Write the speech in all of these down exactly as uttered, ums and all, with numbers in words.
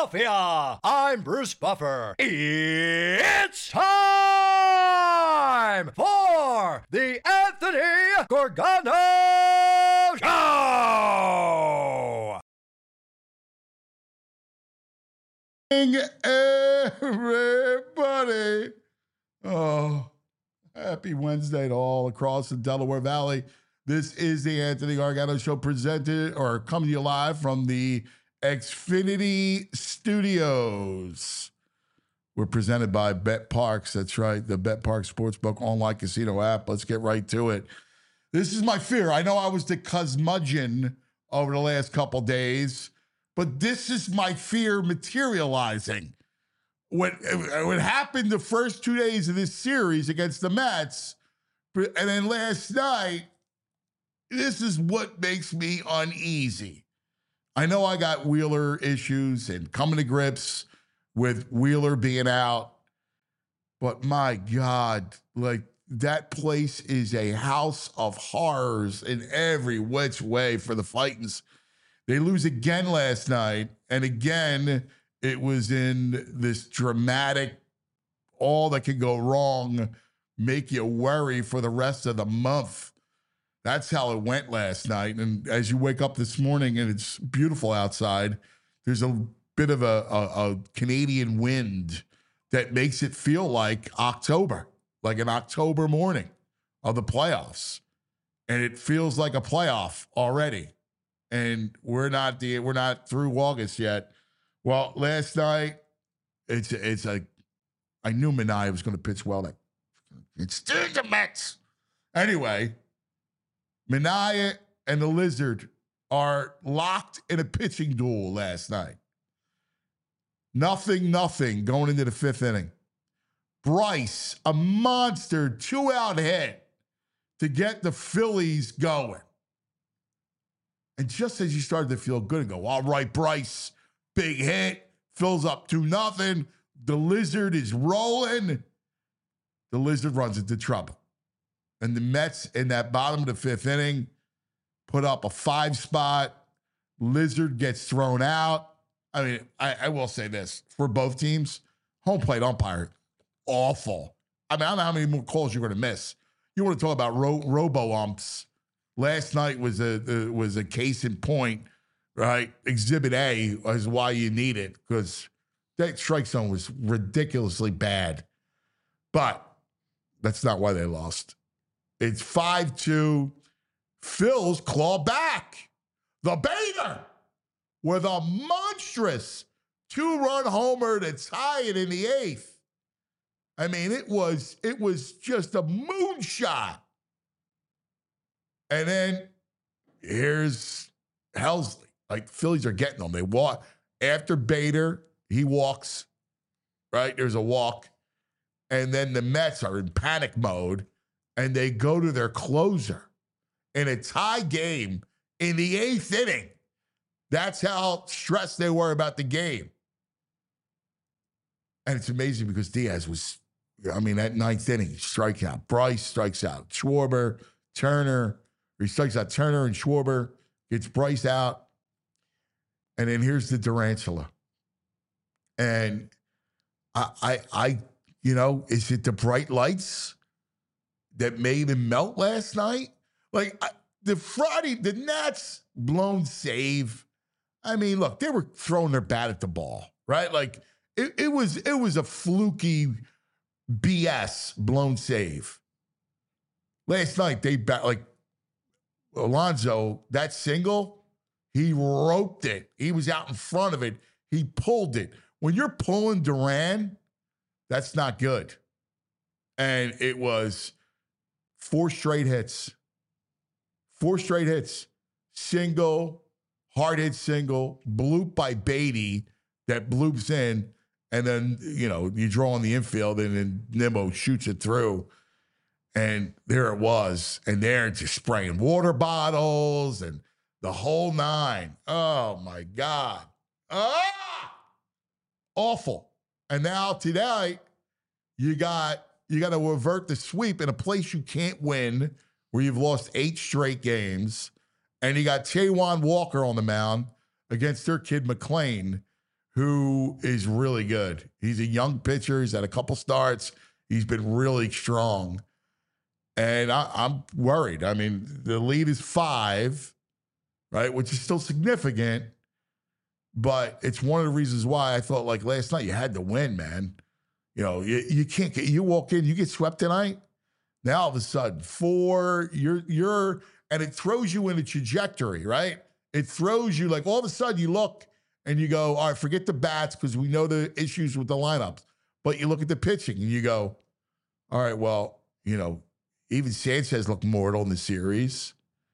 Philadelphia. I'm Bruce Buffer. It's time for the Anthony Gorgano Show. Everybody. Oh, happy Wednesday to all across the Delaware Valley. This is the Anthony Gargano Show, presented or coming to you live from the Xfinity Studios. We're presented by BetParx. That's right, the BetParx Sportsbook online casino app. Let's get right to it. This is my fear. I know I was the curmudgeon over the last couple days, but this is my fear materializing. What, what happened the first two days of this series against the Mets, and then last night, this is what makes me uneasy. I know I got Wheeler issues and coming to grips with Wheeler being out, but my God, like, that place is a house of horrors in every which way for the Fightins. They lose again last night, and again, it was in this dramatic, all that can go wrong, make you worry for the rest of the month. That's how it went last night. And as you wake up this morning and it's beautiful outside, there's a bit of a, a, a Canadian wind that makes it feel like October, like an October morning of the playoffs. And it feels like a playoff already. And we're not the we're not through August yet. Well, last night, it's it's a I knew Minaya was going to pitch well. Like, it's the Mets. Anyway, Minaya and the Lizard are locked in a pitching duel last night. Nothing, nothing going into the fifth inning. Bryce, a monster two-out hit to get the Phillies going. And just as you started to feel good and go, all right, Bryce, big hit, fills up two nothing. The Lizard is rolling. The Lizard runs into trouble. And the Mets in that bottom of the fifth inning put up a five spot. Lizard gets thrown out. I mean, I, I will say this for both teams, home plate umpire, awful. I mean, I don't know how many more calls you're going to miss. You want to talk about ro- robo umps. Last night was a uh, was a case in point, right? Exhibit A is why you need it, because that strike zone was ridiculously bad. But that's not why they lost. It's five two. Phil's claw back. The Bader with a monstrous two-run homer to tie it in the eighth. I mean, it was it was just a moonshot. And then here's Helsley. Like, Phillies are getting them. They walk after Bader. He walks, right? There's a walk. And then the Mets are in panic mode, and they go to their closer in a tie game in the eighth inning. That's how stressed they were about the game. And it's amazing because Diaz was, I mean, that ninth inning, strike out. Bryce strikes out. Schwarber, Turner, he strikes out Turner and Schwarber, gets Bryce out. And then here's the Tarantula. And I, I, I, you know, is it the bright lights that made him melt last night? Like, I, the Friday, the Nats blown save. I mean, look, they were throwing their bat at the ball, right? Like, it, it was it was a fluky B S blown save. Last night, they bat, like, Alonso, that single, he roped it. He was out in front of it. He pulled it. When you're pulling Duran, that's not good. And it was four straight hits. Four straight hits. Single, hard hit single, bloop by Beatty that bloops in, and then, you know, you draw on the infield, and then Nimmo shoots it through. And there it was. And they're just spraying water bottles and the whole nine. Oh, my God. Ah! Awful. And now tonight, you got you got to revert the sweep in a place you can't win, where you've lost eight straight games. And you got Taijuan Walker on the mound against their kid McClain, who is really good. He's a young pitcher. He's had a couple starts. He's been really strong. And I, I'm worried. I mean, the lead is five, right, which is still significant. But it's one of the reasons why I thought, like, last night you had to win, man. You know, you, you can't get, you walk in, you get swept tonight. Now all of a sudden, four, you're, you're, and it throws you in a trajectory, right? It throws you, like, all of a sudden you look and you go, all right, forget the bats because we know the issues with the lineups. But you look at the pitching and you go, all right, well, you know, even Sanchez looked mortal in the series.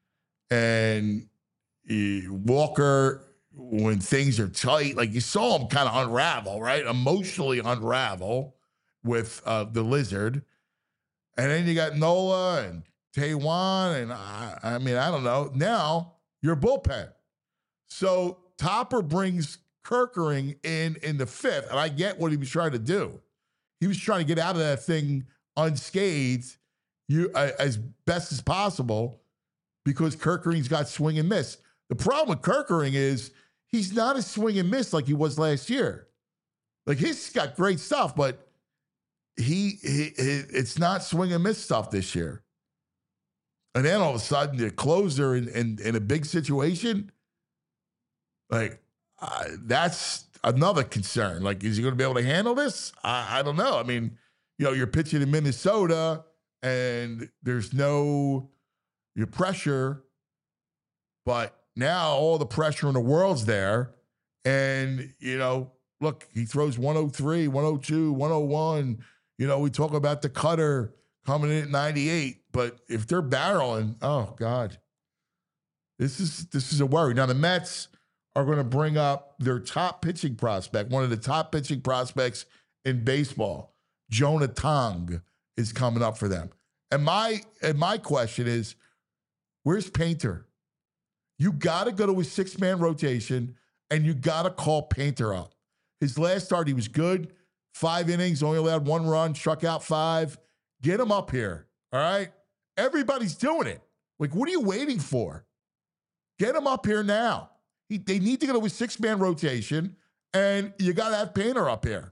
And uh, Walker, when things are tight, like you saw him kind of unravel, right? Emotionally unravel with uh, the Lizard. And then you got Nola and Taiwan. And I, I mean, I don't know. Now you're bullpen. So Topper brings Kerkering in in the fifth. And I get what he was trying to do. He was trying to get out of that thing unscathed you uh, as best as possible because Kerkering's got swing and miss. The problem with Kerkering is he's not a swing and miss like he was last year. Like he's got great stuff, but he, he, he it's not swing and miss stuff this year. And then all of a sudden, the closer in, in, in a big situation, like uh, that's another concern. Like, is he going to be able to handle this? I, I don't know. I mean, you know, you're pitching in Minnesota and there's no your pressure, but now all the pressure in the world's there. And, you know, look, he throws one oh three, one oh two, one oh one. You know, we talk about the cutter coming in at ninety-eight, but if they're barreling, oh God, this is this is a worry. Now the Mets are going to bring up their top pitching prospect, one of the top pitching prospects in baseball, Jonah Tong, is coming up for them. And my and my question is, where's Painter? You got to go to a six-man rotation, and you got to call Painter up. His last start, he was good. Five innings, only allowed one run, struck out five. Get him up here, all right? Everybody's doing it. Like, what are you waiting for? Get him up here now. He, they need to go to a six-man rotation, and you got to have Painter up here.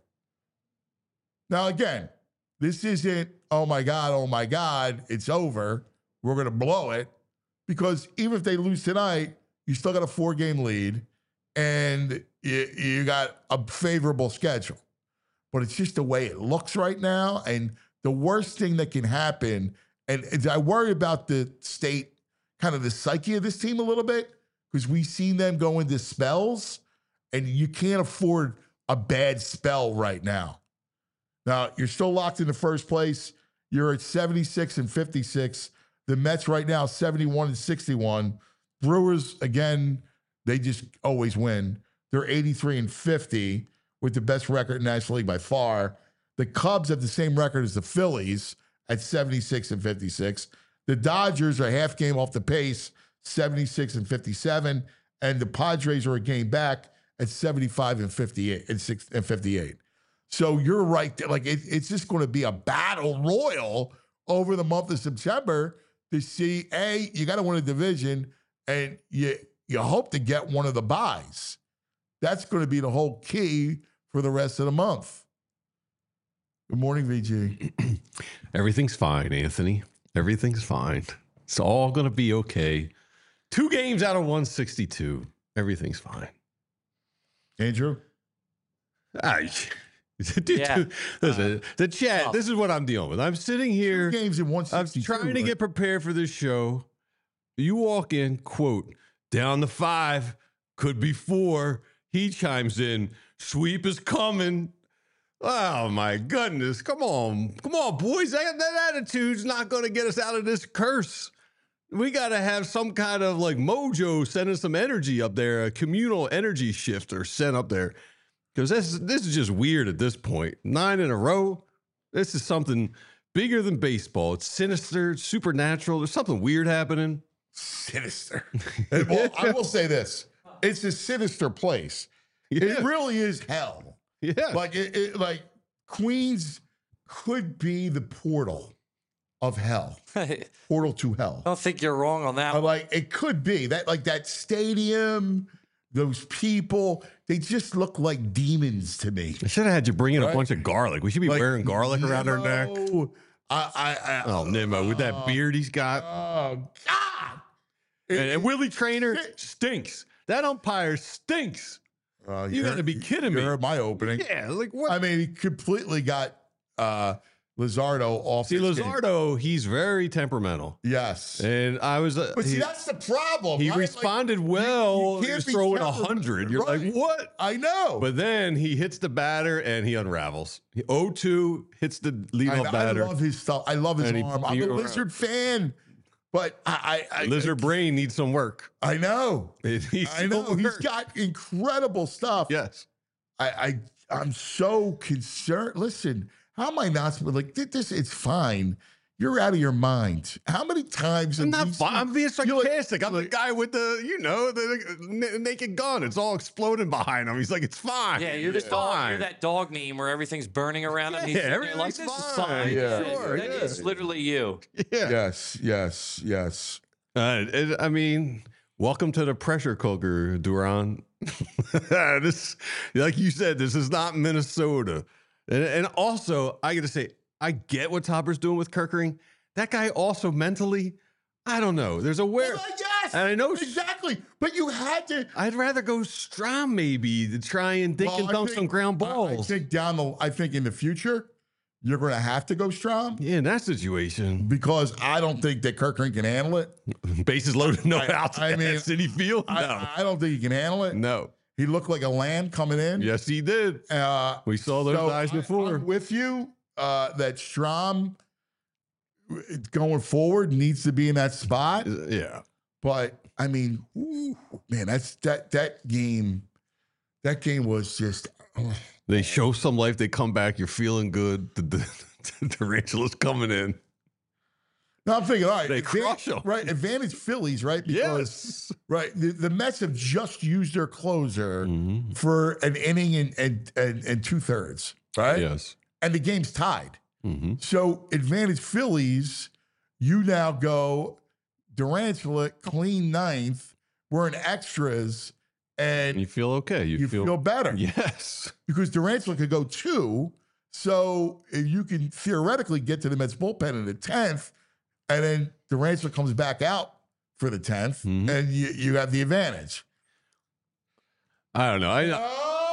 Now, again, this isn't, oh, my God, oh, my God, it's over. We're going to blow it. Because even if they lose tonight, you still got a four-game lead, and you, you got a favorable schedule. But it's just the way it looks right now. And the worst thing that can happen, and, and I worry about the state, kind of the psyche of this team a little bit, because we've seen them go into spells, and you can't afford a bad spell right now. Now, you're still locked in the first place. You're at seventy-six and fifty-six. The Mets right now, seventy-one and sixty-one. Brewers, again, they just always win. They're eighty-three and fifty with the best record in the National League by far. The Cubs have the same record as the Phillies at seventy-six and fifty-six. The Dodgers are a half game off the pace, seventy-six and fifty-seven. And the Padres are a game back at seventy-five and fifty-eight and six and fifty-eight. So you're right there. Like it, it's just going to be a battle royal over the month of September to see, A, you got to win a division, and you you hope to get one of the buys. That's going to be the whole key for the rest of the month. Good morning, V G. Everything's fine, Anthony. Everything's fine. It's all going to be okay. Two games out of one sixty-two. Everything's fine. Andrew? I, dude, Yeah. dude, listen, Uh, the chat, oh. this is what I'm dealing with. I'm sitting here. Two games in one I'm sixty-two. trying to get prepared for this show. You walk in, quote, down to five, could be four. He chimes in, sweep is coming. Oh, my goodness. Come on. Come on, boys. That, that attitude's not going to get us out of this curse. We got to have some kind of like mojo sending some energy up there, a communal energy shifter sent up there. Because this, this is just weird at this point. Nine in a row. This is something bigger than baseball. It's sinister, it's supernatural. There's something weird happening. Sinister. And, well, I will say this. It's a sinister place. Yeah. It really is hell. Yeah. Like, it, it, like Queens could be the portal of hell. I Portal to hell. don't think you're wrong on that Uh, one. like, it could be. That, like, that stadium, those people, they just look like demons to me. I should have had you bring in Right? a bunch of garlic. We should be Like, wearing garlic around our neck. Nimmo, I, I, I, Oh, Nimmo, with that beard he's got. Oh, God. And, and Willie Trainer stinks. That umpire stinks. Uh, You gotta be kidding me. You're my opening. Yeah, like what? I mean, he completely got uh, Lizardo off. See, his game. Lizardo, he's very temperamental. Yes. And I was. Uh, But see, he, that's the problem. he right? Like, responded well. you He can't was be throwing a temper- hundred. You're Right. like, what? I know. But then he hits the batter and he unravels. He oh two hits the I, leadoff I batter. love his stuff. I love his And he- arm. I'm he- a Lizard fan, but I, I, I Lizard brain needs some work. I know. It needs I know. some He's work. got incredible stuff. Yes. I, I I'm so concerned. Listen, how am I not like this? It's fine. You're out of your mind. How many times? I'm in not. these- Fi- I'm being you're like- sarcastic. I'm the guy with the, you know, the n- naked gun. It's all exploding behind him. He's like, it's fine. Yeah, you're the it's dog. fine. You're that dog meme where everything's burning around him. Yeah, He's sitting there like, everything's this is fine. fine. Yeah. Sure, That yeah. is literally you. Yeah. Yes, yes, yes. Uh, it, I mean, welcome to the pressure cooker, Duran. This, like you said, this is not Minnesota. And, and also, I got to say, I get what Topper's doing with Kirkering. That guy also mentally, I don't know. There's a where. Well, yes, and I know exactly. But you had to. I'd rather go Strom maybe to try and dink Well, and I dunk think- some ground I- balls. I think down the. I think in the future, you're going to have to go strong yeah, in that situation, because I don't think that Kirkring can handle it. bases loaded, no I- outs. I at mean, City Field. No, I, I don't think he can handle it. no. He looked like a lamb coming in. Yes, he did. Uh, We saw those so eyes I- before. I'm with you uh, that Strom going forward needs to be in that spot. yeah. But I mean, ooh, man, that's that that game. That game was just. oh. They show some life. They come back. You're feeling good. The, the, the tarantula's coming in. No, I'm thinking, all right, They advan- crush 'em. right? Advantage Phillies, right? Because Yes. right, the, the Mets have just used their closer Mhm. for an inning and and and, and two thirds, right? Yes. And the game's tied. hmm So advantage Phillies, you now go Durantula clean ninth. We're in extras, and You feel okay. You, you feel, feel, better Yes. because Durantula could go two. So if you can theoretically get to the Mets bullpen in the tenth, and then Durantula comes back out for the tenth, Mhm. and you, you have the advantage. I don't know. I know.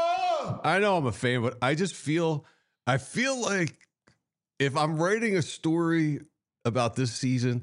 Oh! I know I'm a fan, but I just feel I feel like if I'm writing a story about this season,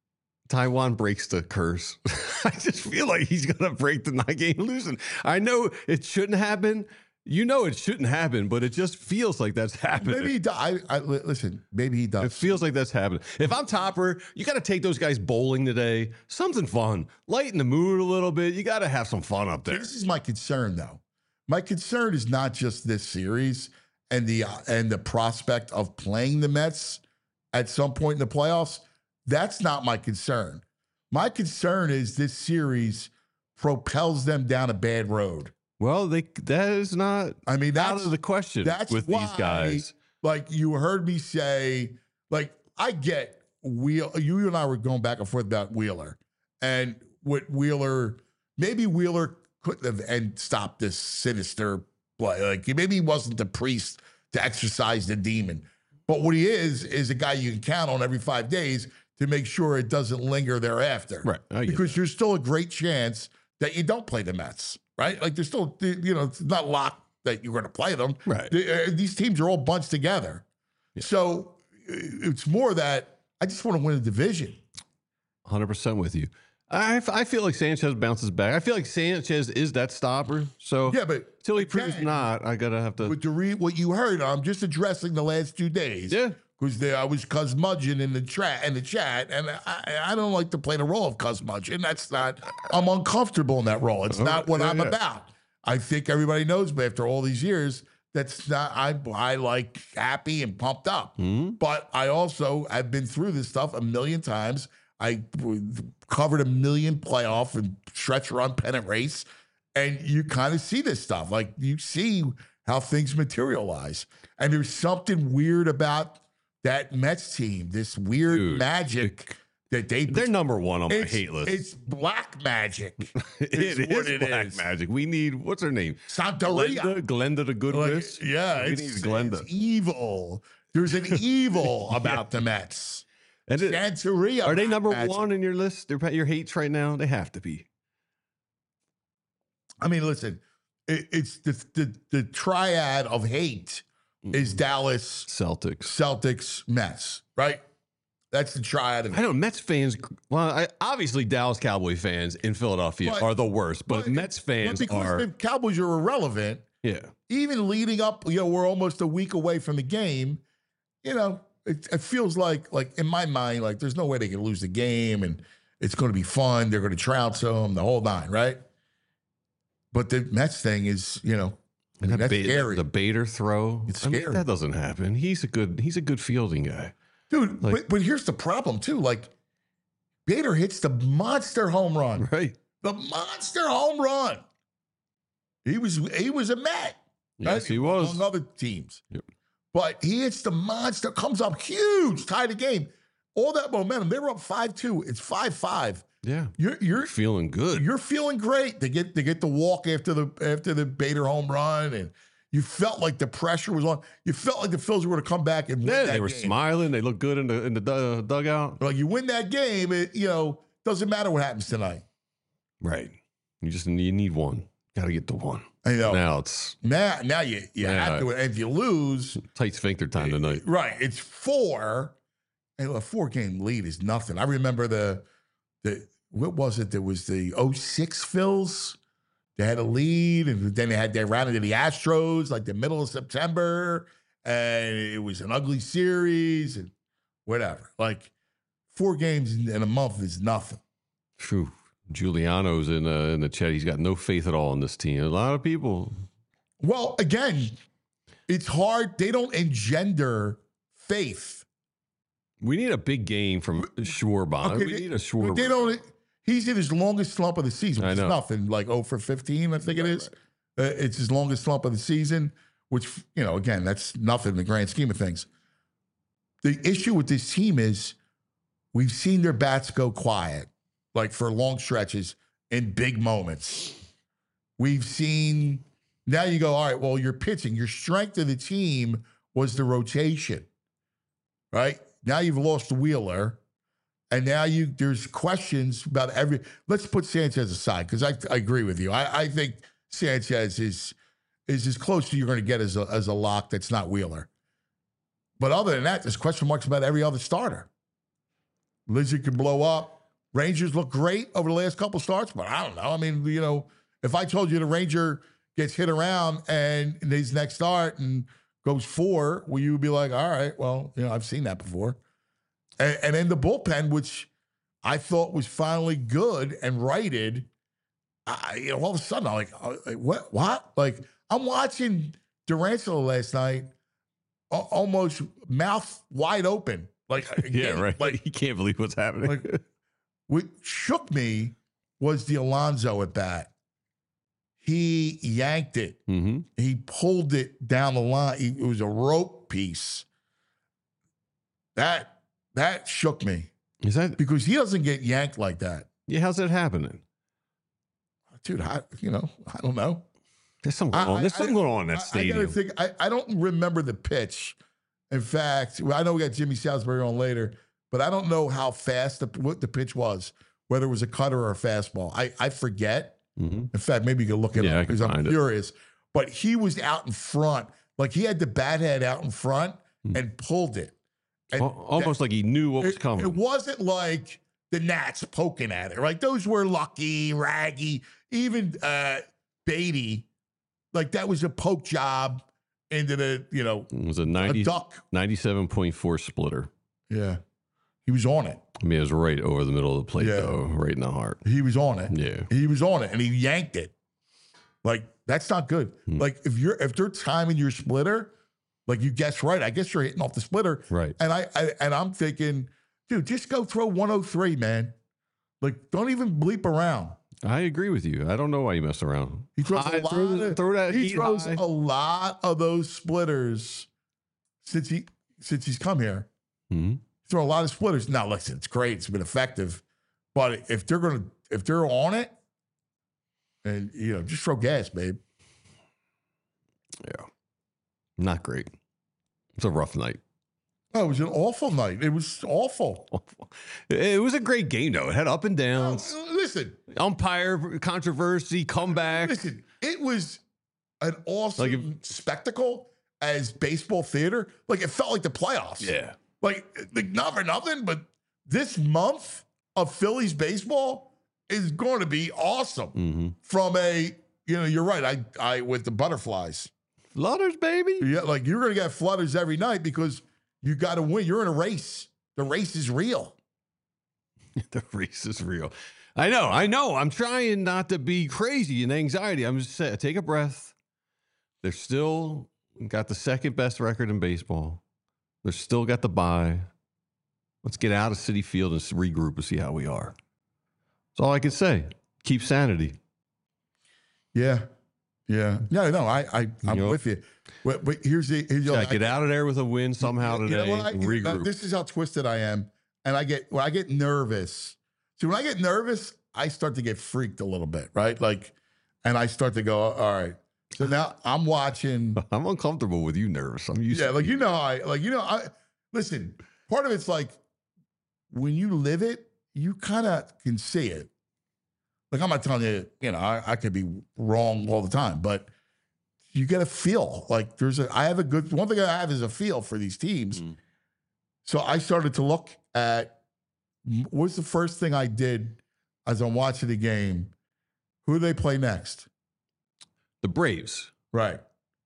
Taiwan breaks the curse. I just feel like he's gonna break the nine game losing. I know it shouldn't happen. You know it shouldn't happen, but it just feels like that's happening. Maybe he does. I, I, li- listen, maybe he It does. feels like that's happening. If I'm Topper, you got to take those guys bowling today. Something fun. Lighten the mood a little bit. You got to have some fun up there. This is my concern, though. My concern is not just this series and the uh, and the prospect of playing the Mets at some point in the playoffs. That's not my concern. My concern is this series propels them down a bad road. Well, they that is not I mean, out that's of the question that's with why, these guys. Like you heard me say, like I get Wheel. You and I were going back and forth about Wheeler, and what Wheeler, maybe Wheeler couldn't have and stopped this sinister play. Like maybe he wasn't the priest to exorcise the demon, but what he is is a guy you can count on every five days to make sure it doesn't linger thereafter. Right. I get Because there's still a great chance that you don't play the Mets. Right. Like there's still, you know, it's not locked that you're going to play them. Right. The- uh, these teams are all bunched together. Yeah. So uh, it's more that I just want to win a division. one hundred percent with you. I, f- I feel like Sanchez bounces back. I feel like Sanchez is that stopper. So Yeah, but until he proves again, not, I got to have to. with the re- what you heard, I'm just addressing the last two days. Yeah. Because I was Cuzmudgeon in the chat in the chat, and I, I don't like to play the role of Cuzmudgeon. That's not. I'm uncomfortable in that role. It's not what Yeah, I'm yeah. about. I think everybody knows me after all these years. That's not. I I like happy and pumped up. Mhm. But I also have been through this stuff a million times. I covered a million playoff and stretch run pennant race, and you kind of see this stuff. Like you see how things materialize, and there's something weird about that Mets team. This weird Dude, magic that they They're number one on my it's, hate list. it's black magic. it is is what it black is. magic. We need, what's her name? Santeria. Glenda, Glenda the Good Like, Miss. yeah, we it's, need Glenda. it's evil. There's an evil about the Mets. And it- Santeria. are they black number magic. one in your list? They're your hates right now. They have to be. I mean, listen, it, it's the, the the triad of hate is Dallas, Celtics. Celtics, Mets, right? That's the triad of I know Mets fans. Well, I, obviously Dallas Cowboy fans in Philadelphia But- are the worst, but, but- Mets But fans because are. the Cowboys are irrelevant, Yeah, even leading up, you know, we're almost a week away from the game. You know, it, it feels like, like in my mind, like there's no way they can lose the game, and it's going to be fun. They're going to trounce them, the whole nine, right? But the Mets thing is, you know, I mean, that that's Ba- scary, the Bader throw. It's I mean, scary. that doesn't happen. He's a good. He's a good fielding guy. dude. like- but, but here's the problem too. Like Bader hits the monster home run, Right. the monster home run. He was he was a Met. Yes, he was. Among other teams. Yep. But he hits the monster, comes up huge, tie the game. All that momentum. They were up five two. It's five five. Yeah. You're you're Feeling good. you're feeling great. They get they get the walk after the after the Bader home run, and you felt like the pressure was on. You felt like the Phils were going to come back and win Yeah, that they were game. smiling. They looked good in the in the dug- dugout. Like you win that game, it you know doesn't matter what happens tonight. Right. You just you need one. Got to get the one. I know. Now Now it's now, you you Yeah. have to. If you lose, tight sphincter time tonight. right? It's four. And a four game lead is nothing. I remember the the what was it? There was the oh six Phils. They had a lead, and then they had they ran into the Astros like the middle of September, and it was an ugly series and whatever. Like four games in, in a month is nothing. Phew. Giuliano's in uh, in the chat. He's got no faith at all in this team. A lot of people. Well, again, it's hard. They don't engender faith. We need a big game from Schwarber. Okay, we they- need a Schwarber. They don't. He's in his longest slump of the season, which I is know. nothing. Like oh for fifteen, I think it is. Uh, it's his longest slump of the season, which you know, again, that's nothing in the grand scheme of things. The issue with this team is we've seen their bats go quiet, like for long stretches in big moments. We've seen now you go, all right, well, you're pitching. Your strength of the team was the rotation, right? Now you've lost Wheeler. And now you there's questions about every. Let's put Sanchez aside because I, I agree with you. I, I think Sanchez is is as close to you're going to get as a, as a lock that's not Wheeler. But other than that, there's question marks about every other starter. Lizzie could blow up. Rangers look great over the last couple starts, but I don't know. I mean, you know, if I told you the Ranger gets hit around and in his next start and goes four, well, you would be like, all right, well, you know, I've seen that before. And, and then the bullpen, which I thought was finally good and righted, I, you know, all of a sudden I'm like, uh, like, what? What? Like I'm watching Durantula last night, a- almost mouth wide open. Like Yeah, again, right. Like he can't believe what's happening. like what shook me was the Alonso at bat. He yanked it. hmm He pulled it down the line. He, it was a rope piece. That that shook me Is that? because he doesn't get yanked like that, Yeah. How's that happening? dude. I you know I don't know. There's something I- going on. There's I- something going on in that I- I stadium. gotta think. I, I don't remember the pitch. In fact, well, I know we got Jimmy Salisbury on later, but I don't know how fast the what the pitch was. Whether it was a cutter or a fastball, I I forget. hmm In fact, maybe you can look it Yeah, I up can because I'm find it. curious. But he was out in front, like he had the bat head out in front Hmm. and pulled it. And Al- Almost like he knew what was it, coming. it wasn't like the Nats poking at it, right? Those were lucky, raggy, even uh, Beatty. Like that was a poke job into the, you know, It was a a ninety, duck. ninety-seven point four splitter. Yeah. He was on it. I mean, it was right over the middle of the plate, Yeah. though, right in the heart. He was on it. Yeah. He was on it and he yanked it. Like, that's not good. Hmm. Like, if you're if they're timing your splitter, like you guess right. I guess you're hitting off the splitter. Right. And I, I and I'm thinking, dude, just go throw one oh three, man. Like, don't even bleep around. I agree with you. I don't know why you mess around. He throws High- a lot. throw, the- of, throw that he heat throws high. a lot of those splitters since he since he's come here. Mhm. throw a lot of splitters. Now, listen, it's great. It's been effective. But if they're going to, if they're on it, and, you know, just throw gas, babe. Yeah. Not great. It's a rough night. Oh, it was an awful night. It was awful. It was a great game, though. It had up and downs. Oh, listen. Umpire controversy, comeback. Listen, it was an awesome Like if- spectacle as baseball theater. Like, it felt like the playoffs. Yeah. Like, like not for nothing, but this month of Phillies baseball is going to be awesome. Mm-hmm. From a, you know, you're right. I, I with the butterflies. Flutters, baby. Yeah, like you're going to get flutters every night because you got to win. You're in a race. The race is real. The race is real. I know. I know. I'm trying not to be crazy and anxiety. I'm just saying, take a breath. They're still got the second best record in baseball. They're still got the bye. Let's get out of Citi Field and regroup and see how we are. That's all I can say. Keep sanity. Yeah. Yeah. No, no, I, I, I'm You know- with you. But, but here's the, here's the Yeah, I- get out of there with a win somehow You know today. what I- and you know, regroup. this is how twisted I am. And I get, when I get nervous. See, when I get nervous, I start to get freaked a little bit, right? Like, and I start to go, all right. So now I'm watching. I'm uncomfortable with you nervous. I'm used Yeah, to like, you know, how I, like, you know, I, listen, part of it's like when you live it, you kind of can see it. Like, I'm not telling you, you know, I, I could be wrong all the time, but you get a feel. Like, there's a, I have a good, one thing I have is a feel for these teams. Mm. So I started to look at what's the first thing I did as I'm watching the game. Who do they play next? the Braves. Right.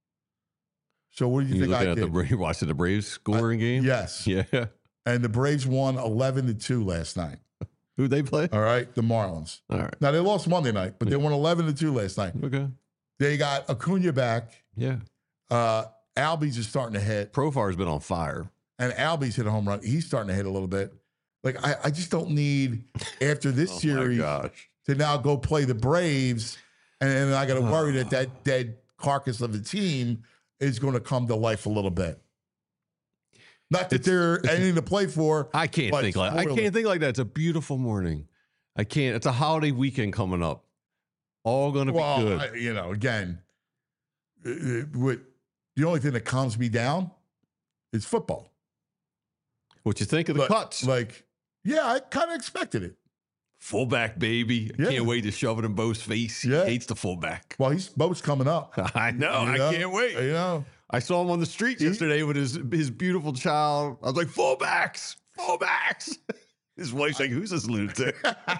So what do you, You think looking I at did? the Braves, watching the Braves scoring game? Yes. Yeah. And the Braves won eleven to two last night. Who they play? All right. The Marlins. All right. Now, they lost Monday night, but they won eleven to two last night. Okay. They got Acuna back. Yeah. Uh, Albies is starting to hit, Profar's been on fire. and Albies hit a home run. He's starting to hit a little bit. Like, I, I just don't need, after this Oh series, my gosh. to now go play the Braves, and then I got to worry that that dead carcass of the team is going to come to life a little bit. Not that It's- they're anything to play for. I can't but think like I spoiler. can't think like that. It's a beautiful morning. I can't. It's a holiday weekend coming up. All going to Well, be good. I- you know, again, uh, uh, what the only thing that calms me down is football. What you think of the Like- cuts? Like, yeah, I kind of expected it. Fullback, baby. I Yeah. can't wait to shove it in Bo's face. He Yeah. hates the fullback. Well, he's Bo's coming up. I know. You I know? can't wait. You know, I saw him on the street He- yesterday with his his beautiful child. I was like, fullbacks, fullbacks. His wife's like, who's this lunatic?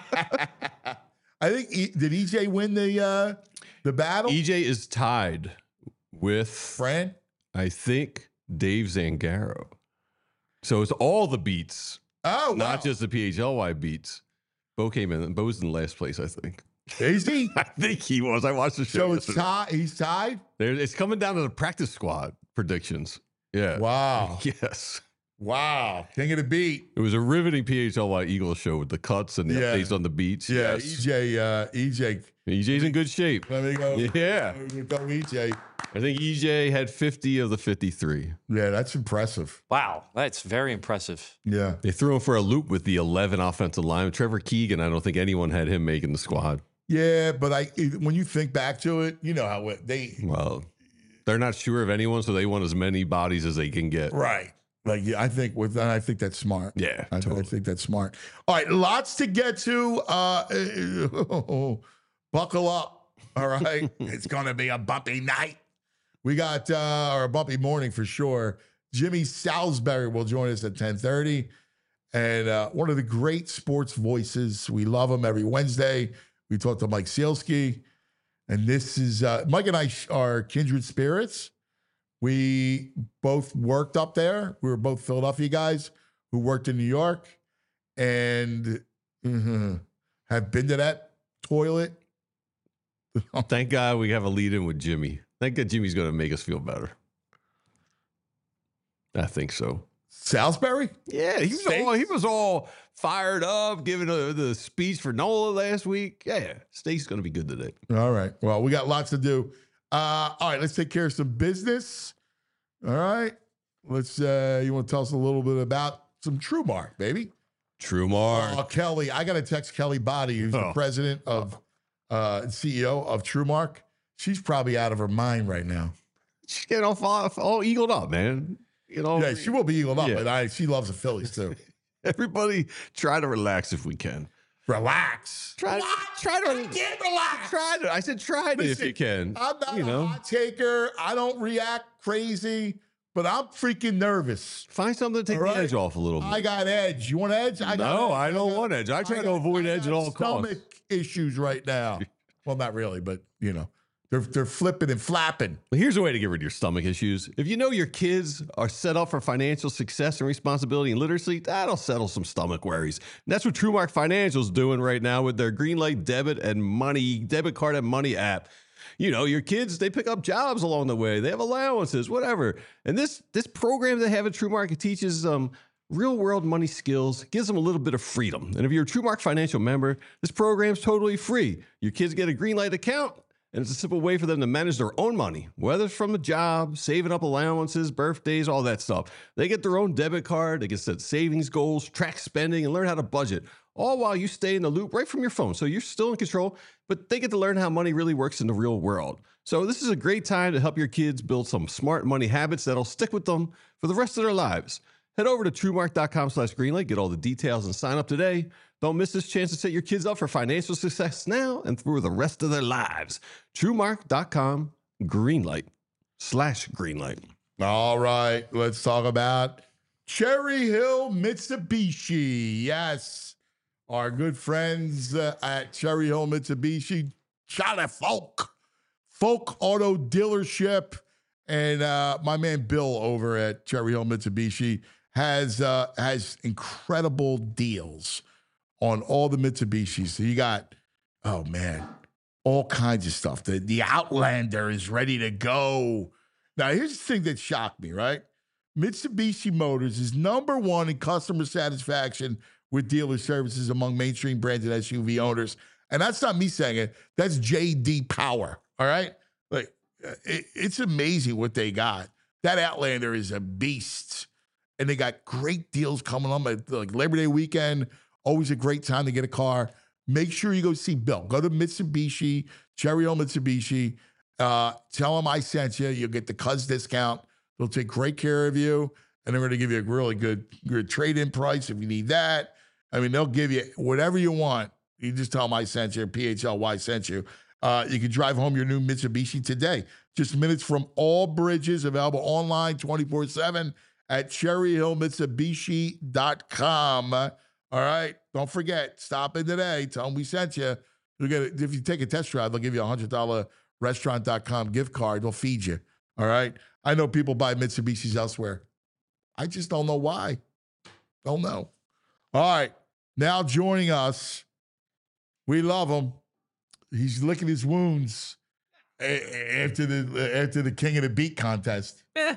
I think e, did E J win the uh, the battle? E J is tied with, Fran. I think, Dave Zangaro. So it's all the beats, Oh, wow. not just the P H L Y beats. Bo came in. Bo's in last place, I think. Is he? I think he was. I watched the show. So it's yesterday. tied. He's tied. There, it's coming down to the practice squad predictions. Yeah. Wow. Yes. Wow. King of the beat. It was a riveting P H L Y Eagles show with the cuts and the Yeah. updates on the beats. Yeah. Yes. E J. Uh, E J. E J's in good shape. Let me go. Yeah. Let me go. E J. I think E J had fifty of the fifty-three. Yeah, that's impressive. Wow, that's very impressive. Yeah. They threw him for a loop with the eleven offensive line. Trevor Keegan, I don't think anyone had him making the squad. Yeah, but I when you think back to it, you know how it, they Well, they're not sure of anyone, so they want as many bodies as they can get. right. Like yeah, I think with I think that's smart. Yeah, I, I totally. think that's smart. All right, lots to get to. Uh, buckle up. All right, it's gonna be a bumpy night. We got uh, or a bumpy morning for sure. Jimmy Salisbury will join us at ten thirty, and uh, one of the great sports voices. We love him every Wednesday. We talk to Mike Sealski, and this is uh, Mike and I are kindred spirits. We both worked up there. We were both Philadelphia guys who worked in New York and mhm, have been to that toilet. Thank God we have a lead in with Jimmy. Thank God Jimmy's going to make us feel better. I think so. Salisbury? Yeah, he was Steaks? all he was all fired up, giving a, the speech for Nola last week. Yeah, Steak's going to be good today. All right. Well, we got lots to do. Uh, all right, let's take care of some business. All right. Let's uh you want to tell us a little bit about some TrueMark, baby. TrueMark. Oh, Kelly, I got to text Kelly Body, who's the Oh. president of, uh, C E O of TrueMark. She's probably out of her mind right now. She's getting all, all, all eagled up, man. You know, Yeah, she will be eagled up, Yeah. but I, she loves the Phillies too. everybody try to relax if we can. Relax. Try, try to I can't relax. try to. I said try to if Listen, you can. I'm not you a know, hot taker. I don't react crazy, but I'm freaking nervous. find something to take All the right. edge off a little bit. I got edge. You want edge? I got no, edge. I don't got- want edge. I try I to got- avoid I edge got at all stomach costs. issues right now. Well, not really, but you know, they're they're flipping and flapping. But here's a way to get rid of your stomach issues. If you know your kids are set up for financial success and responsibility and literacy, that'll settle some stomach worries. And that's what TrueMark Financial's doing right now with their Greenlight debit and money, debit card and money app. You know, your kids, they pick up jobs along the way. They have allowances, whatever. And this this program they have at TrueMark, it teaches um real world money skills, gives them a little bit of freedom. And if you're a TrueMark Financial member, this program's totally free. Your kids get a Greenlight account, and it's a simple way for them to manage their own money, whether it's from a job, saving up allowances, birthdays, all that stuff. They get their own debit card, they can set savings goals, track spending, and learn how to budget, all while you stay in the loop right from your phone. So you're still in control, but they get to learn how money really works in the real world. So this is a great time to help your kids build some smart money habits that'll stick with them for the rest of their lives. Head over to TrueMark.com slash Greenlight, get all the details, and sign up today. Don't miss this chance to set your kids up for financial success now and through the rest of their lives. TrueMark.com Greenlight slash Greenlight. All right, let's talk about Cherry Hill Mitsubishi. Yes, our good friends uh, at Cherry Hill Mitsubishi, Charlie Folk, Folk Auto Dealership, and uh, my man Bill over at Cherry Hill Mitsubishi has uh, has incredible deals on all the Mitsubishis. So you got, oh man, all kinds of stuff. The the Outlander is ready to go. Now, here's the thing that shocked me, right? Mitsubishi Motors is number one in customer satisfaction with dealer services among mainstream branded S U V owners. And that's not me saying it. That's J D Power, all right? Like, it, it's amazing what they got. That Outlander is a beast. And they got great deals coming on, like Labor Day weekend. Always a great time to get a car. Make sure you go see Bill. Go to Mitsubishi, Cherry Hill Mitsubishi. Uh, tell them I sent you. You'll get the Cuz discount. They'll take great care of you, and they're going to give you a really good, good trade-in price if you need that. I mean, they'll give you whatever you want. You just tell them I sent you, P H L Y sent you. Uh, you can drive home your new Mitsubishi today. Just minutes from all bridges, available online twenty-four seven at cherry hill mitsubishi dot com. All right, don't forget, stop in today. Tell them we sent you. You'll get, if you take a test drive, they'll give you a one hundred dollars restaurant dot com gift card. They'll feed you. All right. I know people buy Mitsubishis elsewhere. I just don't know why. Don't know. All right. Now joining us, we love him. He's licking his wounds a- after the after the King of the Beat contest. Eh.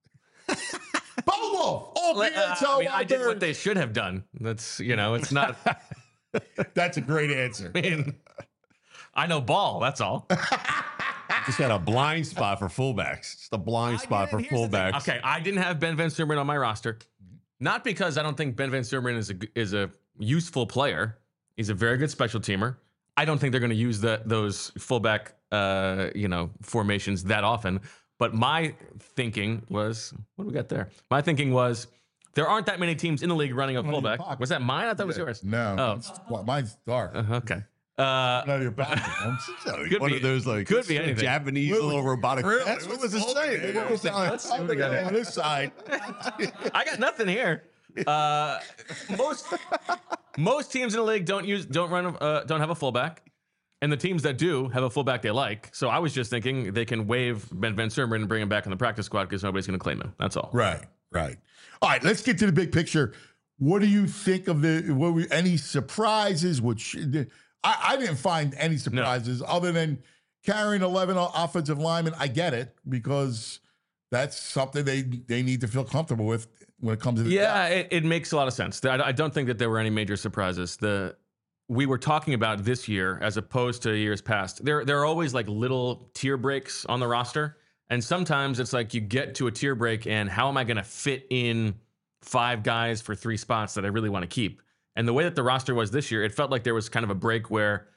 Bo Wolf. Oh, Let- man, uh, tell I mean, I did Robert. what they should have done. That's, you know, it's not, That's a great answer. I mean, I know ball, that's all. Just got a blind spot for fullbacks. Just a blind spot for Here's the thing. fullbacks. Okay, I didn't have Ben Van Sumeren on my roster. Not because I don't think Ben Van Sumeren is a, is a useful player. He's a very good special teamer. I don't think they're going to use the, those fullback, uh, you know, formations that often. But my thinking was, what do we got there? My thinking was, there aren't that many teams in the league running a in your fullback. pocket. Was that mine? I thought it was yours. No. Oh. it's- well, mine's dark. Uh, okay. Uh, Out of your pocket, Holmes. Could One be- of those like could be anything. Japanese little robotic. Really? That's what was it saying? What was it Let's see what we got on here. this side. I got nothing here. Uh, most most teams in the league don't use don't run uh, don't have a fullback, and the teams that do have a fullback they like. So I was just thinking they can waive Ben Van Sumeren and bring him back in the practice squad because nobody's going to claim him. That's all. Right, right. All right, let's get to the big picture. What do you think of the what we, any surprises? Which I, I didn't find any surprises other than carrying eleven offensive linemen. I get it because that's something they they need to feel comfortable with when it comes to the Yeah, it, it makes a lot of sense. I, I don't think that there were any major surprises. The we were talking about this year as opposed to years past. There there are always like little tier breaks on the roster, and sometimes it's like you get to a tier break, and how am I going to fit in five guys for three spots that I really want to keep. And the way that the roster was this year, it felt like there was kind of a break where,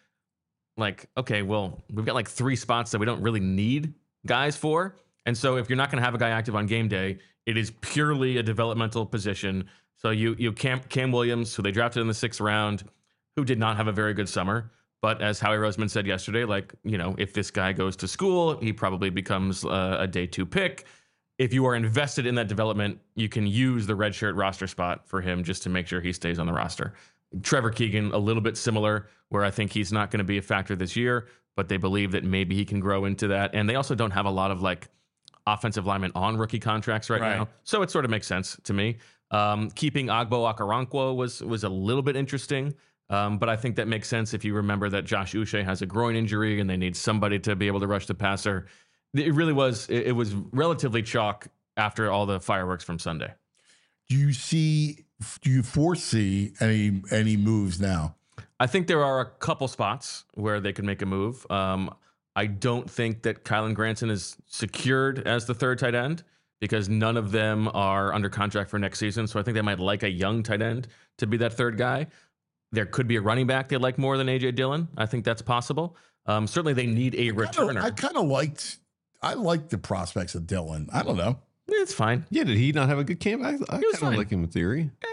like, okay, well, we've got like three spots that we don't really need guys for. And so if you're not going to have a guy active on game day, it is purely a developmental position. So you you Cam, Cam Williams, who they drafted in the sixth round, who did not have a very good summer. But as Howie Roseman said yesterday, like, you know, if this guy goes to school, he probably becomes uh, a day two pick. If you are invested in that development, you can use the redshirt roster spot for him just to make sure he stays on the roster. Trevor Keegan, a little bit similar, where I think he's not going to be a factor this year, but they believe that maybe he can grow into that. And they also don't have a lot of like offensive linemen on rookie contracts right, right. now. So it sort of makes sense to me. Um, keeping Agbo Okoronkwo was, was a little bit interesting. Um, but I think that makes sense if you remember that Josh Uche has a groin injury and they need somebody to be able to rush the passer. It really was, it was relatively chalk after all the fireworks from Sunday. Do you see, do you foresee any any moves now? I think there are a couple spots where they could make a move. Um, I don't think that Kylan Granson is secured as the third tight end because none of them are under contract for next season. So I think they might like a young tight end to be that third guy. There could be a running back they like more than A J Dillon. I think that's possible. Um, certainly they need a returner. I kind of liked, I liked the prospects of Dillon. I don't know. It's fine. Yeah, did he not have a good camp? I, I kind of like him in theory. Eh.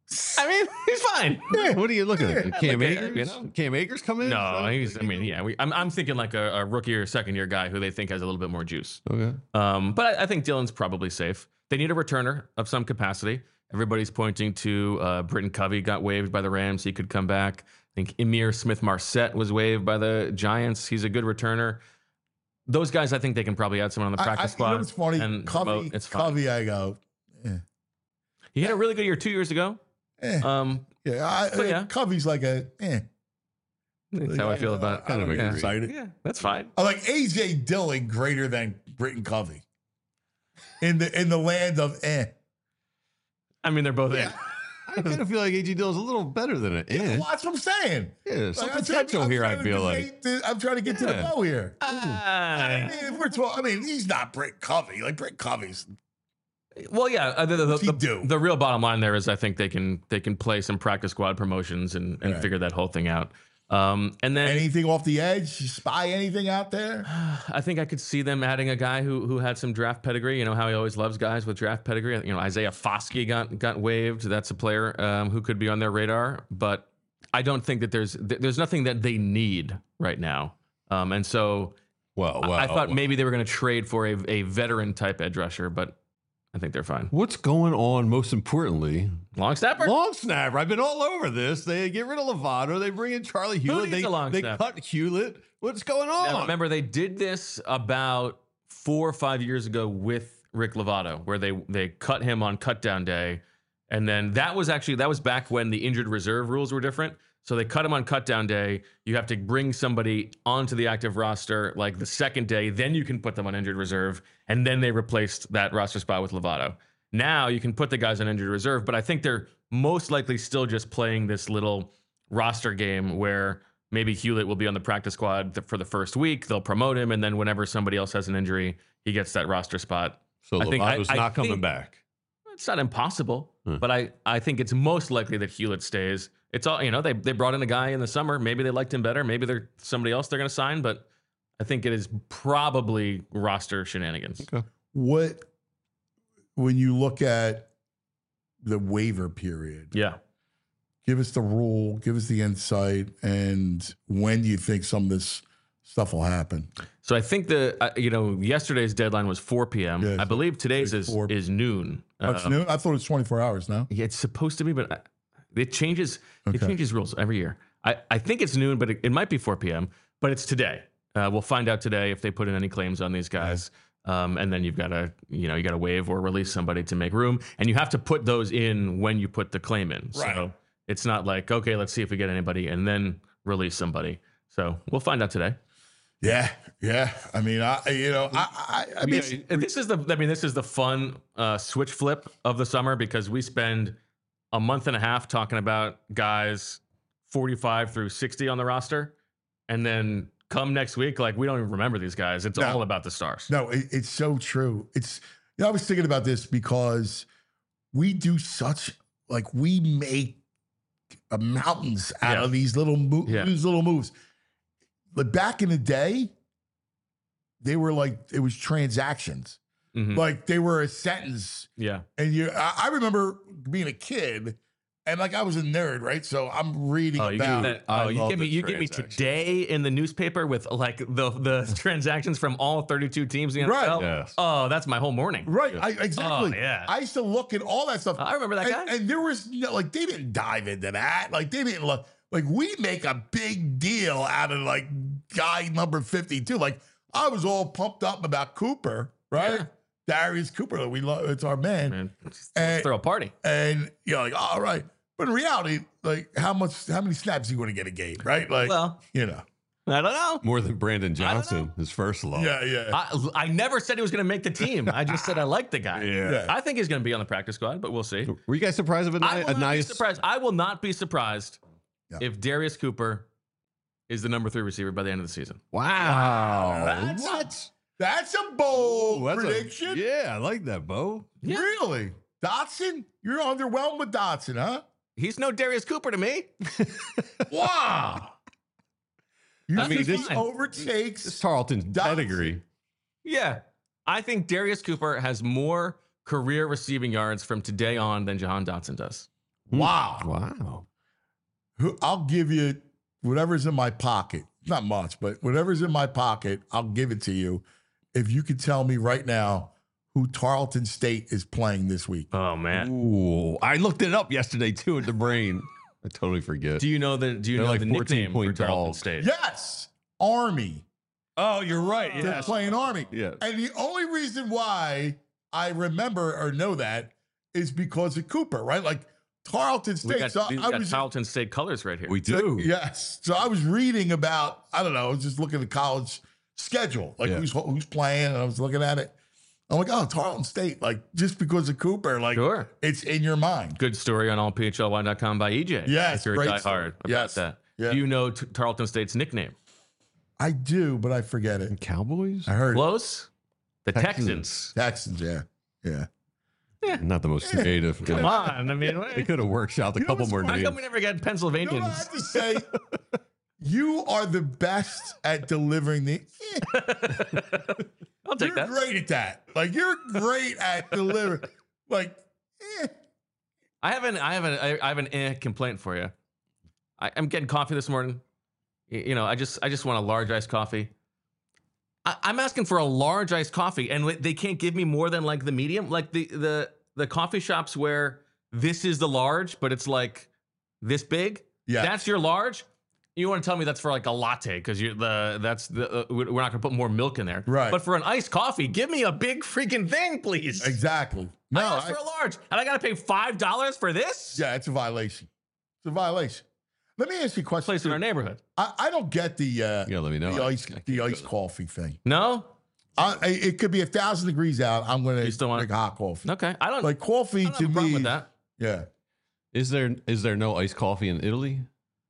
I mean, he's fine. Yeah, what are you looking Yeah, at? Cam like, Akers? you know? Cam Akers come in? No, he's. I mean, yeah. We, I'm. I'm thinking like a, a rookie or second year guy who they think has a little bit more juice. Okay. Um, but I, I think Dillon's probably safe. They need a returner of some capacity. Everybody's pointing to uh, Britton Covey got waived by the Rams. He could come back. I think Emir Smith-Marset was waived by the Giants. He's a good returner. Those guys, I think they can probably add someone on the practice I, I, squad. You know what's funny? And Covey, promote. It's fine. Covey, I go, eh. He had a really good year two years ago. Eh. Um, yeah, I, but yeah. Covey's like a, eh. That's how I feel about I don't kind get of excited. Yeah, that's fine. I like A J Dillon greater than Britton Covey in the in the land of eh. I mean, they're both in. I kind of feel like A J Dillon's a little better than it. Yeah, Yeah, well, that's what I'm saying. yeah some Like, I'm potential trying- I'm here, I trying to feel like. debate the- I'm trying to get to the Yeah. bow here. I Ah. mean, if we're talking, I mean, he's not Britton Covey. Like Britton Covey's. Well, yeah. Uh, the, the, What's he the, do? the real bottom line there is I think they can they can play some practice squad promotions and, and Right. figure that whole thing out. Um, and then Anything off the edge? Spy anything out there? I think I could see them adding a guy who who had some draft pedigree. You know how he always loves guys with draft pedigree. You know Isaiah Foskey got got waived. That's a player um, who could be on their radar. But I don't think that there's th- there's nothing that they need right now. Um, and so Well, well, I thought well. maybe they were going to trade for a a veteran type edge rusher, but I think they're fine. What's going on, most importantly? Long snapper. Long snapper. I've been all over this. They get rid of Lovato. They bring in Charlie Hewlett. needs They, a long they snapper? cut Hewlett. What's going on? Now, remember, they did this about four or five years ago with Rick Lovato, where they they cut him on cutdown day, and then that was actually that was back when the injured reserve rules were different. So they cut him on cutdown day. You have to bring somebody onto the active roster like the second day, then you can put them on injured reserve, and then they replaced that roster spot with Lovato. Now you can put the guys on injured reserve, but I think they're most likely still just playing this little roster game where maybe Hewlett will be on the practice squad th- for the first week. They'll promote him, and then whenever somebody else has an injury, he gets that roster spot. So I think- Lovato's I- I not coming think- back. It's not impossible, Hmm. but I, I think it's most likely that Hewlett stays. It's all, you know, they, they brought in a guy in the summer. Maybe they liked him better. Maybe they're somebody else they're going to sign, but I think it is probably roster shenanigans. Okay. What, when you look at the waiver period, Yeah. give us the rule, give us the insight, and when do you think some of this stuff will happen? So I think the, uh, you know, yesterday's deadline was four p.m. Yeah, I believe today's it's is, four. is noon. That's Uh, new? I thought it was twenty-four hours now. Yeah, it's supposed to be, but I- it changes. It Okay. changes rules every year. I, I think it's noon, but it, it might be four p.m. But it's today. Uh, we'll find out today if they put in any claims on these guys. Um, and then you've got to, you know, you got to waive or release somebody to make room, and you have to put those in when you put the claim in. Right. So it's not like, okay, let's see if we get anybody, and then release somebody. So we'll find out today. Yeah, yeah. I mean, I you know, I I, I mean, Yeah, this is the I mean this is the fun uh, switch flip of the summer because we spend a month and a half talking about guys forty-five through sixty on the roster, and then come next week, like we don't even remember these guys. It's No. all about the stars. no, it, it's so true. It's you know, I was thinking about this because we do such like we make uh, mountains out Yeah. of these little mo- Yeah. these little moves. But back in the day, they were like it was transactions. Mhm. Like they were a sentence. Yeah. And you, I, I remember being a kid, and like I was a nerd, right? So I'm reading Oh, you about. give me, I oh, you love give me the you give me transactions. today in the newspaper with like the the transactions from all thirty-two teams in the Right. N F L. Yes. Oh, that's my whole morning. Right, I, exactly. Oh, yeah. I used to look at all that stuff. I remember that and, guy. and there was no, like they didn't dive into that. Like they didn't look like we make a big deal out of like guy number fifty-two. Like I was all pumped up about Cooper, right? Yeah. Darius Cooper, we love. It's our man. Man, let's And- throw a party. And you're like, all right. But in reality, like how much, how many snaps you want to get a game, right? Like, Well, you know. I don't know. More than Brandon don't know. Johnson, his first love. Yeah, yeah. I, I never said he was going to make the team. I just said I like the guy. Yeah. Yeah. I think he's going to be on the practice squad, but we'll see. Were you guys surprised of a, I ni- will a not nice? be surprised. I will not be surprised Yeah. if Darius Cooper is the number three receiver by the end of the season. Wow. That's- What? That's a bold That's a- prediction. yeah, I like that, Bo. Yeah. Really? Dotson? You're underwhelmed with Dotson, huh? He's no Darius Cooper to me. Wow. You I mean, think this- he overtakes It's Tarleton's Dotson. pedigree. Yeah. I think Darius Cooper has more career receiving yards from today on than Jahan Dotson does. Wow. Wow. Who- I'll give you whatever's in my pocket. Not much, but whatever's in my pocket, I'll give it to you. If you could tell me right now who Tarleton State is playing this week. Oh man. Ooh, I looked it up yesterday too at the brain. I totally forget. Do you know the do you They're know like the fourteen nickname for point Tarleton dogs. State? Yes, Army. Oh, you're right. They're playing Army. Yeah. And the only reason why I remember or know that is because of Cooper, right? Like Tarleton We State. got, so we I got was Tarleton State colors right here. We do. yes. So I was reading about, I don't know, I was just looking at the college schedule, like Yeah. who's who's playing, and I was looking at it. I'm like, oh, Tarleton State, like just because of Cooper, like Sure. it's in your mind. Good story on all P H L Y dot com by E J. Yes, if you're a great diehard story. about Yes. that. Yeah. Do you know T- Tarleton State's nickname? I do, but I forget it. Cowboys? I heard it. Close. The Texans. Texans. Texans, yeah. Yeah. Not the most creative. Come on. I mean, They could have workshopped a You know couple what's more how names. come we never get You know Pennsylvanians? what I have to say? You are the best at delivering the. I'll take You're that. great at that. Like you're great at delivering. Like, eh. I have an I have an I I have an eh complaint for you. I, I'm getting coffee this morning. Y- You know, I just I just want a large iced coffee. I, I'm asking for a large iced coffee, and they can't give me more than like the medium. Like the the the coffee shops where this is the large, but it's like this big. Yeah. That's your large. You want to tell me that's for like a latte because you the that's the uh, we're not gonna put more milk in there. Right. But for an iced coffee, give me a big freaking thing, please. Exactly. No, I asked I- for a large, and I gotta pay five dollars for this. yeah, it's a violation. It's a violation. Let me ask you a question. Place in too. our neighborhood. I, I don't get the uh, Yeah, let me know. the I- ice I can't the go iced there. coffee thing. No. I, I- it could be a thousand degrees out. I'm going You to still want drink hot coffee. Okay. I don't. Like coffee I don't to have a problem me. with that. Yeah, Is there is there no iced coffee in Italy?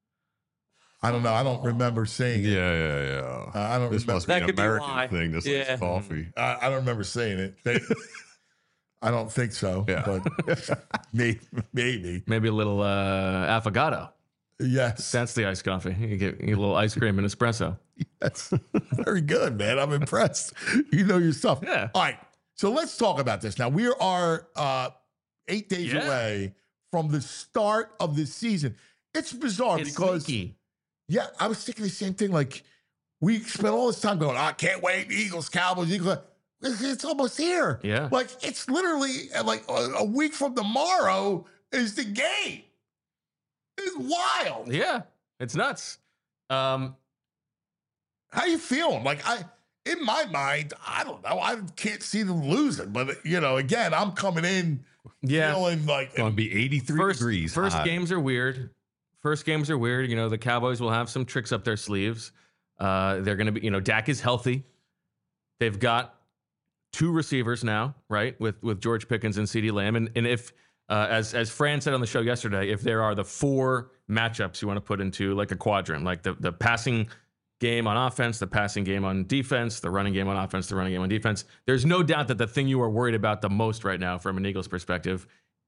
I don't know. I don't remember seeing it. Yeah, yeah, yeah. Uh, I don't This remember. must be That an could be American why. thing. This Yeah. iced coffee. I, I don't remember seeing it. They, I don't think so. Yeah. But maybe, maybe. Maybe a little uh, affogato. Yes. That's the iced coffee. You get, you get a little ice cream and espresso. That's very good, man. I'm impressed. You know your stuff. Yeah. All right. So let's talk about this. Now, we are uh, eight days Yeah. away from the start of the season. It's bizarre It's because, sneaky. yeah, I was thinking the same thing. Like, we spent all this time going, I can't wait. Eagles, Cowboys, Eagles. It's, it's almost here. Yeah. Like, it's literally uh, like a, a week from tomorrow is the game. It's wild. Yeah. It's nuts. Um, How you feeling? Like I, in my mind, I don't know. I can't see them losing, but you know, again, I'm coming in yeah. feeling like It's going to be eighty-three First, degrees. first hot. games are weird. First games are weird. You know, the Cowboys will have some tricks up their sleeves. Uh, they're going to be, you know, Dak is healthy. They've got two receivers now, right? With with George Pickens and CeeDee Lamb. And, and if, uh, as as Fran said on the show yesterday, if there are the four matchups you want to put into like a quadrant, like the, the passing game on offense, the passing game on defense, the running game on offense, the running game on defense, there's no doubt that the thing you are worried about the most right now from an Eagles perspective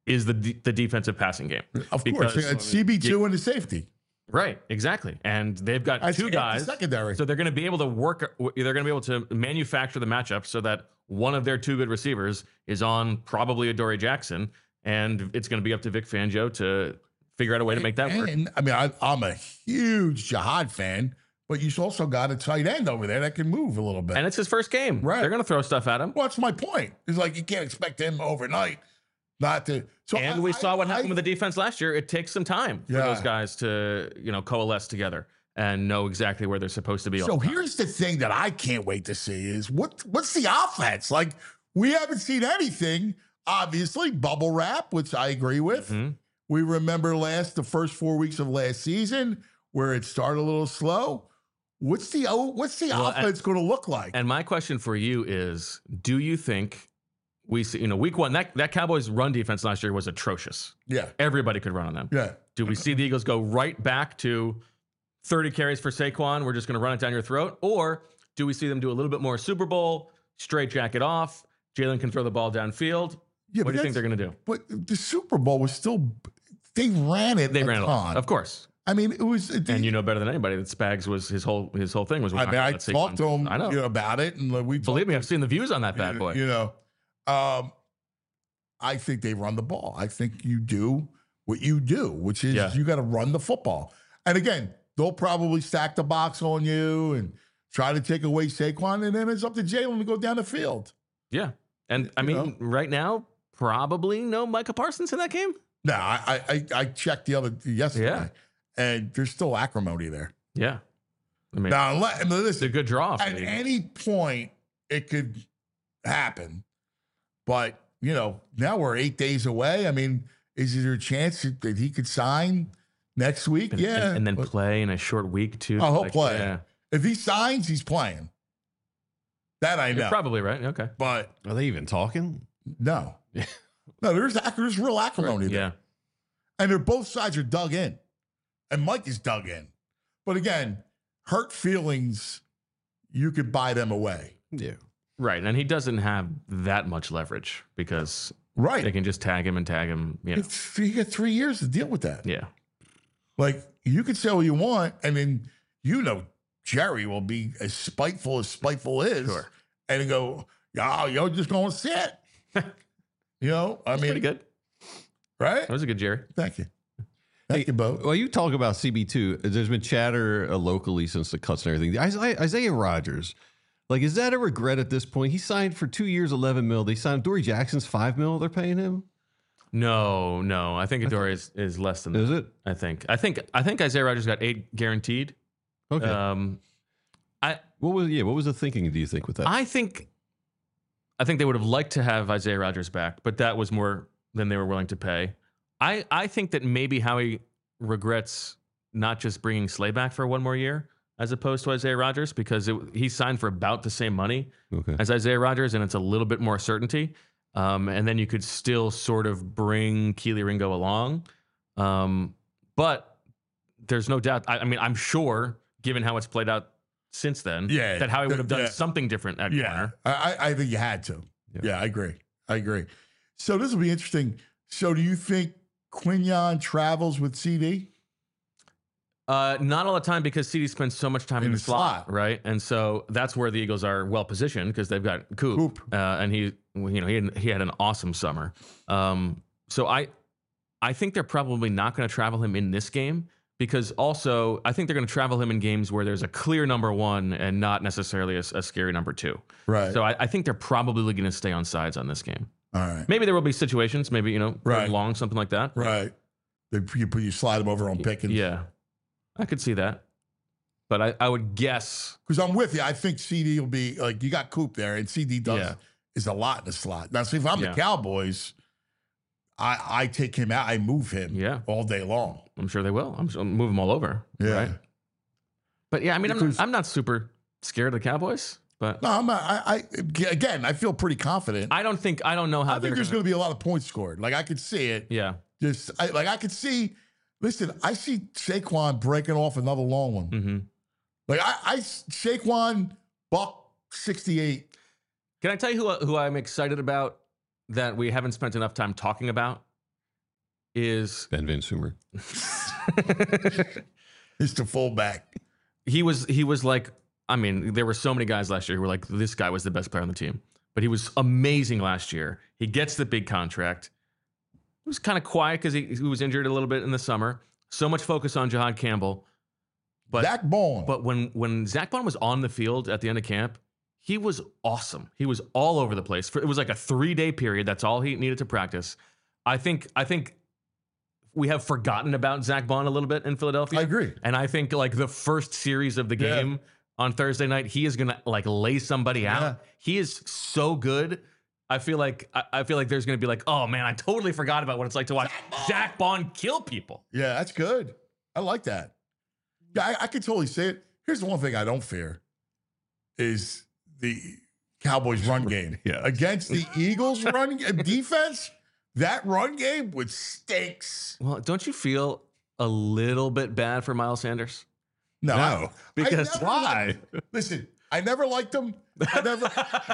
is the de- the defensive passing game. Of Because- course, it's C B two and the safety. Right, exactly. And they've got That's two it, guys. the secondary. So they're going to be able to work, they're going to be able to manufacture the matchup so that one of their two good receivers is on probably Adoree Jackson. And it's going to be up to Vic Fangio to figure out a way to make that work. And I mean, I, I'm a huge Jihad fan, but you've also got a tight end over there that can move a little bit. And it's his first game. Right. They're going to throw stuff at him. Well, that's my point. It's like you can't expect him overnight not to. So And I- we saw I- what happened I- with the defense last year. It takes some time for Yeah. those guys to, you know, coalesce together and know exactly where they're supposed to be. all So the time. here's the thing that I can't wait to see is what what's the offense? Like we haven't seen anything. Obviously, bubble wrap, which I agree with. Mhm. We remember last the first four weeks of last season where it started a little slow. What's the oh, what's the Well, and- offense going to look like? And my question for you is, do you think we see, you know, week one, that, that Cowboys run defense last year was atrocious. yeah, Everybody could run on them. yeah. Do we see the Eagles go right back to thirty carries for Saquon? We're just going to run it down your throat. Or do we see them do a little bit more Super Bowl, straight jacket off? Jalen can throw the ball downfield. Yeah, What but do you think that's- they're going to do? But the Super Bowl was still they ran it. They a ran it, ton. of course. I mean, it was. And you know better than anybody that Spags was his whole his whole thing was. we're I not mean, gonna I let Saquon- talked to him I know. you know, about it, and we Believe me, I've seen the views on that bad boy. You know, um, I think they run the ball. I think you do what you do, which is Yeah. you got to run the football. And again, they'll probably stack the box on you and try to take away Saquon, and then it's up to Jalen to go down the field. Yeah, and I You mean, know? right now, probably no Micah Parsons in that game. No, I I, I checked the other yesterday, Yeah. and there's still acrimony there. Yeah, I mean, Now, unless, I mean, it's a listen, good draw. For at the Eagles. any point it could happen, but you know, now we're eight days away. I mean, is there a chance that he could sign next week? and, yeah, and, and then but play in a short week too. Oh, he'll Like, play. Yeah, if he signs, he's playing. That I you're know, probably right. Okay. but Are they even talking? no, no, there's ac- there's real acrimony there, Yeah. and they're both sides are dug in, and Mike is dug in. But again, hurt feelings, you could buy them away, Yeah. Right, and he doesn't have that much leverage because right? they can just tag him and tag him. You know. It's, you got three years to deal with that. Yeah. Like you can say what you want, and then you know Jerry will be as spiteful as spiteful is, Sure. and go, "Yo, you're just going to sit." You know, I That's mean, pretty good. right? That was a good Jerry. Thank you, thank you, Bo. Well, you talk about C B two. There's been chatter uh, locally since the cuts and everything. Isaiah, Isaiah Rodgers, like, is that a regret at this point? He signed for two years, eleven mil. They signed Dory Jackson's five mil. They're paying him. No, no, I think Adoree is, is less than that. Is it? I think. I think. I think Isaiah Rodgers got eight guaranteed. Okay. Um, I what was yeah? What was the thinking? Do you think with that? I think. I think they would have liked to have Isaiah Rodgers back, but that was more than they were willing to pay. I I think that maybe Howie regrets not just bringing Slay back for one more year as opposed to Isaiah Rodgers because it, he signed for about the same money okay. as Isaiah Rodgers, and it's a little bit more certainty. Um, and then you could still sort of bring Keely Ringo along. Um, but there's no doubt. I, I mean, I'm sure, given how it's played out since then, Yeah, that Howie would have done yeah. something different at Yeah, corner. I, I I think you had to. Yeah. Yeah. I agree. I agree. So this will be interesting. So do you think Quinion travels with C D? Uh, not all the time because C D spends so much time in, In the, the slot, slot. right? And so that's where the Eagles are well positioned because they've got Coop, Coop. Uh, and he, you know, he had, he had an awesome summer. Um, so I, I think they're probably not going to travel him in this game because also I think they're going to travel him in games where there's a clear number one and not necessarily a, a scary number two. Right. So I, I think they're probably going to stay on sides on this game. All right. Maybe there will be situations, maybe you know, third Right. and long, something like that. Right. They, you put you slide them over on Pickens. Yeah, I could see that, but I, I would guess. Because I'm with you. I think C D will be like you got Coop there, and C D does Yeah. is a lot in the slot. Now, see, if I'm Yeah. the Cowboys, I I take him out. I move him. Yeah. all day long. I'm sure they will. I'm sure I'll move them all over. Yeah. Right? But yeah, I mean, I'm Because- not, I'm not super scared of the Cowboys, but No, I'm not, I, I again, I feel pretty confident. I, I don't think I don't know how think they're there's going gonna, to be a lot of points scored. Like I could see it. Yeah. Just I, like I could see. Listen, I see Saquon breaking off another long one. hmm Like I, I Saquon buck sixty-eight. Can I tell you who who I'm excited about that we haven't spent enough time talking about? is Ben Van Sumer. Mister Fullback. he was he was like, I mean, there were so many guys last year who were like, this guy was the best player on the team. But he was amazing last year. He gets the big contract. He was kind of quiet because he, he was injured a little bit in the summer. So much focus on Jahad Campbell. But Zach Bond. But when when Zach Bond was on the field at the end of camp, he was awesome. He was all over the place. For, it was like a three-day period. That's all he needed to practice. I think I think we have forgotten about Zach Bond a little bit in Philadelphia. I agree. And I think like the first series of the Yeah. game on Thursday night, he is gonna like lay somebody out. Yeah. He is so good. I feel like I, I feel like there's gonna be like, oh man, I totally forgot about what it's like to watch Zach Bond kill people. Yeah, that's good. I like that. Yeah, I, I can totally say it. Here's the one thing I don't fear is the Cowboys run game. Yeah. Against the Eagles run defense, that run game would stinks. Well, don't you feel a little bit bad for Miles Sanders? No. No, I- because- I never Why? liked- listen, I never liked them. I never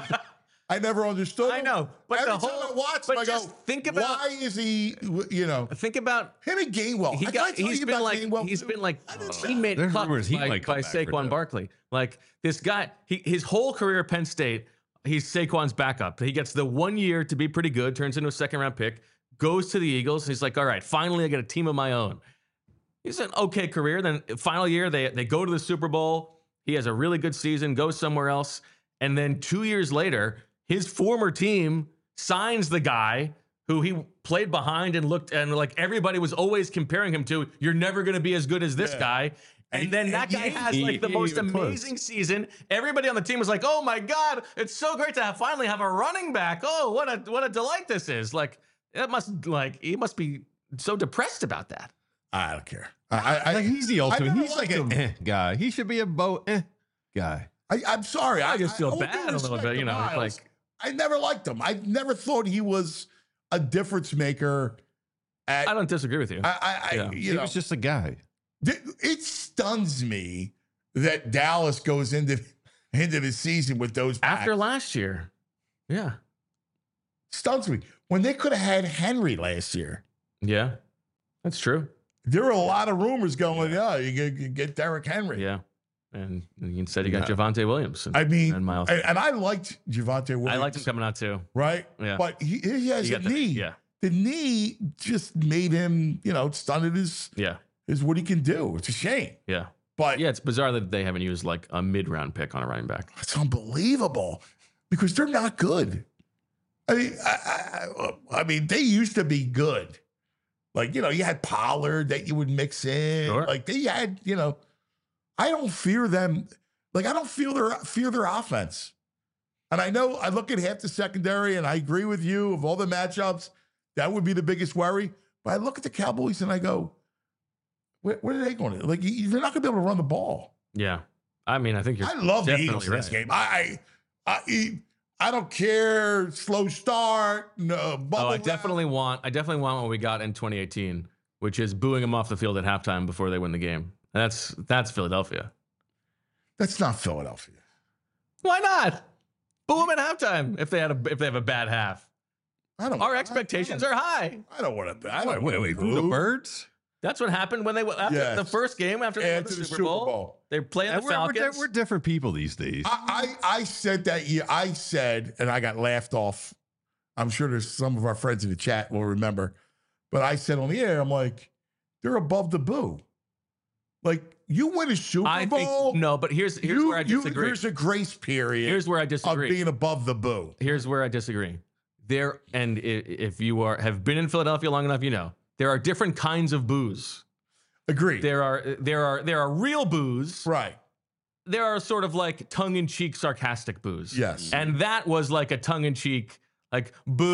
I never understood I him. know, but Every the time whole- I watch him, but I just go, think about- why is he, you know, Think about him and Gainwell. he I got gotta tell he's you been about like Gainwell, he's too. been like I didn't- teammate There's cut rumors he by, might come by back for Saquon that. Barkley. Like this guy, he his whole career at Penn State, he's Saquon's backup. He gets the one year to be pretty good, turns into a second round pick, goes to the Eagles. He's like, all right, finally I get a team of my own. He's an okay career. Then final year, they they go to the Super Bowl. He has a really good season, goes somewhere else, and then two years later, his former team signs the guy who he played behind and looked and like everybody was always comparing him to. You're never going to be as good as this Yeah. guy. And, And- then and that he guy ain't- has he- like the he ain't most even close. amazing season. Everybody on the team was like, "Oh my god, it's so great to have finally have a running back. Oh, what a what a delight this is!" Like that must like he must be so depressed about that. I don't care. I, I, Like he's the ultimate. never He's like liked an him. eh guy. He should be a bow eh guy. I, I'm sorry. I just feel all due bad a little respect bit, to you know, it's Miles, like- I never liked him. I never thought he was a difference maker. At I don't disagree with you. I, I, I Yeah. you He know, was just a guy. th- it stuns me that Dallas goes into into the season with those After backs. last year, yeah, Stuns me when they could have had Henry last year. yeah, that's true. There were a lot of rumors going, yeah, you get, you get Derrick Henry. Yeah, and instead you got No. Javonte Williams. And, I mean, and Miles. and, and I liked Javonte Williams. I liked him coming out too. right? Yeah. But he, he has You a got the- knee. yeah. The knee just made him, you know, stunned his Yeah, is what he can do. It's a shame. yeah, But yeah. It's bizarre that they haven't used like a mid-round pick on a running back. it's unbelievable because they're not good. I mean, I, I, I mean, they used to be good. Like, you know, you had Pollard that you would mix in. Sure. Like they had, you know, I don't fear them. Like I don't feel their fear their offense. And I know I look at half the secondary, and I agree with you of all the matchups. That would be the biggest worry. But I look at the Cowboys and I go, where, where are they going to? Like, you- they're not going to be able to run the ball. Yeah, I mean, I think you're. I love the definitely Eagles in this right. game. I, I, I, I don't care. Slow start. No, bubble Oh, I wrap. definitely want. I definitely want what we got in twenty eighteen, which is booing them off the field at halftime before they win the game. And that's that's Philadelphia. That's not Philadelphia. Why not? Boo them at halftime if they had a if they have a bad half. I don't. Our expectations I, are high. I don't want to. I don't Wait, wait, wanna wait. boo. The birds? That's what happened when they went after Yes. the first game after they won After the, the Super, Super Bowl. Bowl. They're playing the And we're, we're, di- Falcons. we're different people these days. I, I, I said that year. I said, and I got laughed off. I'm sure there's some of our friends in the chat will remember, but I said on the air, I'm like, they're above the boo. Like you win a Super I Bowl. think no, but here's here's you, where I you- disagree. There's a grace period. Here's where I of disagree. being above the boo. Here's where I disagree. There and i- if you are have been in Philadelphia long enough, you know there are different kinds of boos. Agreed. There are there are there are real boos. right. There are sort of like tongue-in-cheek, sarcastic boos. Yes. And that was like a tongue-in-cheek, like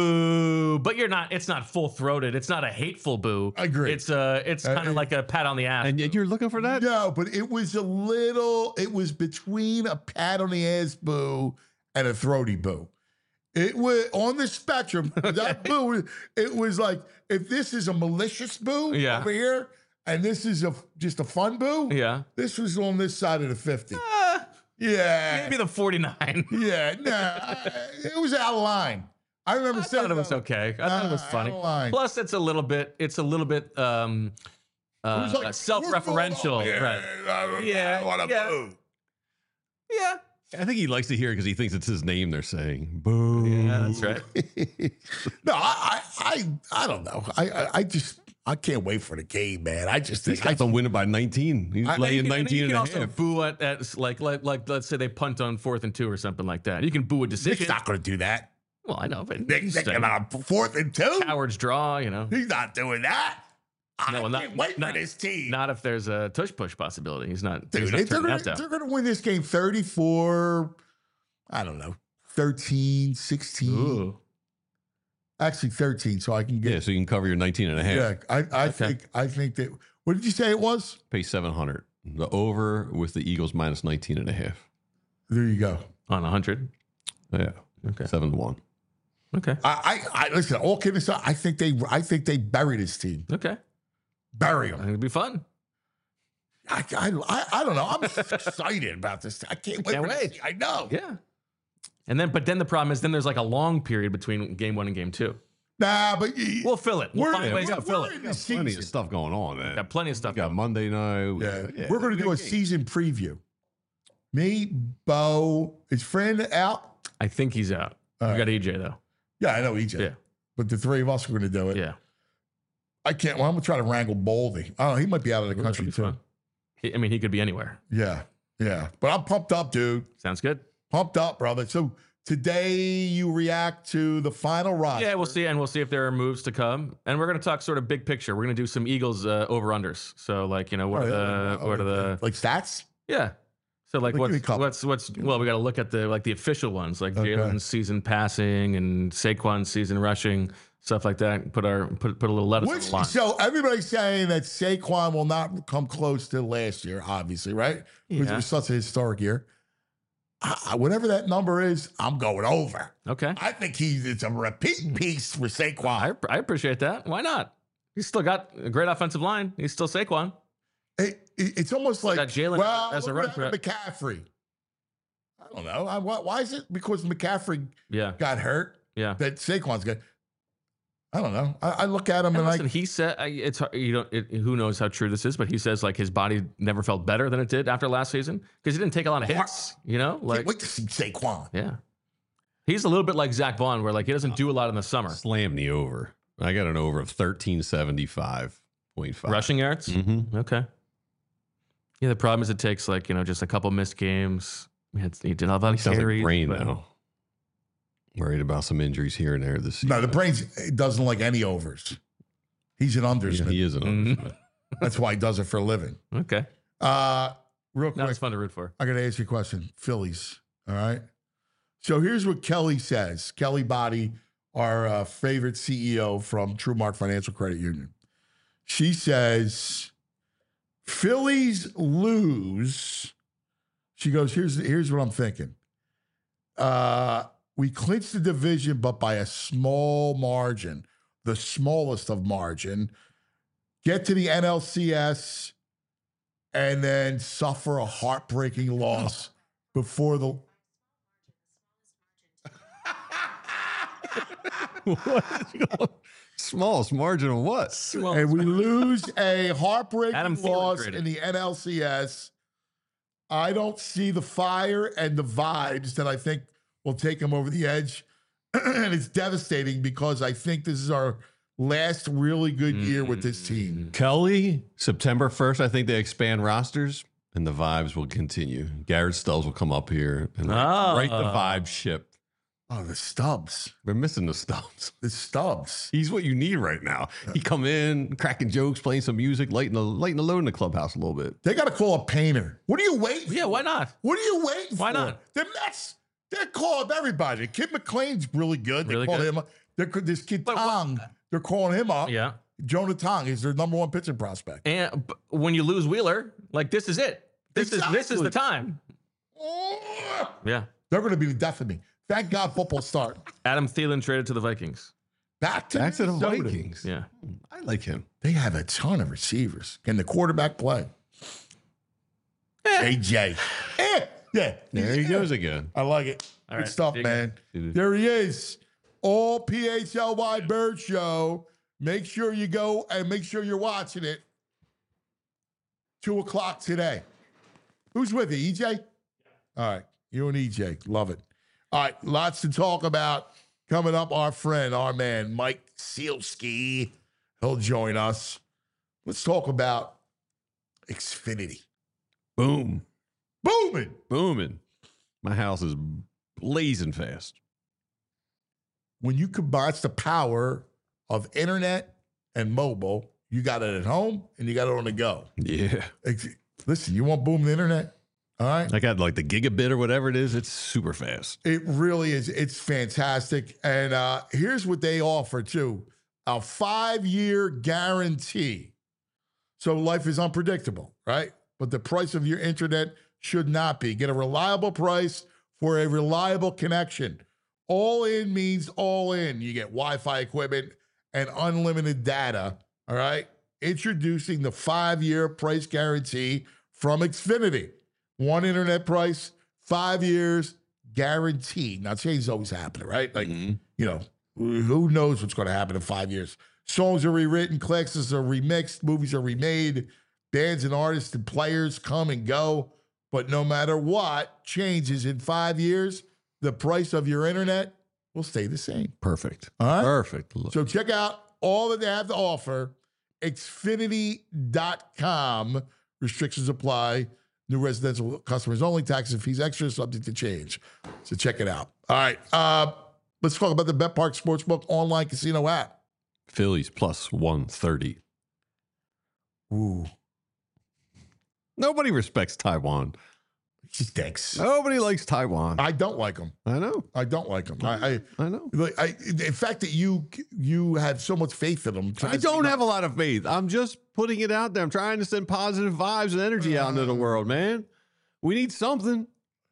boo, but you're not. It's not full-throated. It's not a hateful boo. Agreed. It's uh, it's Uh, kind of like a pat on the ass. and yet you're looking for that? No, but it was a little, it was between a pat on the ass boo and a throaty boo. It was on the spectrum. That boo, it was like, if this is a malicious boo Yeah. over here, and this is a just a fun boo, yeah. this was on this side of the fifty. Uh, Yeah. maybe the forty-nine. Yeah, nah, it was out of line. I remember I saying thought it was that. okay. I thought it was Nah, funny. I don't lie. Plus, it's a little bit. It's a little bit um, uh, It was like, self-referential. "What's going on?" Right. Yeah, Yeah, I want to yeah. move. Yeah. I think he likes to hear it because he thinks it's his name they're saying. Boo. Yeah, that's right. No, I, I, I, I don't know. I, I, I just, I can't wait for the game, man. I just He's think I, got them winning by nineteen. He's I- laying You can- nineteen you and can a also half. boo at, at like, like like let's say they punt on fourth and two or something like that. You can boo a decision. Nick's not going to do that. Well, I know, but Nick, he's Nick saying about fourth and two. cowards draw. You know, He's not doing that. I No, well, not- can't wait not- for this team. not if there's a tush push possibility. He's not. Dude, he's not they're turning gonna, that down. they're gonna win this game thirty-four, I don't know, thirteen, sixteen. Ooh. Actually thirteen, so I can Yeah, get so you can cover your nineteen and a half. yeah, I, I Okay. think I think that what did you say it was? Pay seven hundred. The over with the Eagles minus nineteen and a half. There you go. On a hundred. Yeah. Okay. seven to one. Okay. I, I, I listen, all kidding aside, I think they I think they bury this team. Okay. Bury I think them. it'd be fun. I, I, I, I don't know. I'm excited about this. I can't wait. Can't for this. wait. I know. Yeah. And then, but then the problem is, then there's like a long period between game one and game two. Nah, but y- We'll fill it. We'll We're- find ways we're- to fill we're it. in Got the plenty season. of stuff going on, man. Got plenty of stuff. Got Monday night. Yeah, we're going to do a season preview. Me, Bo, is friend out? I think he's out. All We right. got E J though. Yeah, I know E J. Yeah. But the three of us are going to do it. Yeah. I can't. Well, I'm going to try to wrangle Boldy. I don't know. He might be out of the Ooh, country that'd too. be fun. He- I mean, he could be anywhere. Yeah, yeah. But I'm pumped up, dude. Sounds good. Pumped up, brother. So today you react to the final roster. Yeah, we'll see, and we'll see if there are moves to come. And we're going to talk sort of big picture. We're going to do some Eagles uh, over unders. So, like, you know, what Oh, are yeah. the what are the like stats? yeah. So like Like, give me a what's couple. what's what's well, we got to look at the like the official ones, like Okay. Jalen's season passing and Saquon's season rushing, stuff like that. Put our put put a little lettuce on Which, the line. so everybody's saying that Saquon will not come close to last year, obviously, right? Because it Yeah. was such a historic year. I, I- whatever that number is, I'm going over. Okay, I think he's it's a repeat piece for Saquon. I I appreciate that. Why not? He's still got a great offensive line. He's still Saquon. It- it- it's almost like got Jalen well, as a look run what happened to McCaffrey. I don't know. I, why, why is it because McCaffrey Yeah, got hurt yeah. that Saquon's good? I don't know. I, I look at him And and, listen, like, he said I- it's hard- you know it, who knows how true this is, but he says like his body never felt better than it did after last season because he didn't take a lot of hits. You know, can't like wait to see Saquon. yeah, he's a little bit like Zach Vaughn, where like he doesn't do a lot in the summer. Slam the over. I got an over of thirteen seventy-five point five. Rushing yards. Mm-hmm. Okay. Yeah, the problem is it takes like you know just a couple missed games. He, had, he did a lot of He sounds like carries, brain but- now. Worried about some injuries here and there this season. No, the brains doesn't like any overs. He's an Yeah, undersman. he is an Mhm. undersman. That's why he does it for a living. Okay, Uh, real no, quick, it's fun to root for. I got to ask you a question. Phillies, all right? So here's what Kelly says. Kelly Body, our uh, favorite C E O from TrueMark Financial Credit Union. She says, Phillies lose. She goes, here's, here's what I'm thinking. Uh, we clinched the division, but by a small margin, the smallest of margin. Get to the N L C S and then suffer a heartbreaking loss before the. What? Smallest margin of what? And we lose a heartbreaking Adam Thielen loss traded. in the N L C S. I don't see the fire and the vibes that I think will take him over the edge. And it's devastating because I think this is our last really good year with this team. Kelly, September first, I think they expand rosters and the vibes will continue. Garrett Stubbs will come up here and Ah. right the vibe ship. Oh, the Stubbs. We're missing the Stubbs. The Stubbs. He's what you need right now. He come in, cracking jokes, playing some music, lighting the lighting the load in the clubhouse a little bit. They got to call a painter. What are you waiting for? Yeah, why not? What are you waiting Why for? not? The Mets, they're calling everybody. Kid McLean's really good. They Really call good? him up. They're, this kid But what- Tong, they're calling him up. Yeah, Jonah Tong is their number one pitching prospect. and b- when you lose Wheeler, like this is it. This is this is Exactly. the time. Oh, Yeah, they're going to be the death of me. Thank God football start. Adam Thielen traded to the Vikings. Back to, Back to the Minnesota. Vikings. Yeah, I like him. They have a ton of receivers. Can the quarterback play? A J. Eh, yeah. There he goes again. I like it. All Good right, stuff, dig it. man. Dude. There he is. all P H L Y Bird Show. Make sure you go and make sure you're watching it. Two o'clock today. Who's with you, E J? All right, you and E J. Love it. All right, lots to talk about. Coming up, our friend, our man, Mike Sealski. He'll join us. Let's talk about Xfinity. Boom. Booming. Booming. My house is blazing fast. When you combine the power of internet and mobile, you got it at home and you got it on the go. Yeah. Ex- Listen, you want booming internet? All right. I got like the gigabit or whatever it is. It's super fast. It really is. It's fantastic. And uh, here's what they offer, too. A five-year guarantee. So life is unpredictable, right? But the price of your internet should not be. Get a reliable price for a reliable connection. All in means all in. You get Wi-Fi equipment and unlimited data, all right? Introducing the five-year price guarantee from Xfinity. One internet price, five years, guaranteed. Now, change is always happening, right? Like, Mhm. you know, who knows what's going to happen in five years? Songs are rewritten, classes are remixed, movies are remade, bands and artists and players come and go. But no matter what changes in five years, the price of your internet will stay the same. Perfect. All right? Perfect. So check out all that they have to offer, Xfinity dot com. Restrictions apply. New residential customers only. Taxes and fees extra, subject to change. So check it out. All right. Uh, let's talk about the BetPark Sportsbook online casino app. Phillies plus one thirty. Ooh, Nobody respects Taiwan. he stinks. Nobody likes Taiwan. I don't like him. I know. I don't like him. I, I, I know. like, I, the fact that you you have so much faith in him. I don't have a lot of faith. I'm just putting it out there. I'm trying to send positive vibes and energy out into the world, man. We need something.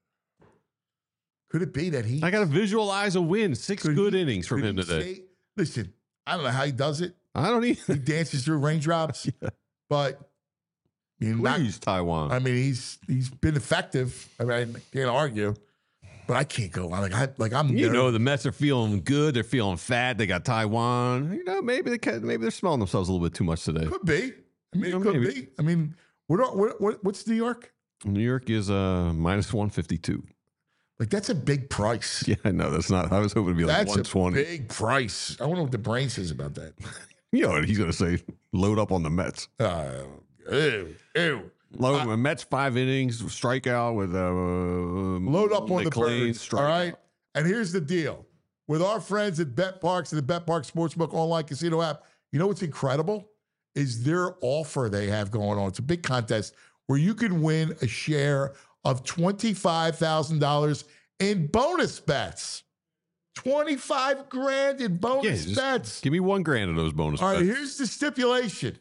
Could it be that he? I got to visualize a win. Six could good he- innings from could him he today. say- listen, I don't know how he does it. I don't He even. dances through raindrops, but I mean, not- Please, Taiwan. I mean, he's he's been effective. I mean, I can't argue, but I can't go on. Like I like I'm. You nervous. know, the Mets are feeling good. They're feeling fat. They got Taiwan. You know, maybe they can, maybe they're smelling themselves a little bit too much today. could be. I mean, You it know, could maybe. be. I mean, what, are- what what what's New York? New York is uh minus one fifty-two. Like that's a big price. Yeah, I know. That's not. I was hoping to be like That's one a twenty. big price. I wonder what the brain says about that. You know what he's going to say? Load up on the Mets. Uh, ew, ew. Load uh, Mets five innings strikeout with uh, Load up on the McLean birds. All right. And here's the deal: with our friends at BetParks and the BetParks Sportsbook online casino app, you know what's incredible is their offer they have going on. It's a big contest where you can win a share of twenty-five thousand dollars in bonus bets. twenty-five grand in Yeah, bonus just bets. give me one grand of those bonus All right, bets. here's the stipulation.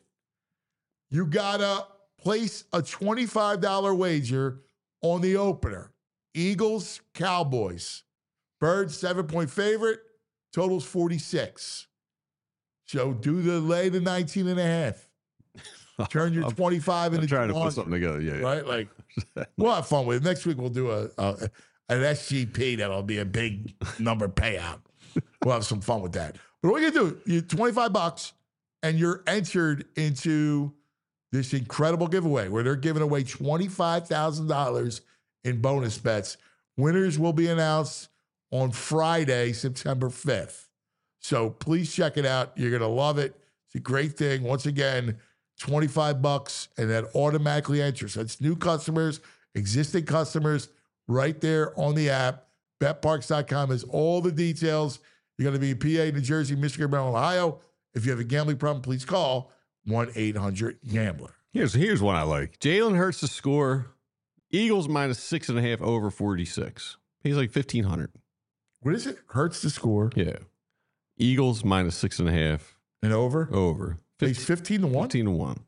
You gotta place a twenty-five dollars wager on the opener. Eagles, Cowboys. Birds, seven-point favorite. Totals forty-six. So do the lay to nineteen and a half. Turn your I'm- twenty-five I'm into trying to two put hundred, something together. Yeah, yeah. right? Like, we'll have fun with it. Next week we'll do a, a an S G P that'll be a big number payout. We'll have some fun with that. But what you do, you twenty-five bucks, and you're entered into this incredible giveaway where they're giving away twenty-five thousand dollars in bonus bets. Winners will be announced on Friday, September fifth. So please check it out. You're going to love it. It's a great thing. Once again, twenty-five bucks, and that automatically enters. That's new customers, existing customers, right there on the app. bet parks dot com has all the details. You're going to be in P A, New Jersey, Michigan, Maryland, Ohio. If you have a gambling problem, please call one eight hundred gambler. Here's here's one I like. Jalen Hurts to score. Eagles minus six and a half over forty-six. He's like fifteen hundred. What is it? Hurts to score Yeah. Eagles minus six and a half and over. over. He's fifteen to one. fifteen to one.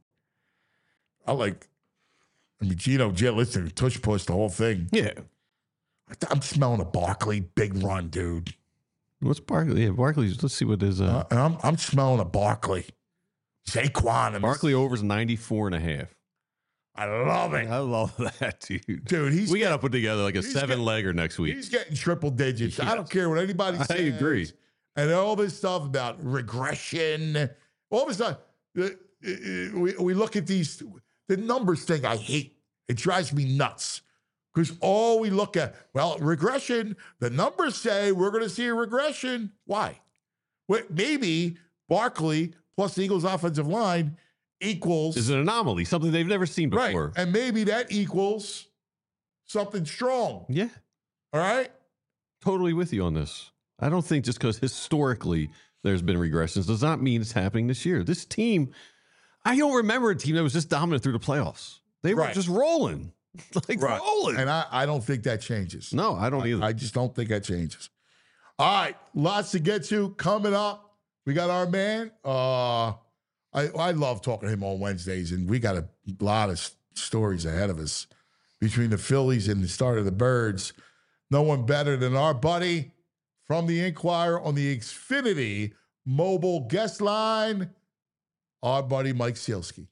I like. I mean, Gino, Jay, listen, tush push the whole thing. Yeah. I'm smelling a Barkley big run, dude. What's Barkley? Yeah, Barkley's. Let's see what his. Uh, Uh, and I'm I'm smelling a Barkley. Saquon. I'm- Barkley overs ninety-four and a half. I love it, I love that, dude. dude. He's We got to put together like a he's seven getting- legger next week. he's getting triple digits. I don't Yes. care what anybody I says. agree. And all this stuff about regression, all this stuff. uh, uh, We, we look at these, the numbers thing I hate. It drives me nuts. Because all we look at, well, regression, the numbers say we're going to see a regression. Why? Well, maybe Barkley plus the Eagles offensive line equals. Is an anomaly, something they've never seen before. Right. And maybe that equals something strong. Yeah. All right? Totally with you on this. I don't think just because historically there's been regressions does not mean it's happening this year. This team, I don't remember a team that was just dominant through the playoffs. They were Right. just rolling. Like Right. rolling. And I, I don't think that changes. No, I don't I, either. I just don't think that changes. All right, lots to get to coming up. We got our man. Uh, I I love talking to him on Wednesdays, and we got a lot of s- stories ahead of us between the Phillies and the start of the Birds. No one better than our buddy from the Inquirer on the Xfinity mobile guest line, our buddy Mike Sielski.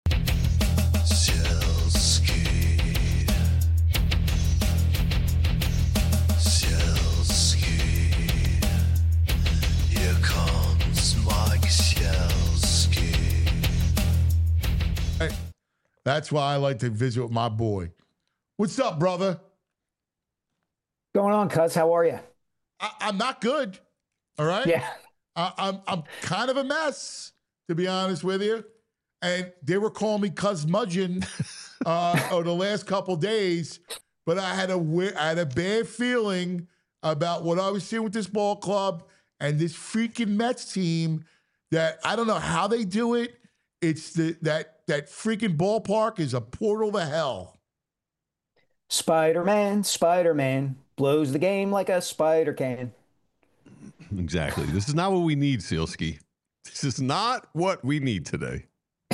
Hey, that's why I like to visit with my boy. What's up, brother? Going on, cuz? How are you? I, I'm not good. All right. Yeah. I, I'm I'm kind of a mess, to be honest with you. And they were calling me Cuz Mudgeon uh, over the last couple days, but I had a we- I had a bad feeling about what I was seeing with this ball club and this freaking Mets team. That I don't know how they do it. It's the that that freaking ballpark is a portal to hell. Spider-Man, Spider-Man blows the game like a spider can. Exactly. This is not what we need, Sielski. This is not what we need today.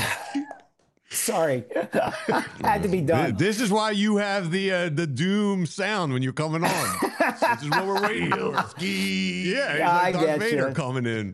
Sorry. Had to be done. This is why you have the uh, the doom sound when you're coming on. This is what we're waiting for. Yeah, he's Yeah, like I Darth get Vader you. coming in.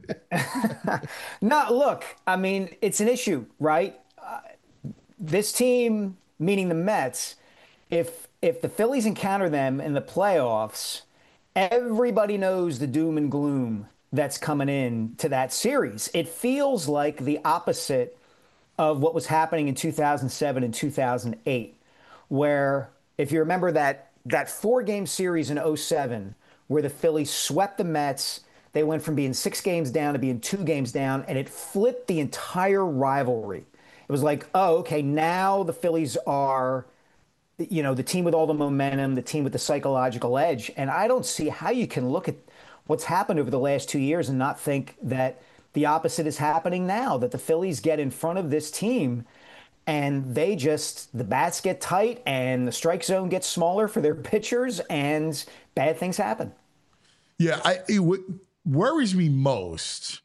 No, look, I mean, it's an issue, right? Uh, this team, meaning the Mets, if if the Phillies encounter them in the playoffs, everybody knows the doom and gloom that's coming in to that series. It feels like the opposite of what was happening in two thousand seven and two thousand eight, where if you remember that that four-game series in oh seven where the Phillies swept the Mets, they went from being six games down to being two games down, and it flipped the entire rivalry. It was like, oh, okay, now the Phillies are, you know, the team with all the momentum, the team with the psychological edge. And I don't see how you can look at what's happened over the last two years and not think that the opposite is happening now, that the Phillies get in front of this team and they just, the bats get tight and the strike zone gets smaller for their pitchers and bad things happen. Yeah, I it, what worries me most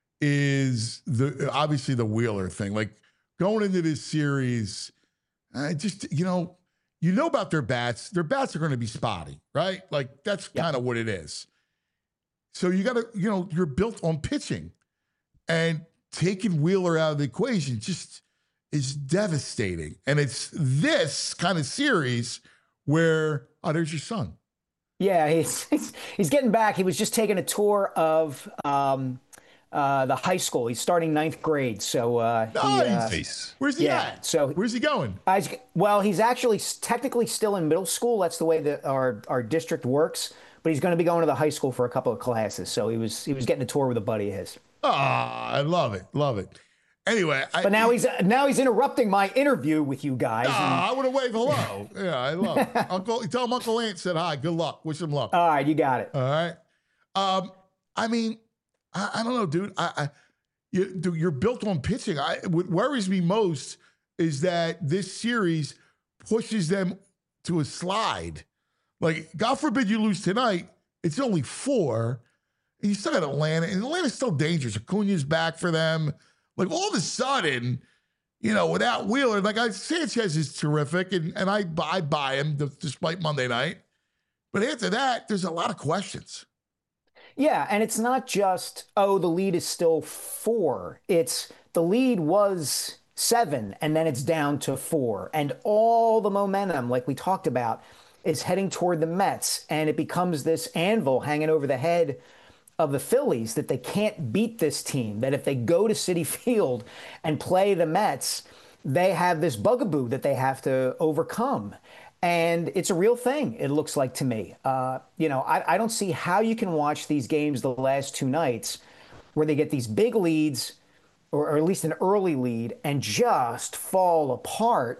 is the obviously the Wheeler thing. Like going into this series, I just you know you know about their bats. Their bats are going to be spotty, right? Like that's Yep. kind of what it is. So you got to you know you're built on pitching, and taking Wheeler out of the equation just is devastating. And it's this kind of series where oh, there's your son. Yeah, he's, he's he's getting back. He was just taking a tour of um, uh, the high school. He's starting ninth grade. So uh, he, uh, Nice. Face. Where's he yeah, at? so- where's he going? I was- well, he's actually s- technically still in middle school. That's the way that our our district works. But he's going to be going to the high school for a couple of classes. So he was he was getting a tour with a buddy of his. Ah, I love it, love it. Anyway, I, But now he's now he's interrupting my interview with you guys. and- Ah, I would have waved hello. Yeah, I love it. Uncle, tell him Uncle Ant said hi. Good luck. Wish him luck. all right, you got it. All right. Um, I mean, I, I don't know, dude. I, I you, dude, you're built on pitching. I what worries me most is that this series pushes them to a slide. Like, God forbid you lose tonight. It's only four. And you still got Atlanta, and Atlanta's still dangerous. Acuna's back for them. Like all of a sudden, you know, without Wheeler, like I Sanchez is terrific, and, and I, I buy him despite Monday night. But after that, there's a lot of questions. Yeah, and it's not just, oh, the lead is still four. It's the lead was seven, and then it's down to four. And all the momentum, like we talked about, is heading toward the Mets. And it becomes this anvil hanging over the head of the Phillies that they can't beat this team, that if they go to Citi Field and play the Mets, they have this bugaboo that they have to overcome. And it's a real thing, it looks like to me. Uh, you know, I, I don't see how you can watch these games the last two nights where they get these big leads, or, or at least an early lead, and just fall apart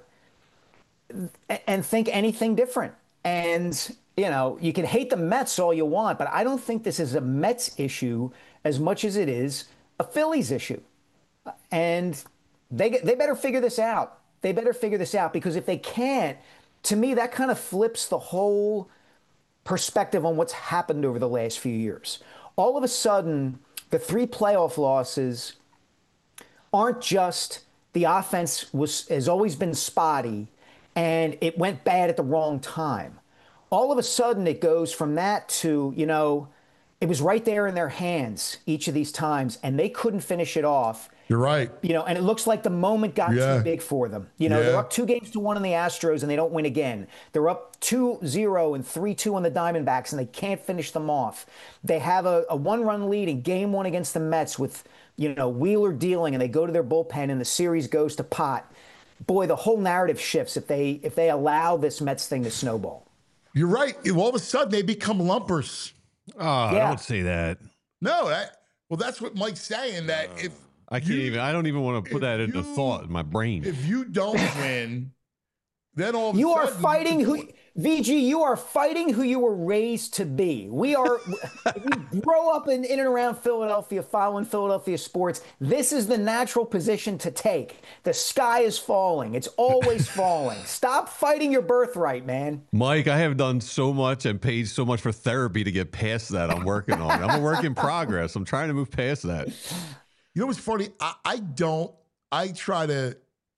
and think anything different. And, you know, you can hate the Mets all you want, but I don't think this is a Mets issue as much as it is a Phillies issue. And they they better figure this out. They better figure this out, because if they can't, to me, that kind of flips the whole perspective on what's happened over the last few years. All of a sudden, the three playoff losses aren't just the offense was has always been spotty and it went bad at the wrong time. All of a sudden, it goes from that to, you know, it was right there in their hands each of these times, and they couldn't finish it off. You're right. You know, and it looks like the moment got Yeah. too big for them. You know, Yeah. they're up two games to one on the Astros, and they don't win again. They're up two zero and three two on the Diamondbacks, and they can't finish them off. They have a, a one-run lead in game one against the Mets with, you know, Wheeler dealing, and they go to their bullpen, and the series goes to pot. Boy, the whole narrative shifts if they if they allow this Mets thing to snowball. You're right. All of a sudden, they become lumpers. Oh, Yeah. don't say that. No, that, well, that's what Mike's saying, that if I can't you- even. I don't even want to put if that into you- thought in my brain. if you don't win, then all of a You are sudden- fighting who, V G, you are fighting who you were raised to be. We are, if you grow up in, in and around Philadelphia, following Philadelphia sports, this is the natural position to take. The sky is falling. It's always falling. Stop fighting your birthright, man. Mike, I have done so much and paid so much for therapy to get past that. I'm working on it. I'm a work in progress. I'm trying to move past that. You know what's funny? I, I don't, I try to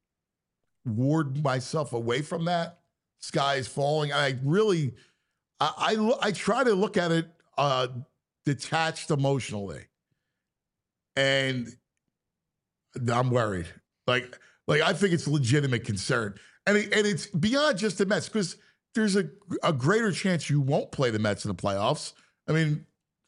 ward myself away from that. Sky is falling. I really, I, I, lo- I try to look at it uh, detached emotionally. And I'm worried. Like, like I think it's a legitimate concern. And, it, and it's beyond just the Mets, because there's a, a greater chance you won't play the Mets in the playoffs. I mean,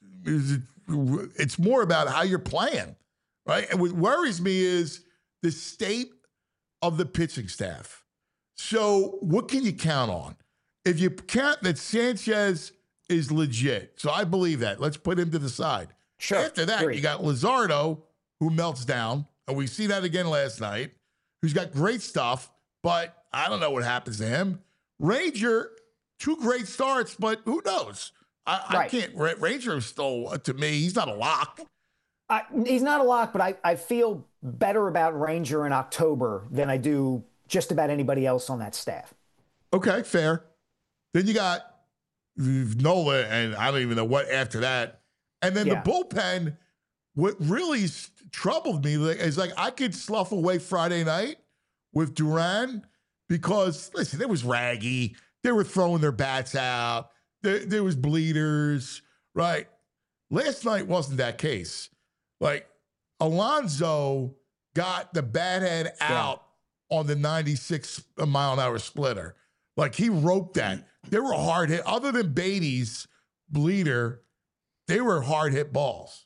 it's more about how you're playing. Right. And what worries me is the state of the pitching staff. So what can you count on? If you count that Sanchez is legit, so I believe that. Let's put him to the side. Sure. After that, Agreed. you got Luzardo, who melts down, and we see that again last night, who's got great stuff, but I don't know what happens to him. Ranger, two great starts, but who knows? I, I Right. can't. Ra- Ranger is still, to me, he's not a lock. I, he's not a lock, but I, I feel better about Ranger in October than I do just about anybody else on that staff. Okay, fair. Then you got Nola, and I don't even know what after that. And then Yeah. the bullpen, what really s- troubled me is like I could slough away Friday night with Duran because, listen, it was raggy. They were throwing their bats out. There, there was bleeders, right? Last night wasn't that case. Like, Alonso got the bat head out on the ninety-six mile an hour splitter. Like, he roped that. They were hard hit. Other than Beatty's bleeder, they were hard hit balls.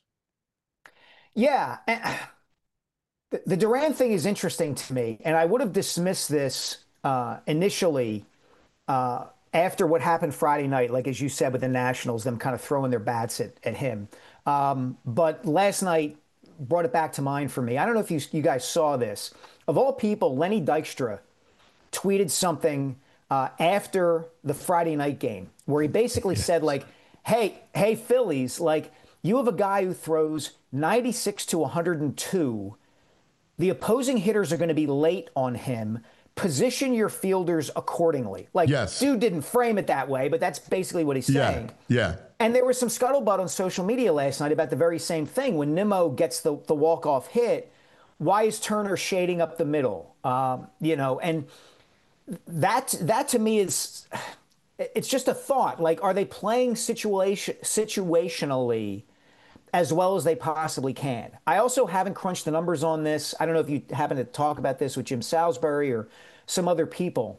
Yeah. and The, the Duran thing is interesting to me, and I would have dismissed this uh, initially uh, after what happened Friday night, like as you said with the Nationals, them kind of throwing their bats at, at him. Um, but last night brought it back to mind for me. I don't know if you, you guys saw this. Of all people, Lenny Dykstra tweeted something uh, after the Friday night game where he basically said, like, hey, hey, Phillies, like, you have a guy who throws ninety-six to one hundred two. The opposing hitters are going to be late on him. Position your fielders accordingly. Like, Yes. dude didn't frame it that way, but that's basically what he's saying. Yeah. Yeah. And there was some scuttlebutt on social media last night about the very same thing. When Nimmo gets the, the walk-off hit, why is Turner shading up the middle? Um, you know, and that that to me is, it's just a thought. Like, are they playing situation situationally as well as they possibly can? I also haven't crunched the numbers on this. I don't know if you happen to talk about this with Jim Salisbury or some other people.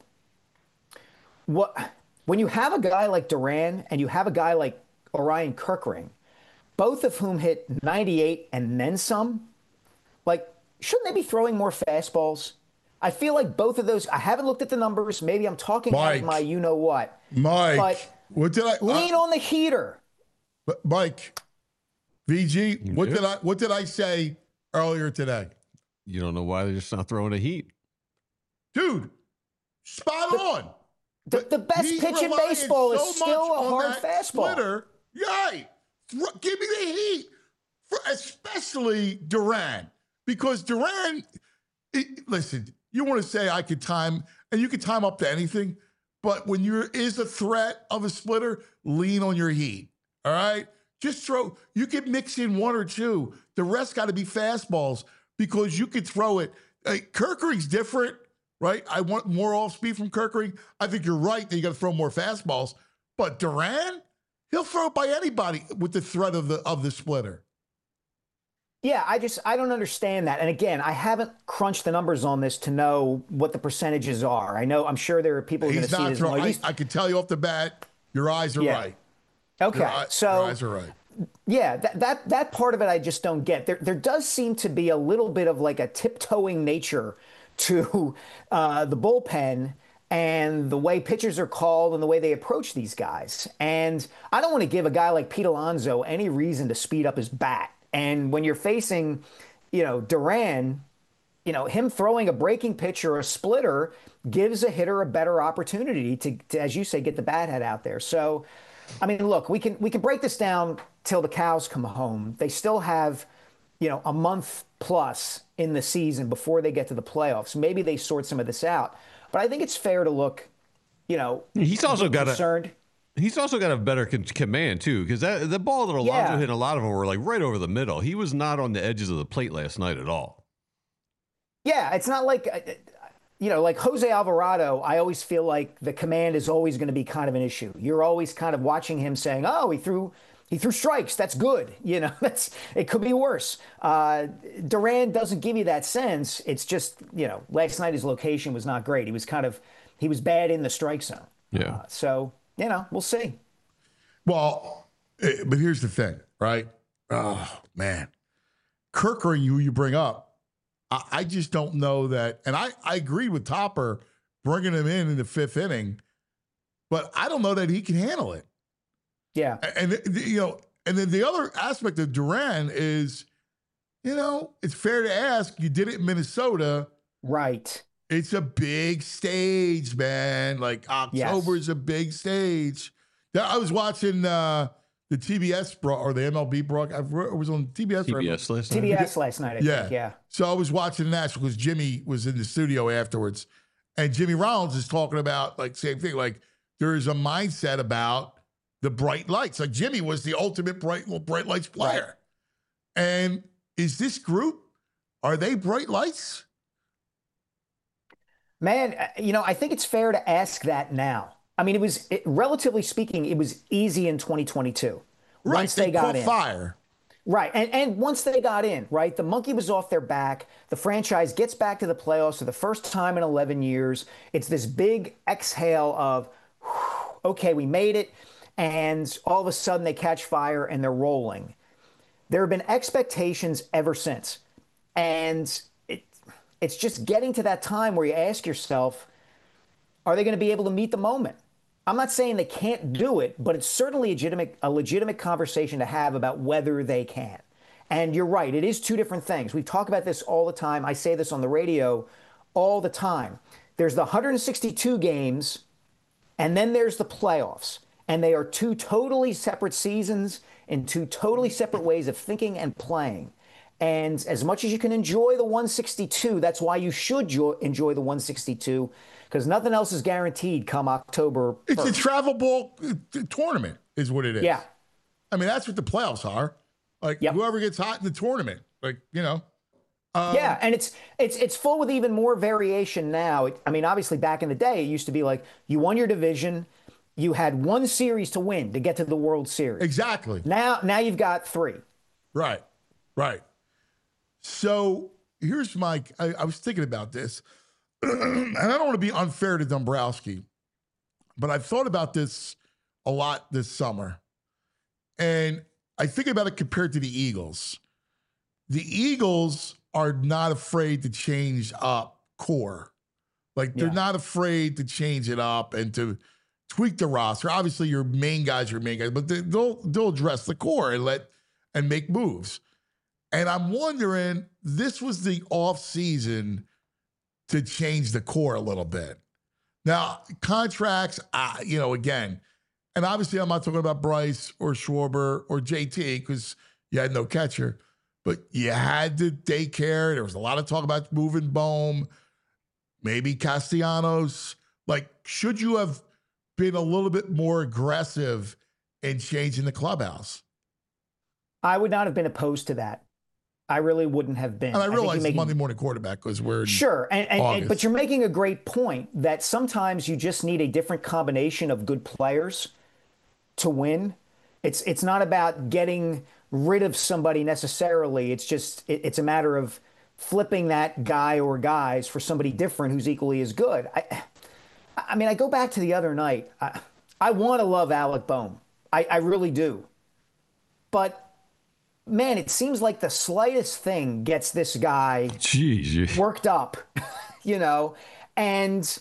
What when you have a guy like Duran and you have a guy like Orion Kirkring, both of whom hit ninety-eight and then some. Like, shouldn't they be throwing more fastballs? I feel like both of those, I haven't looked at the numbers. Maybe I'm talking Mike, out of my you know what. Mike, But what did I lean uh, on the heater. but Mike, V G, what Yeah. did I what did I say earlier today? You don't know why they're just not throwing a heat. Dude, spot on. The, the best He's pitch in relying baseball is so still much a on hard that fastball. Splitter. Right. Thro- Give me the heat, for especially Duran, because Duran. It, listen, you want to say I could time, and you can time up to anything, but when there is a threat of a splitter, lean on your heat. All right, just throw. You can mix in one or two. The rest got to be fastballs because you could throw it. Like, Kerkering's different. Right? I want more off speed from Kerkering. I think you're right that you got to throw more fastballs. But Duran, he'll throw it by anybody with the threat of the of the splitter. Yeah, I just I don't understand that. And again, I haven't crunched the numbers on this to know what the percentages are. I know I'm sure there are people who are going He's to see not this. throwing. Like, I, these- I can tell you off the bat, your eyes are Yeah. right. okay, Your, eye- so your eyes are right. yeah, that, that that part of it I just don't get. There there does seem to be a little bit of like a tiptoeing nature to uh, the bullpen and the way pitchers are called and the way they approach these guys. And I don't want to give a guy like Pete Alonso any reason to speed up his bat. And when you're facing, you know, Duran, you know, him throwing a breaking pitch or a splitter gives a hitter a better opportunity to, to, as you say, get the bat head out there. So, I mean, look, we can we can break this down till the cows come home. They still have, you know, a month plus in the season before they get to the playoffs. Maybe they sort some of this out. But I think it's fair to look, you know, He's also got a concerned. he's also got a better con- command too, because that the ball that Alonso Yeah. hit, a lot of them were like right over the middle. He was not on the edges of the plate last night at all. Yeah, it's not like, uh, you know, like Jose Alvarado, I always feel like the command is always going to be kind of an issue. You're always kind of watching him saying, oh, he threw he threw strikes. That's good. You know, that's it could be worse. Uh, Duran doesn't give you that sense. It's just, you know, last night his location was not great. He was kind of, he was bad in the strike zone. Yeah. Uh, so, you know, we'll see. Well, eh, but here's the thing, right? Oh man, Kerkering, who you bring up, I, I just don't know that. And I I agree with Topper bringing him in in the fifth inning, but I don't know that he can handle it. Yeah. And, and you know, and then the other aspect of Duran is, you know, it's fair to ask. You did it in Minnesota. Right. It's a big stage, man. Like October Yes. is a big stage. Now, I was watching uh, the T B S bro- or the M L B broadcast. I was on T B S. T or- B S last night. T B S last night, I Yeah. think. Yeah. So I was watching the National because Jimmy was in the studio afterwards, and Jimmy Rollins is talking about like same thing. Like there is a mindset about the bright lights. Like Jimmy was the ultimate bright bright lights player, and is this group? Are they bright lights? Man, uh, you know, I think it's fair to ask that now. I mean, it was, it, relatively speaking, it was easy in twenty twenty-two. Right, Once they, got caught in. fire. Right. And, and once they got in, right, the monkey was off their back. The franchise gets back to the playoffs for the first time in eleven years. It's this big exhale of, whew, okay, we made it. And all of a sudden they catch fire and they're rolling. There have been expectations ever since. And it, it's just getting to that time where you ask yourself, are they going to be able to meet the moment? I'm not saying they can't do it, but it's certainly a legitimate, a legitimate conversation to have about whether they can. And you're right, it is two different things. We talk about this all the time. I say this on the radio all the time. There's the one hundred sixty-two games, and then there's the playoffs. And they are two totally separate seasons and two totally separate ways of thinking and playing. And as much as you can enjoy the one sixty-two, that's why you should jo- enjoy the one sixty-two, because nothing else is guaranteed come October It's a first. travel ball uh, tournament, is what it is. Yeah. I mean, that's what the playoffs are. Like Yep. whoever gets hot in the tournament, like you know. Yeah, and it's it's it's full with even more variation now. It, I mean, obviously back in the day, it used to be like you won your division, you had one series to win to get to the World Series. Exactly. Now, now you've got three. Right. Right. So here's my. I, I was thinking about this, and I don't want to be unfair to Dombrowski, but I've thought about this a lot this summer, and I think about it compared to the Eagles. The Eagles are not afraid to change up core. Like, they're Yeah. not afraid to change it up and to tweak the roster. Obviously, your main guys are your main guys, but they, they'll they'll address the core and let and make moves. And I'm wondering, this was the off season to change the core a little bit. Now, contracts, uh, you know, again, and obviously I'm not talking about Bryce or Schwarber or J T because you had no catcher, but you had to take care. There was a lot of talk about moving Bohm, maybe Castellanos. Like, should you have been a little bit more aggressive in changing the clubhouse? I would not have been opposed to that. I really wouldn't have been. And I think realize you're making- Monday morning quarterback because we're in Sure, and, and, and August. but you're making a great point that sometimes you just need a different combination of good players to win. It's it's not about getting rid of somebody necessarily. It's just it, it's a matter of flipping that guy or guys for somebody different who's equally as good. I, I mean, I go back to the other night. I, I want to love Alec Bohm. I, I really do, but. Man, it seems like the slightest thing gets this guy Jeez. worked up, you know? And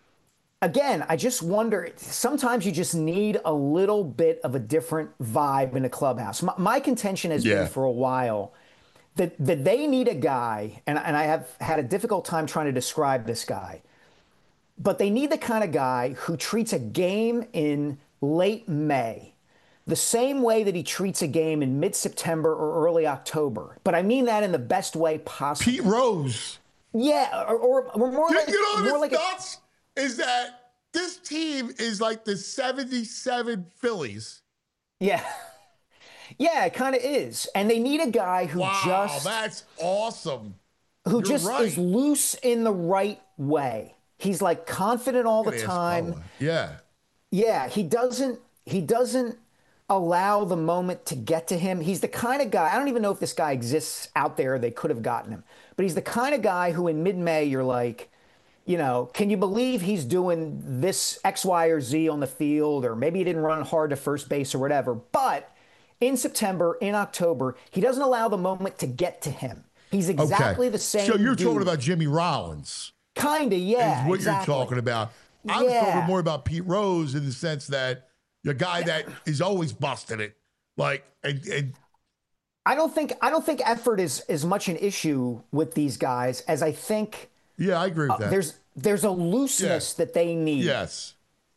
again, I just wonder, sometimes you just need a little bit of a different vibe in a clubhouse. My, my contention has Yeah. been for a while that, that they need a guy, and, and I have had a difficult time trying to describe this guy, but they need the kind of guy who treats a game in late May the same way that he treats a game in mid-September or early October. But I mean that in the best way possible. Pete Rose. Yeah, or, or, or more You, like, you know more what's like a, nuts is that this team is like the seventy-seven Phillies. yeah. Yeah, it kind of is. And they need a guy who Wow, just that's awesome. who you're just right. is loose in the right way. He's like confident all the Look at time. Escola. Yeah. Yeah, he doesn't he doesn't allow the moment to get to him. He's the kind of guy, I don't even know if this guy exists out there, they could have gotten him. But he's the kind of guy who in mid-May you're like, you know, can you believe he's doing this X, Y, or Z on the field? Or maybe he didn't run hard to first base or whatever. But in September, in October, he doesn't allow the moment to get to him. He's exactly Okay. the same. So you're talking dude. about Jimmy Rollins. Kinda, yeah. Is what exactly. you're talking about. I was Yeah. talking more about Pete Rose in the sense that the guy that is always busting it. Like, and, and I don't think I don't think effort is as much an issue with these guys as I think yeah, I agree with that. Uh, there's there's a looseness that they need. Yes.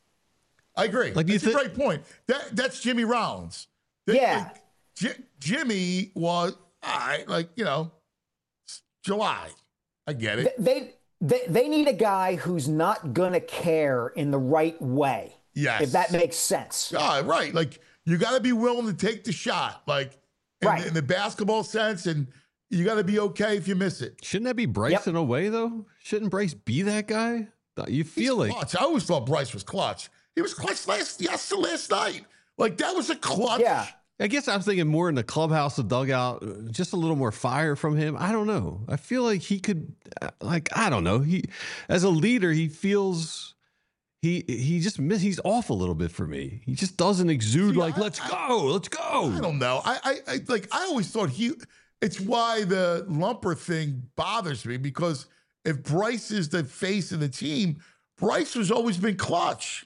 I agree. Like, you that's thi- a great point. That That's Jimmy Rollins. That- Yeah. like, J- Jimmy was, all right, like, you know, it's July. I get it. They they they need a guy who's not gonna care in the right way. Yes. If that makes sense. Ah, right. Like, you got to be willing to take the shot, like in, Right. the, in the basketball sense, and you got to be okay if you miss it. Shouldn't that be Bryce Yep. in a way, though? Shouldn't Bryce be that guy? You feel He's like clutch. I always thought Bryce was clutch. He was clutch last yes last night. Like, that was a clutch. Yeah. I guess I'm thinking more in the clubhouse, the dugout, uh, just a little more fire from him. I don't know. I feel like he could, uh, like, I don't know. He, as a leader, he feels he he just miss. He's off a little bit for me. He just doesn't exude See, like, I- let's I- go, let's go. I don't know. I, I, I like. I always thought he. It's why the Lumper thing bothers me because if Bryce is the face of the team, Bryce has always been clutch.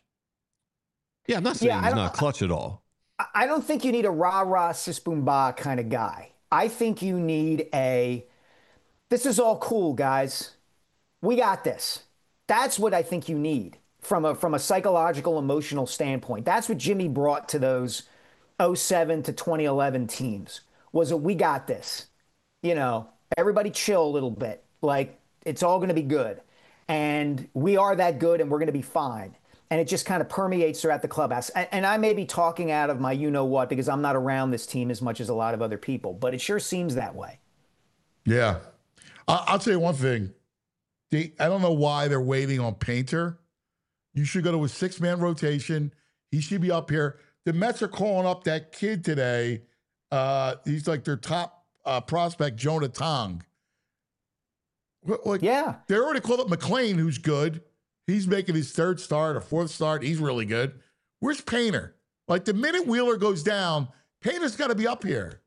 Yeah, I'm not saying Yeah, I he's don't- not clutch at all. I- I don't think you need a rah-rah sis boom bah kind of guy. I think you need a this is all cool, guys. We got this. That's what I think you need from a from a psychological, emotional standpoint. That's what Jimmy brought to those oh seven to twenty eleven teams. Was a we got this. You know, everybody chill a little bit. Like it's all going to be good. And we are that good and we're going to be fine. And it just kind of permeates throughout the clubhouse. And, and I may be talking out of my you-know-what because I'm not around this team as much as a lot of other people, but it sure seems that way. Yeah, I, I'll tell you one thing. They, I don't know why they're waiting on Painter. You should go to a six-man rotation. He should be up here. The Mets are calling up that kid today. Uh, he's like their top uh, prospect, Jonah Tong. Like, Yeah. they already called up McLean, who's good. He's making his third start or fourth start. He's really good. Where's Painter? Like the minute Wheeler goes down, Painter's got to be up here.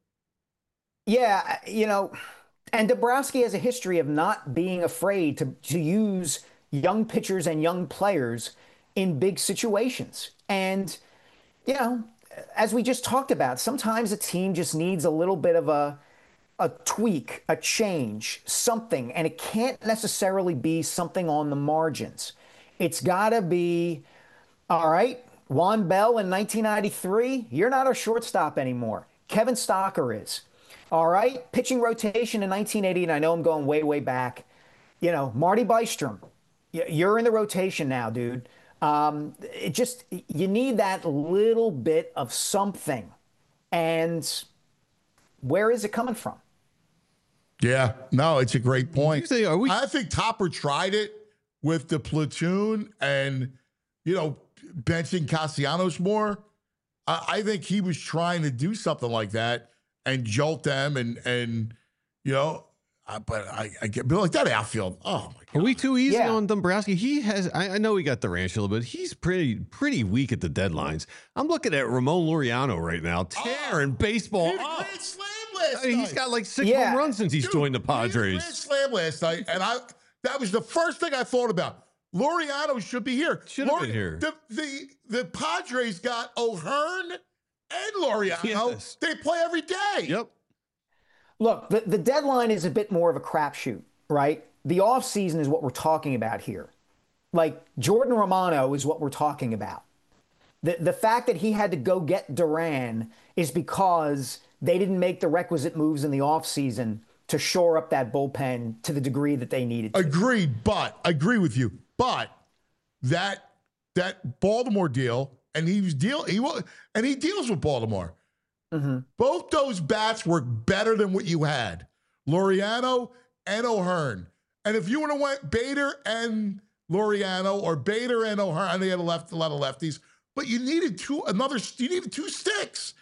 Yeah, you know, and Dombrowski has a history of not being afraid to to use young pitchers and young players in big situations. And, you know, as we just talked about, sometimes a team just needs a little bit of a a tweak, a change, something, and it can't necessarily be something on the margins. It's got to be, all right, Juan Bell in nineteen ninety-three, you're not our shortstop anymore. Kevin Stocker is. All right, pitching rotation in nineteen eighty, and I know I'm going way, way back. You know, Marty Bystrom, you're in the rotation now, dude. Um, it just, you need that little bit of something. And where is it coming from? Yeah, no, it's a great point. You say, are we- I think Topper tried it with the platoon and, you know, benching Castellanos more. I, I think he was trying to do something like that and jolt them and, and you know, uh, but I, I get but like that outfield. Oh, my God. Are we too easy Yeah. on Dombrowski? He has, I, I know he got the ranch a little bit. He's pretty pretty weak at the deadlines. I'm looking at Ramon Laureano right now, tearing baseball He had a up. grand slam last I mean, night. he's got like six Yeah. home runs since he's Dude, joined the he had a grand Padres. slam last night, and I that was the first thing I thought about. Laureano should be here. Should have Laure- been here. The, the the Padres got O'Hearn and Laureano. Yes. They play every day. Yep. Look, the, the deadline is a bit more of a crapshoot, right? The offseason is what we're talking about here. Like, Jordan Romano is what we're talking about. The, the fact that he had to go get Duran is because they didn't make the requisite moves in the offseason to shore up that bullpen to the degree that they needed to. Agreed, but I agree with you. But that that Baltimore deal, and he was deal he was, and he deals with Baltimore. Mm-hmm. Both those bats were better than what you had, Laureano and O'Hearn. And if you would have went Bader and Laureano or Bader and O'Hearn, and they had a left a lot of lefties, but you needed two another. You needed two sticks.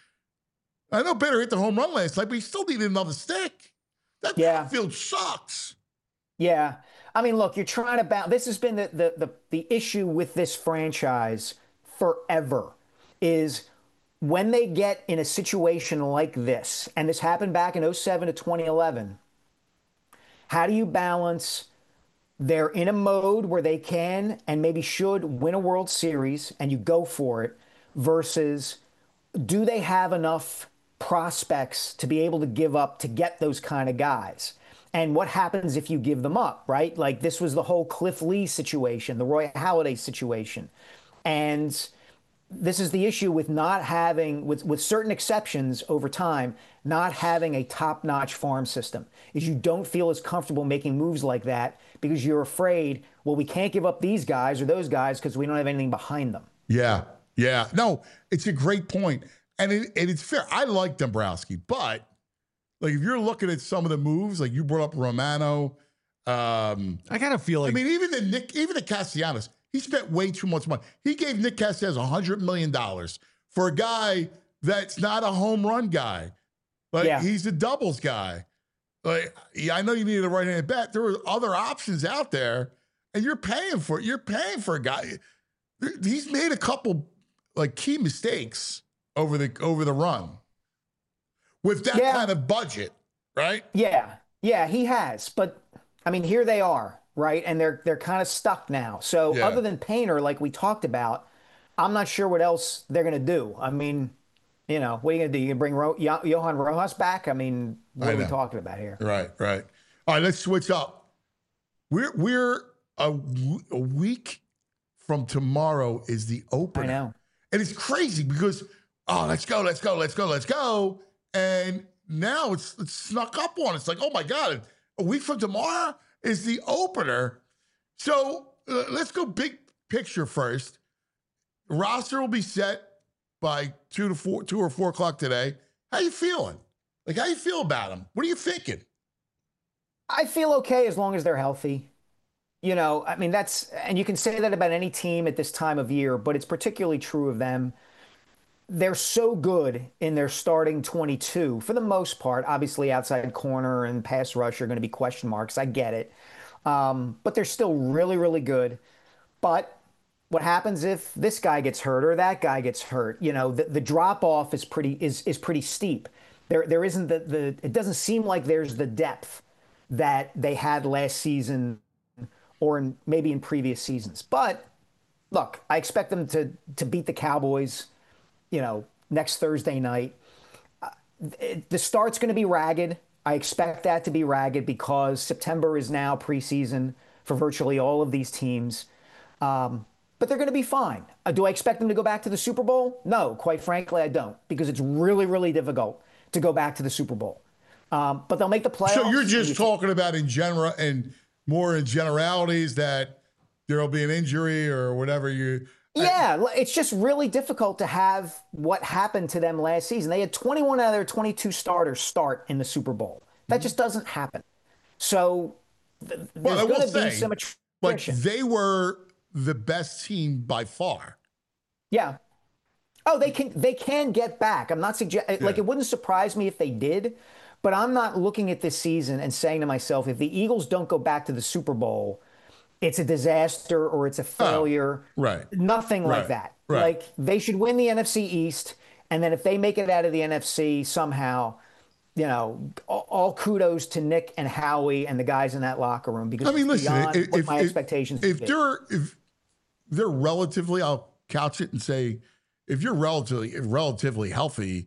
I know Bader hit the home run last night, but you still needed another stick. That Yeah. field sucks. Yeah. I mean, look, you're trying to balance. This has been the, the, the, the issue with this franchise forever is when they get in a situation like this, and this happened back in oh seven to twenty eleven, how do you balance they're in a mode where they can and maybe should win a World Series and you go for it versus do they have enough prospects to be able to give up to get those kind of guys? And what happens if you give them up, right? Like this was the whole Cliff Lee situation, the Roy Halladay situation. And this is the issue with not having, with, with certain exceptions over time, not having a top-notch farm system, is you don't feel as comfortable making moves like that because you're afraid, well, we can't give up these guys or those guys because we don't have anything behind them. Yeah, yeah. No, it's a great point. And, it, and it's fair. I like Dombrowski, but like if you're looking at some of the moves, like you brought up Romano, um, I kind of feel like I mean, even the Nick, even the Castellanos, he spent way too much money. He gave Nick Castellanos one hundred million dollars for a guy that's not a home run guy. Like Yeah. he's a doubles guy. Like, yeah, I know you needed a right-handed bat. There were other options out there, and you're paying for it. You're paying for a guy. He's made a couple like key mistakes over the over the run with that Yeah. kind of budget, right? Yeah, yeah, he has. But I mean, here they are, right? And they're they're kind of stuck now. So Yeah. other than Painter, like we talked about, I'm not sure what else they're going to do. I mean, you know, what are you going to do? You going to bring Ro- Yo- Johan Rojas back? I mean, what I are we know. talking about here? Right, right. All right, let's switch up. We're we're a, w- a week from tomorrow is the opener. I know. And it's crazy because oh, let's go, let's go, let's go, let's go. And now it's, it's snuck up on. It's like, oh my God, a week from tomorrow is the opener. So uh, let's go big picture first. Roster will be set by two to four, two or four o'clock today. How you feeling? Like, how you feel about them? What are you thinking? I feel okay as long as they're healthy. You know, I mean, that's, and you can say that about any team at this time of year, but it's particularly true of them. They're so good in their starting twenty-two for the most part. Obviously, outside corner and pass rush are going to be question marks. I get it. Um, but they're still really, really good. But what happens if this guy ges hurt or that guy gets hurt? You know, the, the drop off is pretty is is pretty steep. There there isn't the, the it doesn't seem like there's the depth that they had last season or in, maybe in previous seasons. But look, I expect them to to beat the Cowboys, you know, next Thursday night. Uh, it, the start's going to be ragged. I expect that to be ragged because September is now preseason for virtually all of these teams. Um, but they're going to be fine. Uh, do I expect them to go back to the Super Bowl? No, quite frankly, I don't, because it's really, really difficult to go back to the Super Bowl. Um, but they'll make the playoffs. So you're just talking about in general and more in generalities that there'll be an injury or whatever you. Yeah, it's just really difficult to have what happened to them last season. They had twenty-one out of their twenty-two starters start in the Super Bowl. That mm-hmm. just doesn't happen. So th- well, there's going to be say, some attrition. Like they were the best team by far. Yeah. Oh, they can they can get back. I'm not suggesting yeah. like it wouldn't surprise me if they did, but I'm not looking at this season and saying to myself, if the Eagles don't go back to the Super Bowl, it's a disaster or it's a failure. Oh, right. Nothing right. like that. Right. Like they should win the N F C East, and then if they make it out of the N F C somehow, you know, all, all kudos to Nick and Howie and the guys in that locker room because I mean, it's listen, beyond if, what if, my if, expectations. If would they're if they're relatively, I'll couch it and say, if you're relatively relatively healthy,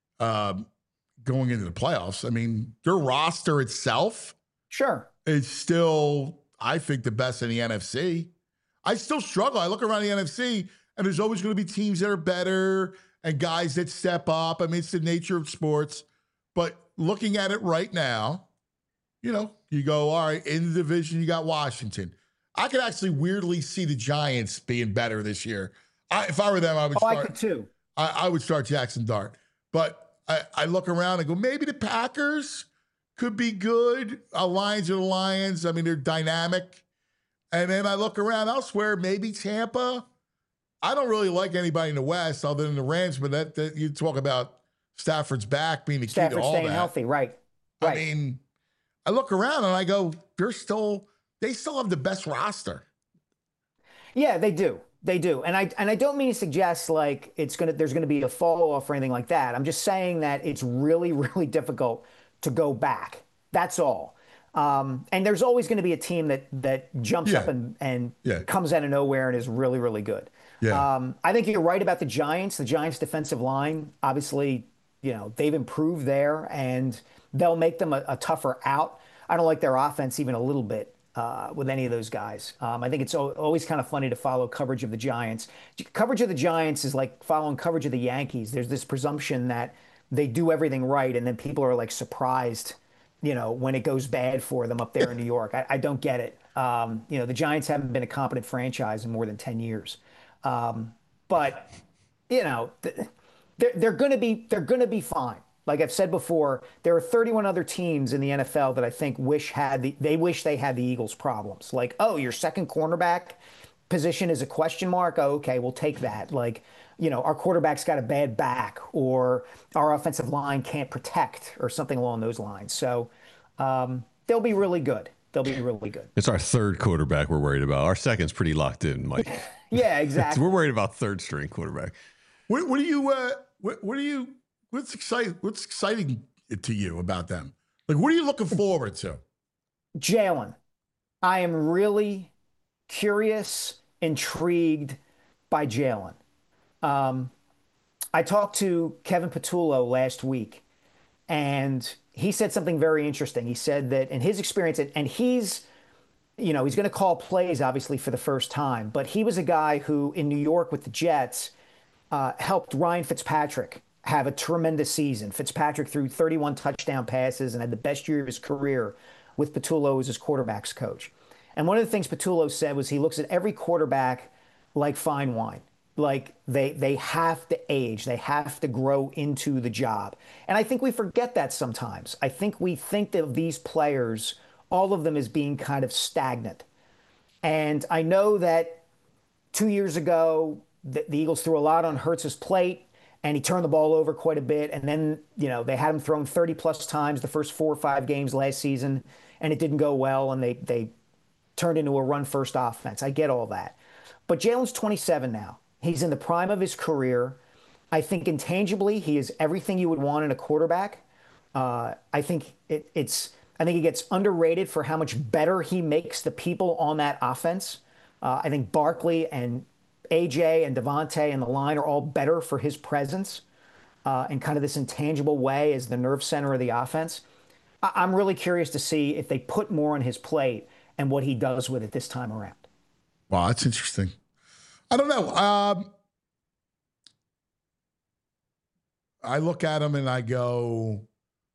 um, going into the playoffs, I mean, their roster itself, sure, is still, I think, the best in the N F C. I still struggle. I look around the N F C, and there's always going to be teams that are better and guys that step up. I mean, it's the nature of sports. But looking at it right now, you know, you go, all right, in the division, you got Washington. I could actually weirdly see the Giants being better this year. I, if I were them, I would oh, start. I could too. I, I would start Jackson Dart. But I, I look around and go, maybe the Packers could be good. Uh, Lions are the Lions. I mean, they're dynamic. And then I look around elsewhere, maybe Tampa. I don't really like anybody in the West other than the Rams, but that, that you talk about Stafford's back being the key Stafford to all staying that. healthy, right? Right. I mean, I look around and I go, they're still, they still have the best roster. Yeah, they do. They do. And I and I don't mean to suggest like it's gonna there's gonna be a fall off or anything like that. I'm just saying that it's really, really difficult to go back. That's all. Um, and there's always going to be a team that that jumps yeah. up and, and yeah. comes out of nowhere and is really, really good. Yeah. Um, I think you're right about the Giants. The Giants' defensive line, obviously, you know, they've improved there, and they'll make them a, a tougher out. I don't like their offense even a little bit uh, with any of those guys. Um, I think it's always kind of funny to follow coverage of the Giants. Coverage of the Giants is like following coverage of the Yankees. There's this presumption that they do everything right, and then people are like surprised, you know, when it goes bad for them up there in New York. I, I don't get it. Um, you know, the Giants haven't been a competent franchise in more than ten years. Um, but, you know, they're, they're going to be they're going to be fine. Like I've said before, there are thirty-one other teams in the N F L that I think wish had the, they wish they had the Eagles' problems. Like, oh, your second cornerback position is a question mark. Oh, okay, we'll take that. Like, you know, our quarterback's got a bad back, or our offensive line can't protect, or something along those lines. So um, they'll be really good. They'll be really good. It's our third quarterback we're worried about. Our second's pretty locked in, Mike. Yeah, exactly. We're worried about third string quarterback. What, what do you? Uh, what, what do you? What's exciting? What's exciting to you about them? Like, what are you looking forward to? Jalen, I am really curious, intrigued by Jalen. Um, I talked to Kevin Patullo last week, and he said something very interesting. He said that in his experience, and he's, you know, he's going to call plays, obviously, for the first time, but he was a guy who, in New York with the Jets, uh, helped Ryan Fitzpatrick have a tremendous season. Fitzpatrick threw thirty-one touchdown passes and had the best year of his career with Patullo as his quarterback's coach. And one of the things Patullo said was he looks at every quarterback like fine wine. Like they they have to age, they have to grow into the job. And I think we forget that sometimes. I think we think of these players, all of them, as being kind of stagnant. And I know that two years ago, the, the Eagles threw a lot on Hurts's plate, and he turned the ball over quite a bit. And then, you know, they had him thrown thirty plus times the first four or five games last season, and it didn't go well, and they they turned into a run-first offense. I get all that. But Jalen's twenty-seven now. He's in the prime of his career. I think intangibly, he is everything you would want in a quarterback. Uh, I think it, it's. I think he gets underrated for how much better he makes the people on that offense. Uh, I think Barkley and A J and Devontae and the line are all better for his presence uh, in kind of this intangible way as the nerve center of the offense. I- I'm really curious to see if they put more on his plate and what he does with it this time around. Wow, that's interesting. I don't know. Um, I look at him and I go,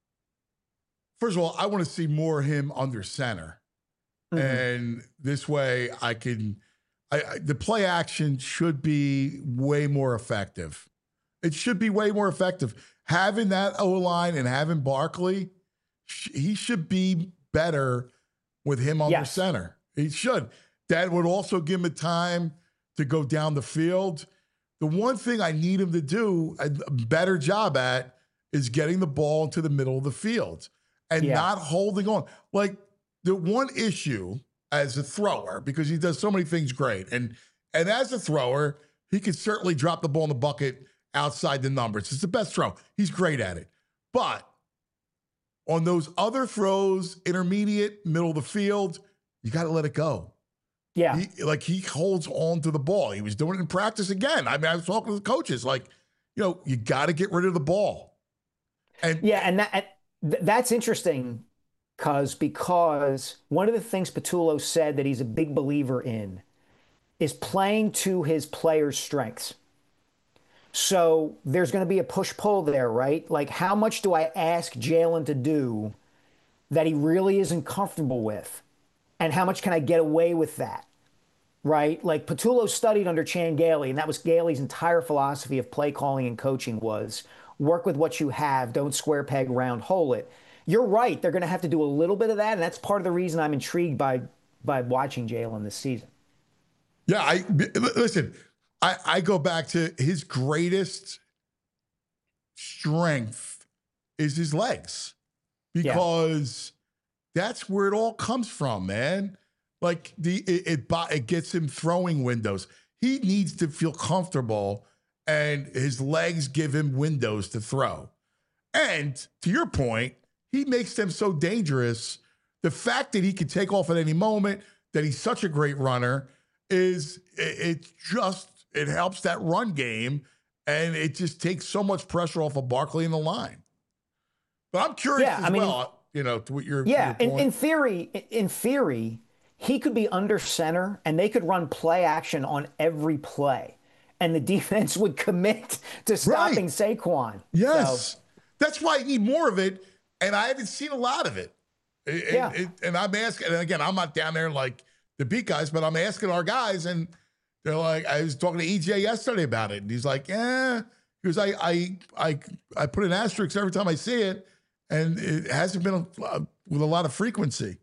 first of all, I want to see more of him under center. Mm-hmm. And this way I can, I, I, the play action should be way more effective. It should be way more effective. Having that O-line and having Barkley, sh- he should be better with him under yes. center. He should. That would also give him time to go down the field. The one thing I need him to do a better job at is getting the ball into the middle of the field and yeah. not holding on. Like the one issue as a thrower, because he does so many things great, and and as a thrower, he can certainly drop the ball in the bucket outside the numbers. It's the best throw. He's great at it. But on those other throws, intermediate, middle of the field, you got to let it go. Yeah. He, like he holds on to the ball. He was doing it in practice again. I mean, I was talking to the coaches, like, you know, you got to get rid of the ball. And yeah, and that th- that's interesting because because one of the things Patullo said that he's a big believer in is playing to his players' strengths. So there's going to be a push-pull there, right? Like, how much do I ask Jalen to do that he really isn't comfortable with? And how much can I get away with that, right? Like, Patullo studied under Chan Gailey, and that was Gailey's entire philosophy of play calling and coaching was work with what you have, don't square peg, round hole it. You're right. They're going to have to do a little bit of that, and that's part of the reason I'm intrigued by by watching Jalen this season. Yeah, I listen, I, I go back to his greatest strength is his legs because yeah. that's where it all comes from, man. Like the it, it it gets him throwing windows. He needs to feel comfortable, and his legs give him windows to throw. And to your point, he makes them so dangerous. The fact that he can take off at any moment, that he's such a great runner, is it, it just it helps that run game, and it just takes so much pressure off of Barkley in the line. But I'm curious yeah, as I mean, well, you know, to what your yeah. your in, in theory, in theory, he could be under center, and they could run play action on every play, and the defense would commit to stopping right. Saquon. Yes, so. That's why I need more of it, and I haven't seen a lot of it. it yeah. It, and I'm asking, and again, I'm not down there like the beat guys, but I'm asking our guys, and they're like, I was talking to E J yesterday about it, and he's like, yeah, because I I I I put an asterisk every time I see it, and it hasn't been a, with a lot of frequency.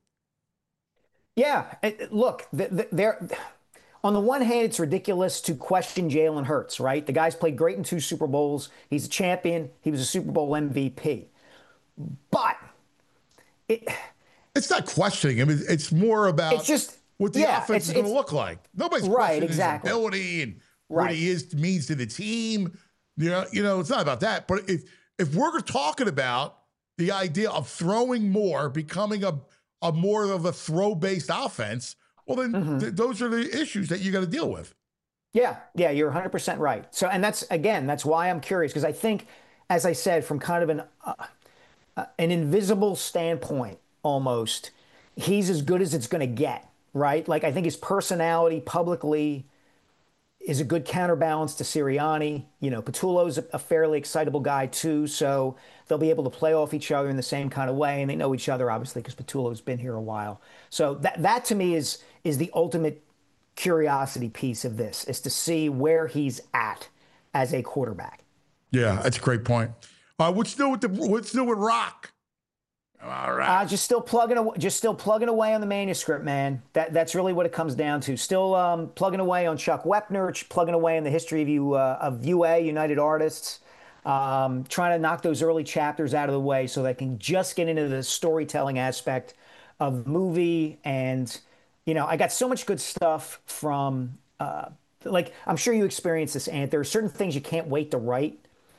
Yeah, look, they're on the one hand, it's ridiculous to question Jalen Hurts, right? The guy's played great in two Super Bowls. He's a champion. He was a Super Bowl M V P. But it, it's not questioning him. It's more about it's just what the yeah, offense is going to look like. Nobody's right, questioning exactly. his ability and right. what he is means to the team. You know, you know, it's not about that. But if if we're talking about the idea of throwing more, becoming a a more of a throw-based offense, well, then mm-hmm. th- those are the issues that you got to deal with. Yeah, yeah, you're one hundred percent right. So, and that's, again, that's why I'm curious, because I think, as I said, from kind of an uh, uh, an invisible standpoint, almost, he's as good as it's going to get, right? Like, I think his personality publicly is a good counterbalance to Sirianni. You know, Patullo's a, a fairly excitable guy, too, so they'll be able to play off each other in the same kind of way, and they know each other, obviously, because Patullo's been here a while. So that, that to me, is is the ultimate curiosity piece of this, is to see where he's at as a quarterback. Yeah, that's a great point. Uh, what's new with the what's new with Rock? All right, uh, just still plugging away, just still plugging away on the manuscript, man. That that's really what it comes down to. Still um, plugging away on Chuck Wepner, plugging away in the history of you uh, of U A United Artists. Um, trying to knock those early chapters out of the way so they can just get into the storytelling aspect of the movie. And, you know, I got so much good stuff from uh, like I'm sure you experience this, Ant. There are certain things you can't wait to write.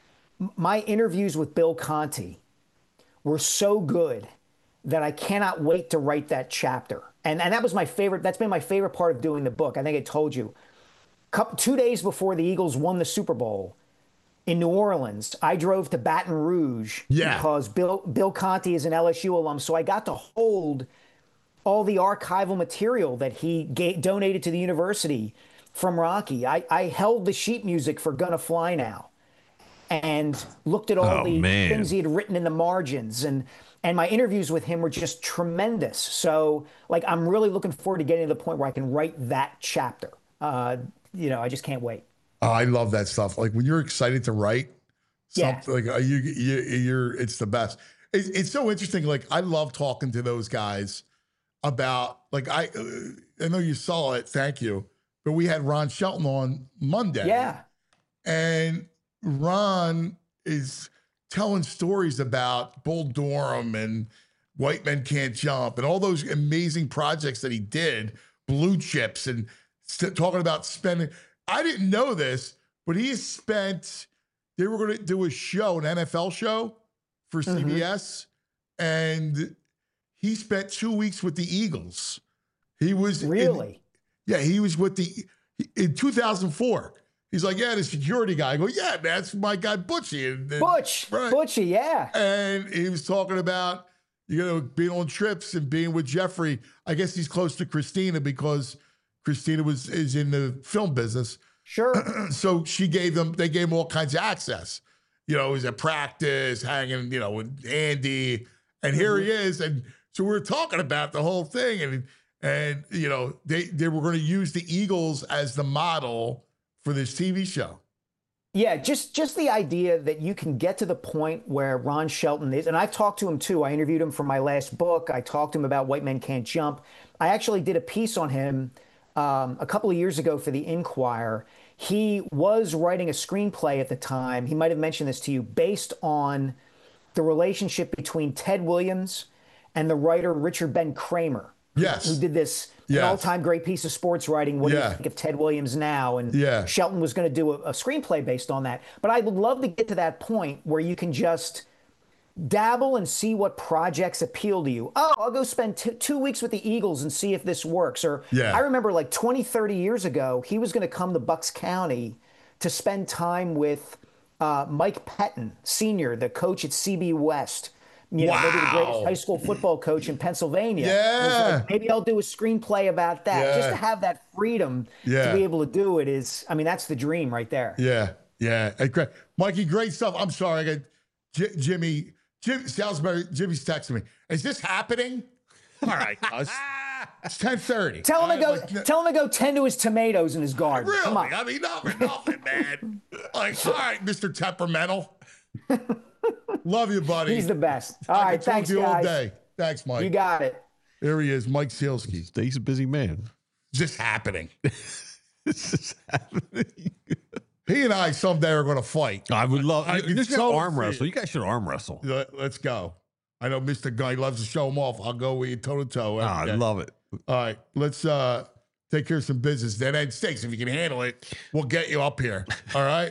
My interviews with Bill Conti were so good that I cannot wait to write that chapter. And and that was my favorite. That's been my favorite part of doing the book. I think I told you. Couple, two days before the Eagles won the Super Bowl in New Orleans, I drove to Baton Rouge Yeah. because Bill Bill Conti is an L S U alum. So I got to hold all the archival material that he gave, donated to the university from Rocky. I, I held the sheet music for Gonna Fly Now and looked at all Oh, the man. things he had written in the margins. And and my interviews with him were just tremendous. So, like, I'm really looking forward to getting to the point where I can write that chapter. Uh, you know, I just can't wait. Oh, I love that stuff. Like when you're excited to write Yeah. something, like uh, you, you, you're, it's the best. It, it's so interesting. Like I love talking to those guys about, like I, uh, I know you saw it. Thank you. But we had Ron Shelton on Monday. Yeah. And Ron is telling stories about Bull Durham and White Men Can't Jump and all those amazing projects that he did, Blue Chips, and st- talking about spending. I didn't know this, but he has spent, they were going to do a show, an N F L show for C B S, and he spent two weeks with the Eagles. He was in- Really? yeah, he was with the, in two thousand four. He's like, yeah, the security guy. I go, yeah, that's my guy, Butchie. And, and- Butch. right. Butchie, yeah. And he was talking about, you know, being on trips and being with Jeffrey. I guess he's close to Christina because Christina was is in the film business. Sure. So she gave them, they gave him all kinds of access. You know, he was at practice, hanging, you know, with Andy. And here he is. And so we were talking about the whole thing. And, and you know, they, they were going to use the Eagles as the model for this T V show. Yeah, just just the idea that you can get to the point where Ron Shelton is, and I've talked to him too. I interviewed him for my last book. I talked to him about White Men Can't Jump. I actually did a piece on him um, a couple of years ago for the Inquirer. He was writing a screenplay at the time. He might have mentioned this to you, based on the relationship between Ted Williams and the writer Richard Ben Kramer. Yes. Who did this Yes. an all-time great piece of sports writing. What do Yeah. you think of Ted Williams now? And Yeah. Shelton was going to do a, a screenplay based on that. But I would love to get to that point where you can just dabble and see what projects appeal to you. Oh, I'll go spend t- two weeks with the Eagles and see if this works. Or Yeah. I remember like twenty, thirty years ago, he was going to come to Bucks County to spend time with uh, Mike Pettin, Senior, the coach at C B West. You know, maybe the Wow. greatest high school football coach in Pennsylvania. Yeah. It was like, maybe I'll do a screenplay about that. Just Yeah. to have that freedom Yeah. to be able to do it is, I mean, that's the dream right there. Yeah, yeah. Hey, great. Mikey, great stuff. I'm sorry. I got J- Jimmy, Jim Salisbury, Jimmy's texting me. Is this happening? All right, cuz. It's ten thirty. Tell him to go. Tell him to go tend to his tomatoes in his garden. Really? Come on. I mean, nothing, nothing, man. Like, all right, Mister Temperamental. Love you, buddy. He's the best. All I right, can talk thanks, to you all guys. day. Thanks, Mike. You got it. Here he is, Mike Sealski. He's a busy man. Just happening. This is happening. He and I someday are going to fight. I would love. I can This is so arm see wrestle. it. You guys should arm wrestle. Let- Let's go. I know Mister Guy loves to show him off. I'll go with you toe to toe. Ah, I love it. All right, let's uh take care of some business. Dead end stakes. If you can handle it, we'll get you up here. All right.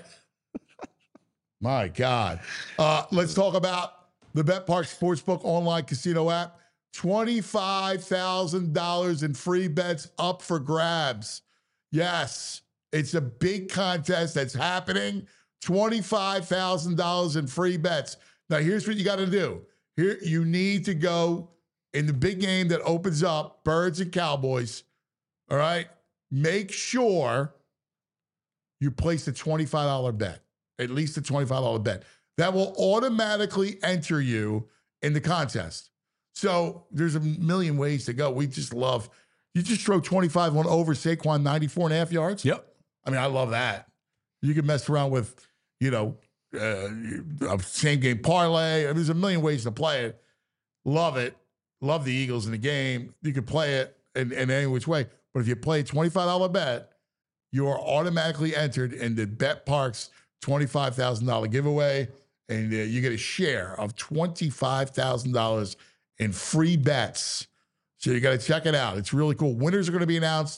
My God. Uh, let's talk about the BetPark Sportsbook online casino app. twenty-five thousand dollars in free bets up for grabs. Yes, it's a big contest that's happening. twenty-five thousand dollars in free bets. Now, here's what you got to do. Here, you need to go in the big game that opens up, Birds and Cowboys. All right. Make sure you place a twenty-five dollars bet, at least a twenty-five dollars bet. That will automatically enter you in the contest. So there's a million ways to go. We just love, you just throw twenty-five on over Saquon, ninety-four and a half yards. Yep. I mean, I love that. You can mess around with, you know, uh, a same game parlay. I mean, there's a million ways to play it. Love it. Love the Eagles in the game. You can play it in, in any which way. But if you play a twenty-five dollars bet, you are automatically entered in the BetParks twenty-five thousand dollars giveaway. And uh, you get a share of twenty-five thousand dollars in free bets. So you got to check it out. It's really cool. Winners are going to be announced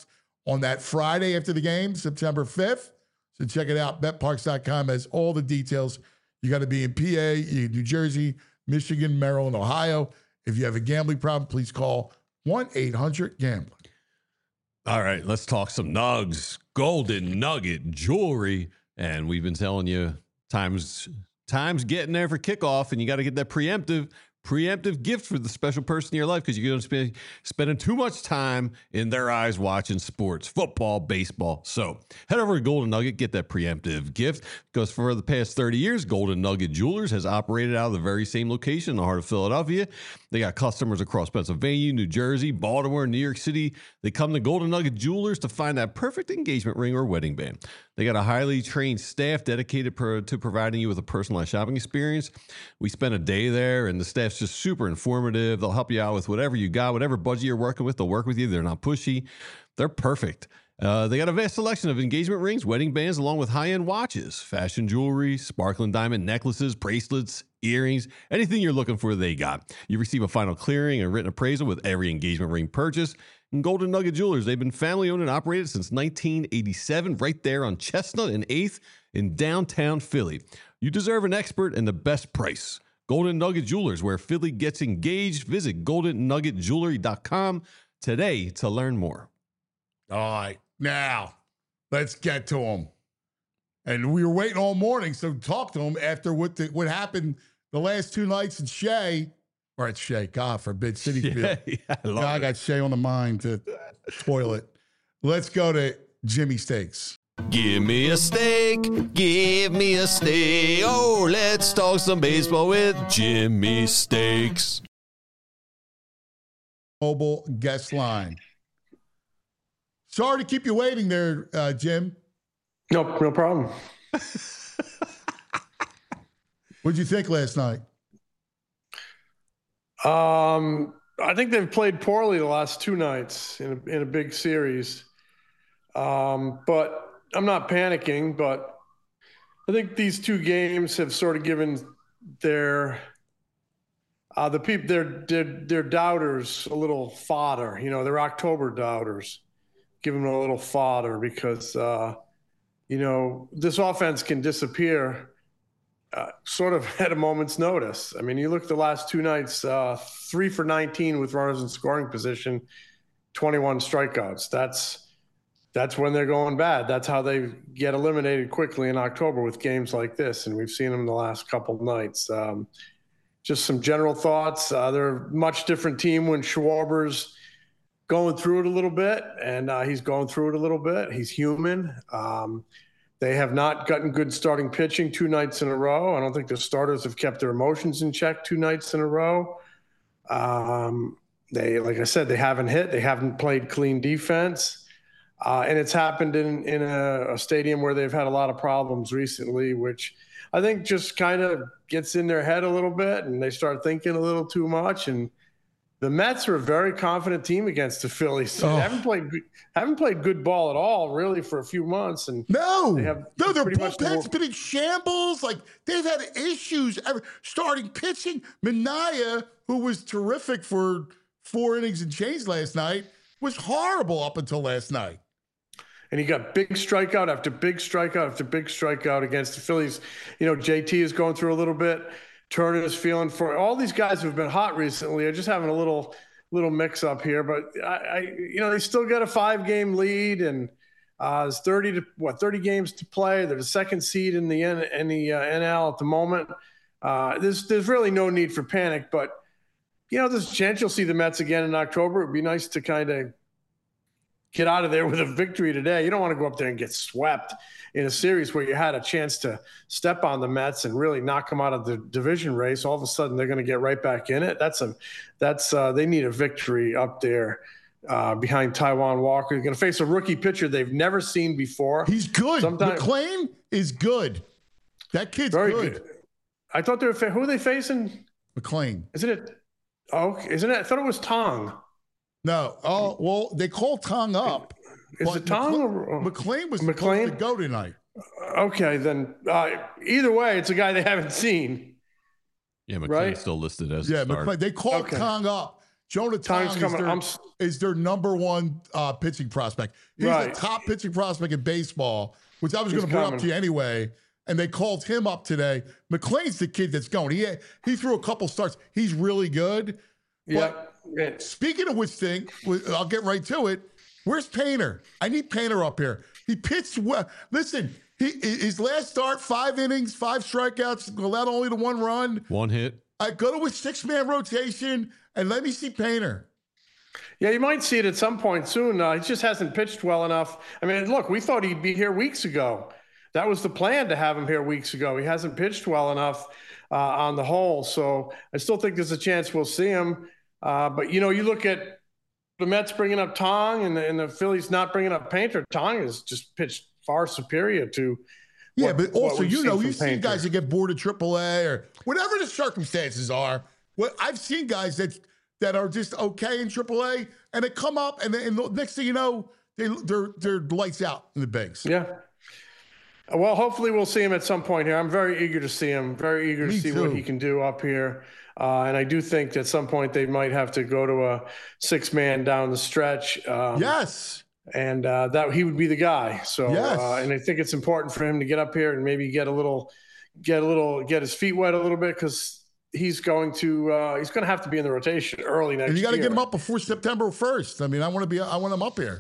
on that Friday after the game, September fifth. So check it out. bet parks dot com has all the details. You got to be in P A, New Jersey, Michigan, Maryland, Ohio. If you have a gambling problem, please call one eight hundred gambler. All right, let's talk some nugs. Golden Nugget jewelry. And we've been telling you times, times getting there for kickoff, and you got to get that preemptive. Preemptive gift for the special person in your life because you're going to be spending too much time in their eyes watching sports, football, baseball. So head over to Golden Nugget, get that preemptive gift. Because for the past thirty years, Golden Nugget Jewelers has operated out of the very same location in the heart of Philadelphia. They got customers across Pennsylvania, New Jersey, Baltimore, New York City. They come to Golden Nugget Jewelers to find that perfect engagement ring or wedding band. They got a highly trained staff dedicated pro- to providing you with a personalized shopping experience. We spent a day there, and the staff's just super informative. They'll help you out with whatever you got, whatever budget you're working with. They'll work with you. They're not pushy. They're perfect. Uh, they got a vast selection of engagement rings, wedding bands, along with high-end watches, fashion jewelry, sparkling diamond necklaces, bracelets, earrings, anything you're looking for, they got. You receive a final clearing and written appraisal with every engagement ring purchase. And Golden Nugget Jewelers, they've been family-owned and operated since nineteen eighty-seven, right there on Chestnut and eighth in downtown Philly. You deserve an expert and the best price. Golden Nugget Jewelers, where Philly gets engaged. Visit golden nugget jewelry dot com today to learn more. All right. Now, let's get to him. And we were waiting all morning, so talk to him after what the, what happened the last two nights at Shea, or at Shea, God forbid, City Field. Yeah, yeah, I love Now I it. got Shea on the mind to toilet. Let's go to Jimmy Steaks. Give me a steak, give me a steak. Oh, let's talk some baseball with Jimmy Steaks. Mobile guest line. Sorry to keep you waiting there, uh, Jim. No, no problem. What'd you think last night? Um, I think they've played poorly the last two nights in a, in a big series. Um, but I'm not panicking, but I think these two games have sort of given their uh, the people their, their their doubters a little fodder. You know, their October doubters, give them a little fodder because uh, you know this offense can disappear uh, sort of at a moment's notice. I mean, you look at the last two nights, uh, three for nineteen with runners in scoring position, twenty-one strikeouts. That's That's when they're going bad. That's how they get eliminated quickly in October with games like this. And we've seen them the last couple of nights. Um, just some general thoughts. Uh, they're a much different team when Schwarber's going through it a little bit, and uh, he's going through it a little bit. He's human. Um, they have not gotten good starting pitching two nights in a row. I don't think the starters have kept their emotions in check two nights in a row. Um, they, like I said, they haven't hit. They haven't played clean defense. Uh, and it's happened in, in a, a stadium where they've had a lot of problems recently, which I think just kind of gets in their head a little bit, and they start thinking a little too much. And the Mets are a very confident team against the Phillies. Oh. They haven't played haven't played good ball at all, really, for a few months. And No, they have no, their pretty much bullpen's the- been in shambles. Like, they've had issues ever starting pitching. Minaya, who was terrific for four innings and change last night, was horrible up until last night. And he got big strikeout after big strikeout after big strikeout against the Phillies. You know, J T is going through a little bit. Turner is feeling for all these guys who've been hot recently are just having a little little mix up here. But I, I you know, they still got a five game lead, and uh, there's thirty to what thirty games to play. They're the second seed in the N, in the uh, N L at the moment. Uh, there's there's really no need for panic, but you know, there's a chance you'll see the Mets again in October. It'd be nice to kind of get out of there with a victory today. You don't want to go up there and get swept in a series where you had a chance to step on the Mets and really knock them out of the division race. All of a sudden, they're going to get right back in it. That's a, that's uh, they need a victory up there uh, behind Taijuan Walker. They're going to face a rookie pitcher they've never seen before. He's good. Sometimes- McClain is good. That kid's Very good. good. I thought they were fa- who are they facing? McClain. Isn't it? Oh, isn't it? I thought it was Tong. No. Oh, well, they called Tong up. Is but it Tong McCla- or McClain was McClain? supposed to go tonight. Okay, then uh, either way, it's a guy they haven't seen. Yeah, McClain's Right? still listed as Yeah, a starter. McClain. They called Okay. Tong up Jonah Time's Tong is coming. their, I'm s- is their number one uh, pitching prospect. He's Right. the top pitching prospect in baseball, which I was He's going to bring up coming. to you anyway. And they called him up today. McLean's the kid that's going. He had, he threw a couple starts. He's really good. Yeah. But speaking of which thing, I'll get right to it. Where's Painter? I need Painter up here. He pitched well. Listen, he, his last start, five innings, five strikeouts, allowed only the one run. One hit. I go to a six-man rotation and let me see Painter. Yeah, you might see it at some point soon. Uh, he just hasn't pitched well enough. I mean, look, we thought he'd be here weeks ago. That was the plan, to have him here weeks ago. He hasn't pitched well enough uh, on the whole. So I still think there's a chance we'll see him. Uh, but, you know, you look at the Mets bringing up Tong and the, and the Phillies not bringing up Painter. Tong has just pitched far superior to Yeah, what, but also, you know, you've seen Painter. guys that get bored of triple A or whatever the circumstances are. Well, I've seen guys that that are just okay in triple A, and they come up, and, and the next thing you know, they, they're they're lights out in the bigs. Yeah. Well, hopefully we'll see him at some point here. I'm very eager to see him, very eager to Me see too. what he can do up here. Uh, and I do think at some point they might have to go to a six-man down the stretch. Um, Yes. And uh, that he would be the guy. So, Yes. uh, and I think it's important for him to get up here and maybe get a little, get a little, get his feet wet a little bit, because he's going to, uh, he's going to have to be in the rotation early next year. And you got to get him up before September first. I mean, I want to be, I want him up here.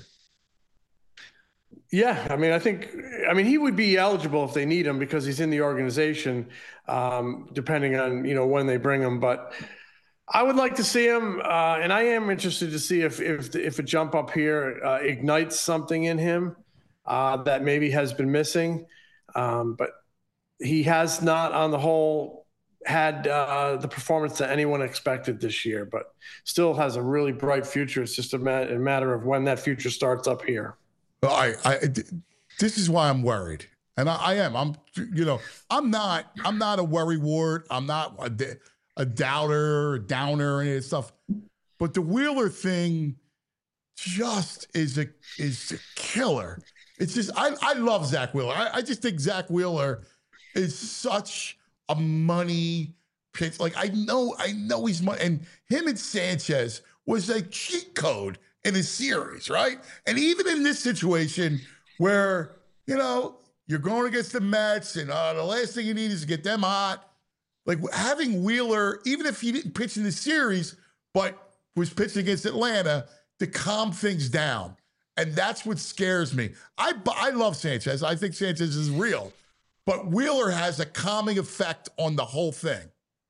Yeah, I mean, I think, I mean, he would be eligible if they need him because he's in the organization, um, depending on, you know, when they bring him. But I would like to see him, uh, and I am interested to see if if if a jump up here uh, ignites something in him uh, that maybe has been missing. Um, but he has not, on the whole, had uh, the performance that anyone expected this year. But still has a really bright future. It's just a, ma- a matter of when that future starts up here. I, I, this is why I'm worried, and I, I am. I'm, you know, I'm not. I'm not a worry wart. I'm not a, a doubter, a downer, any of this stuff. But the Wheeler thing just is a is a killer. It's just I, I love Zach Wheeler. I, I just think Zach Wheeler is such a money pitch. Like I know, I know he's money, and him and Sanchez was a cheat code in a series, right? And even in this situation where, you know, you're going against the Mets and uh, the last thing you need is to get them hot. Like having Wheeler, even if he didn't pitch in the series, but was pitching against Atlanta, to calm things down. And that's what scares me. I, I love Sanchez. I think Sanchez is real. But Wheeler has a calming effect on the whole thing.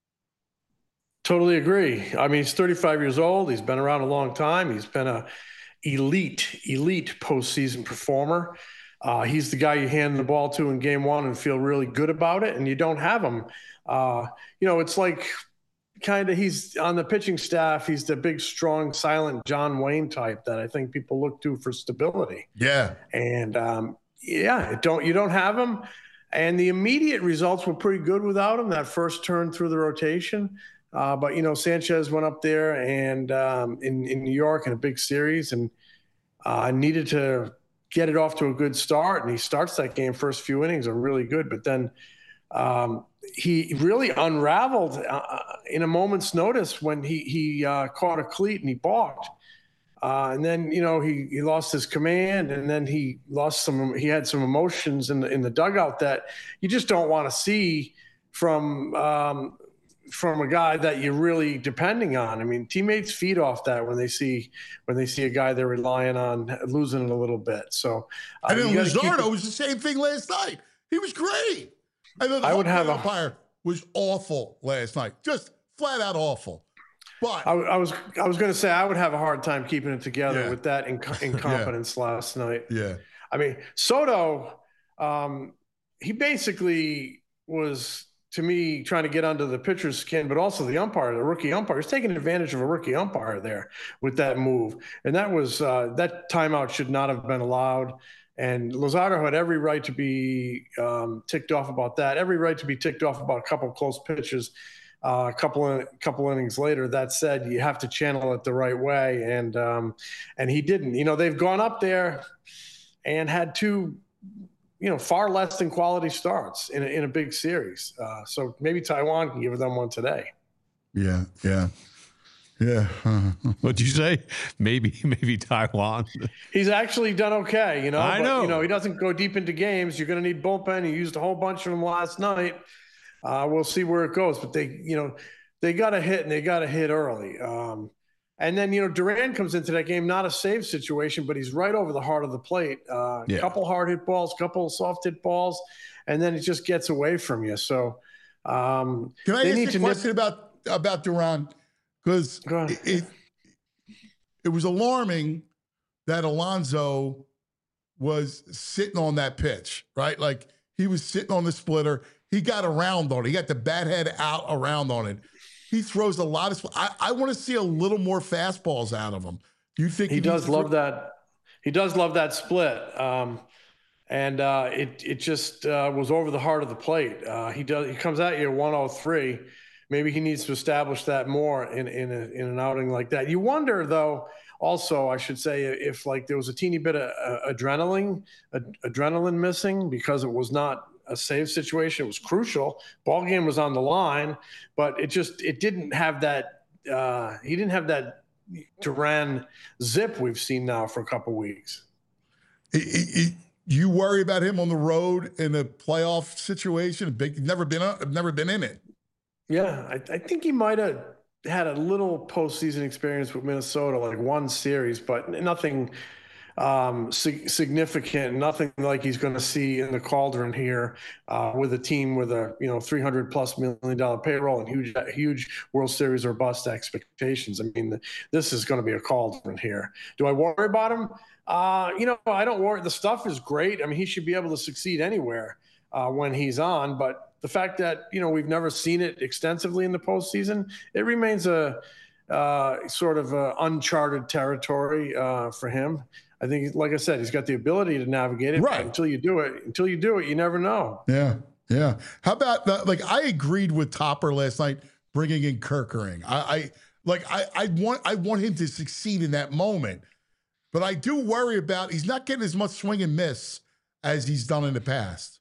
Totally agree. I mean, he's thirty-five years old. He's been around a long time. He's been a elite, elite postseason performer. Uh, he's the guy you hand the ball to in game one and feel really good about it, and you don't have him. Uh, you know, it's like kind of he's on the pitching staff. He's the big, strong, silent John Wayne type that I think people look to for stability. Yeah. And um, yeah, it don't you don't have him. And the immediate results were pretty good without him. That first turn through the rotation. Uh, but, you know, Sanchez went up there and um, in, in New York in a big series and uh, needed to get it off to a good start. And he starts that game, first few innings are really good. But then um, he really unraveled uh, in a moment's notice when he, he uh, caught a cleat and he balked. Uh, and then, you know, he, he lost his command, and then he lost some, he had some emotions in the, in the dugout that you just don't want to see from, um, from a guy that you're really depending on. I mean, teammates feed off that when they see when they see a guy they're relying on losing it a little bit. So, uh, And then you gotta keep Luzardo it- was the same thing last night. He was great. And then the I would have a- umpire was awful last night, just flat out awful. But I, I was I was going to say I would have a hard time keeping it together Yeah. with that inc- incompetence last night. yeah, I mean, Soto, um, he basically was, to me, trying to get under the pitcher's skin, but also the umpire, the rookie umpire. He's taking advantage of a rookie umpire there with that move. And that was uh, that timeout should not have been allowed. And Luzardo had every right to be um, ticked off about that, every right to be ticked off about a couple of close pitches. Uh, a couple of couple innings later. That said, you have to channel it the right way, and um, and he didn't. You know, they've gone up there and had two, you know, far less than quality starts in a, in a big series. Uh, so maybe Taiwan can give them one today. yeah, yeah. Yeah. What'd you say? Maybe, maybe Taijuan. He's actually done okay, you know. I but, know. You know, he doesn't go deep into games. You're going to need bullpen. He used a whole bunch of them last night. Uh, we'll see where it goes. But they, you know, they got to hit and they got to hit early. Um, and then, you know, Duran comes into that game, not a save situation, but he's right over the heart of the plate. A uh, Yeah. couple hard hit balls, couple soft hit balls, and then it just gets away from you. So um, Can I they ask need you a to question nip- about about Duran? Because Go ahead. it, it it was alarming that Alonso was sitting on that pitch, right? Like he was sitting on the splitter. He got around on it. He got the bat head out around on it. He throws a lot of. I, I want to see a little more fastballs out of him. Do you think he, he needs does to love throw- that? He does love that split. Um, and uh, it it just uh, was over the heart of the plate. Uh, he does. He comes at you at one oh three. Maybe he needs to establish that more in in, a, in an outing like that. You wonder, though. Also, I should say, if like there was a teeny bit of uh, adrenaline, ad- adrenaline missing because it was not a save situation. It was crucial. Ball game was on the line, but it just it didn't have that. Uh, he didn't have that Duran zip we've seen now for a couple weeks. It- it- it- you worry about him on the road in a playoff situation? Big, never been, uh, never been in it. Yeah, I, I think he might have had a little postseason experience with Minnesota, like one series, but nothing um, sig- significant, nothing like he's going to see in the Cauldron here uh, with a team with a you know three hundred plus million dollar payroll and huge huge World Series or bust expectations. I mean, this is going to be a Cauldron here. Do I worry about him? Uh, you know, I don't worry. The stuff is great. I mean, he should be able to succeed anywhere uh, when he's on, but the fact that, you know, we've never seen it extensively in the postseason, it remains a uh, sort of a uncharted territory uh, for him. I think, like I said, he's got the ability to navigate it. Right. But until you do it, until you do it, you never know. Yeah, yeah. How about the, like I agreed with Topper last night bringing in Kirkering. I, I like I I want I want him to succeed in that moment, but I do worry about he's not getting as much swing and miss as he's done in the past.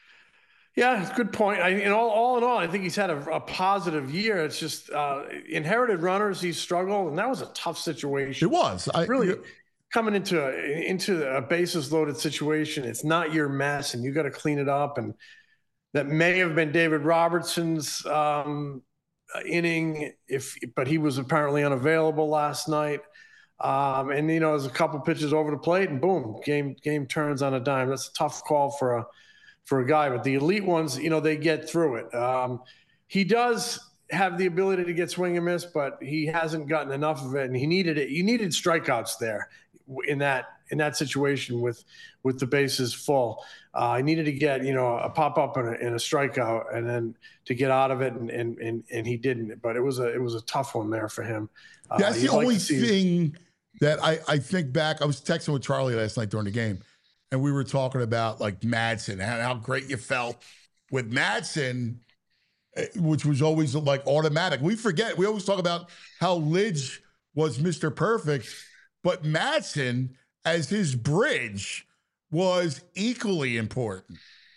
Yeah, good point. I, in all, all in all, I think he's had a, a positive year. It's just uh, inherited runners, he's struggled, and that was a tough situation. It was I, really coming into a, into a bases loaded situation. It's not your mess, and you got to clean it up. And that may have been David Robertson's um, inning, if but he was apparently unavailable last night. Um, and you know, there's a couple pitches over the plate, and boom, game game turns on a dime. That's a tough call for a. for a guy, but the elite ones, you know, they get through it. Um, he does have the ability to get swing and miss, but he hasn't gotten enough of it, and he needed it. You needed strikeouts there in that in that situation with with the bases full. Uh, I needed to get, you know, a pop up and a, and a strikeout, and then to get out of it, and and and, and he didn't. But it was a it was a tough one there for him. Uh, That's the you'd like only to see- thing that I I think back. I was texting with Charlie last night during the game. And we were talking about like Madsen, how, how great you felt with Madsen, which was always like automatic. We forget, we always talk about how Lidge was Mister Perfect, but Madsen as his bridge was equally important.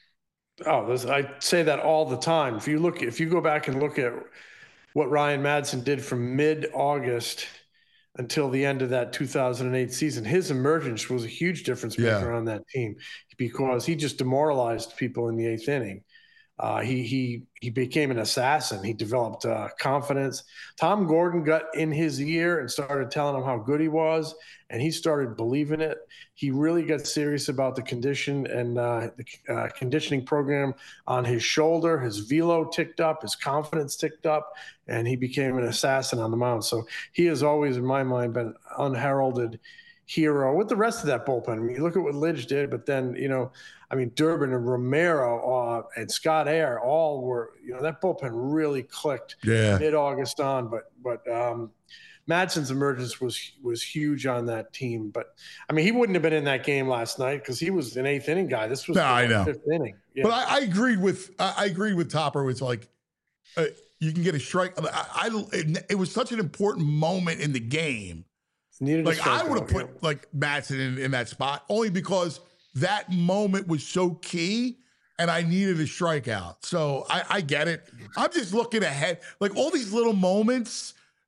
Oh, there's, I say that all the time. If you look, if you go back and look at what Ryan Madsen did from mid-August until the end of that two thousand eight season, his emergence was a huge difference maker Yeah. on that team because he just demoralized people in the eighth inning. Uh, he he he became an assassin. He developed uh, confidence. Tom Gordon got in his ear and started telling him how good he was, and he started believing it. He really got serious about the condition and uh, the uh, conditioning program on his shoulder. His velo ticked up, his confidence ticked up, and he became an assassin on the mound. So he has always, in my mind, been unheralded hero with the rest of that bullpen. I mean, you look at what Lidge did, but then, you know, I mean, Durbin and Romero uh, and Scott Air all were, you know, that bullpen really clicked Yeah. mid-August on. But but um, Madsen's emergence was was huge on that team. But I mean, he wouldn't have been in that game last night because he was an eighth inning guy. This was No, the I know. fifth inning. Yeah. But I, I agreed with I, I agreed with Topper. It's like uh, you can get a strike. I, I it, it was such an important moment in the game. Needed a Like I strikeout, would have put yeah. like Madsen in, in that spot only because that moment was so key and I needed a strikeout. So I, I get it. I'm just looking ahead. Like all these little moments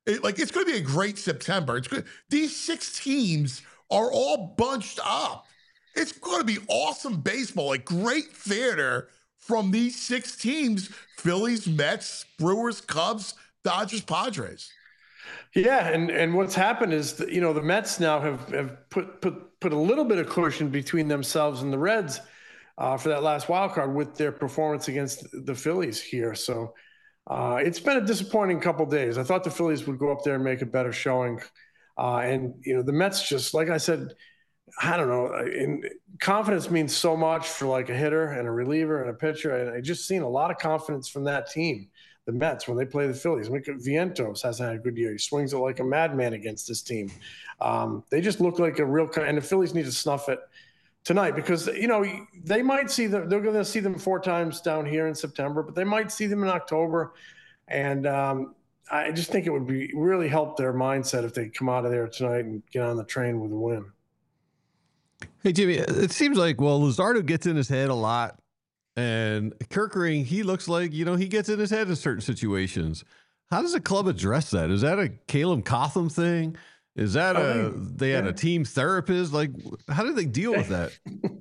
It, like, it's going to be a great September. It's good. These six teams are all bunched up. It's going to be awesome baseball, like great theater from these six teams: Phillies, Mets, Brewers, Cubs, Dodgers, Padres. Yeah, and, and what's happened is that, you know, the Mets now have, have put, put put a little bit of cushion between themselves and the Reds uh, for that last wild card with their performance against the Phillies here. So uh, it's been a disappointing couple days. I thought the Phillies would go up there and make a better showing. Uh, and, you know, the Mets just, like I said, I don't know, in, confidence means so much for like a hitter and a reliever and a pitcher. And I just seen a lot of confidence from that team, the Mets, when they play the Phillies. Look at Vientos, hasn't had a good year. He swings it like a madman against this team. Um, they just look like a real – and the Phillies need to snuff it tonight because, you know, they might see them – they're going to see them four times down here in September, but they might see them in October. And um, I just think it would be really help their mindset if they come out of there tonight and get on the train with a win. Hey, Jimmy, it seems like, well, Luzardo gets in his head a lot. And Kerkering, he looks like, you know, he gets in his head in certain situations. How does the club address that? Is that a Caleb Cotham thing? Is that a, they had a team therapist? Like, how do they deal with that?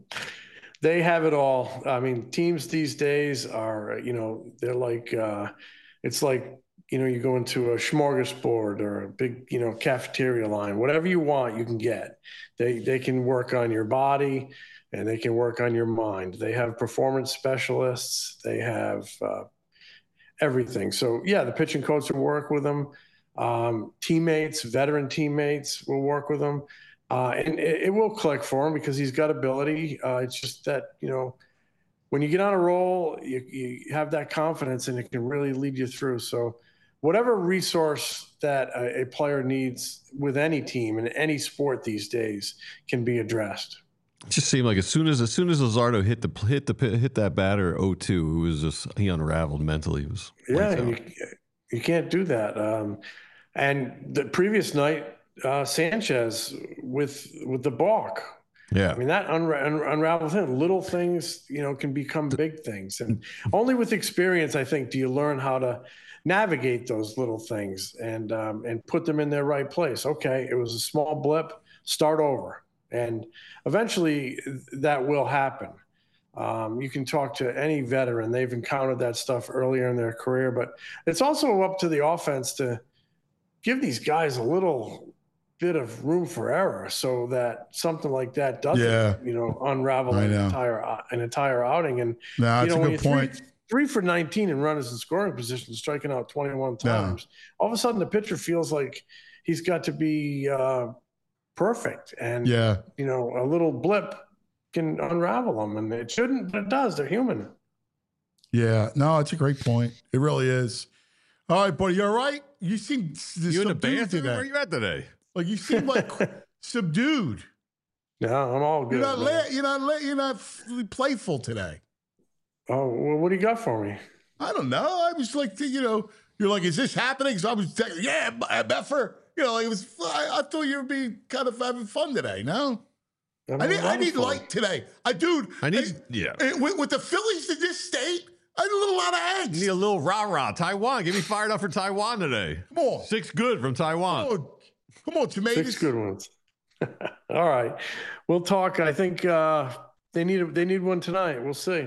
They have it all. I mean, teams these days are, you know, they're like, uh, it's like, you know, you go into a smorgasbord or a big, you know, cafeteria line, whatever you want, you can get. They they can work on your body and they can work on your mind. They have performance specialists. They have uh, everything. So yeah, the pitching coach will work with them. Um, teammates, veteran teammates will work with him. Uh, and it, it will click for him because he's got ability. Uh, it's just that, you know, when you get on a roll, you, you have that confidence and it can really lead you through. So whatever resource that a, a player needs with any team in any sport these days can be addressed. It just seemed like as soon as as soon as Luzardo hit the hit the hit that batter oh two, it was just he unraveled mentally. It was yeah, and you, you can't do that. Um, and the previous night, uh, Sanchez with with the balk. Yeah, I mean that unra- un- unravels him. Little things, you know, can become big things, and only with experience, I think, do you learn how to navigate those little things and um, and put them in their right place. Okay, it was a small blip. Start over. And eventually that will happen. Um, you can talk to any veteran. They've encountered that stuff earlier in their career, but it's also up to the offense to give these guys a little bit of room for error so that something like that doesn't, yeah. you know, unravel an entire, an entire outing. And, no, that's you know, a good point. Three, three for nineteen in runners in scoring position, striking out twenty-one times. No. All of a sudden the pitcher feels like he's got to be, uh, perfect. And, yeah, you know, a little blip can unravel them, and it shouldn't, but it does. They're human. Yeah, no, it's a great point. It really is. All right, buddy, you all right? You seem you in the bathroom? Today. Where are you at today? Like you seem like subdued. No, I'm all good. You're not, la- you're not, la- you're not playful today. Oh, well, what do you got for me? I don't know. I was like, you know, you're like, is this happening? So I was, t- yeah, Beffer. You know, it was. I, I thought you would be kind of having fun today. No, I, I need. I need fun. light today. I, dude. I need. I, yeah. With, with the Phillies in this state, I need a little lot of eggs. Need a little rah rah. Taiwan. Get me fired up for Taiwan today. Come on. Six good from Taiwan. Come on, Come on tomatoes. Six good ones. All right, we'll talk. I think uh, they need. They need one tonight. We'll see.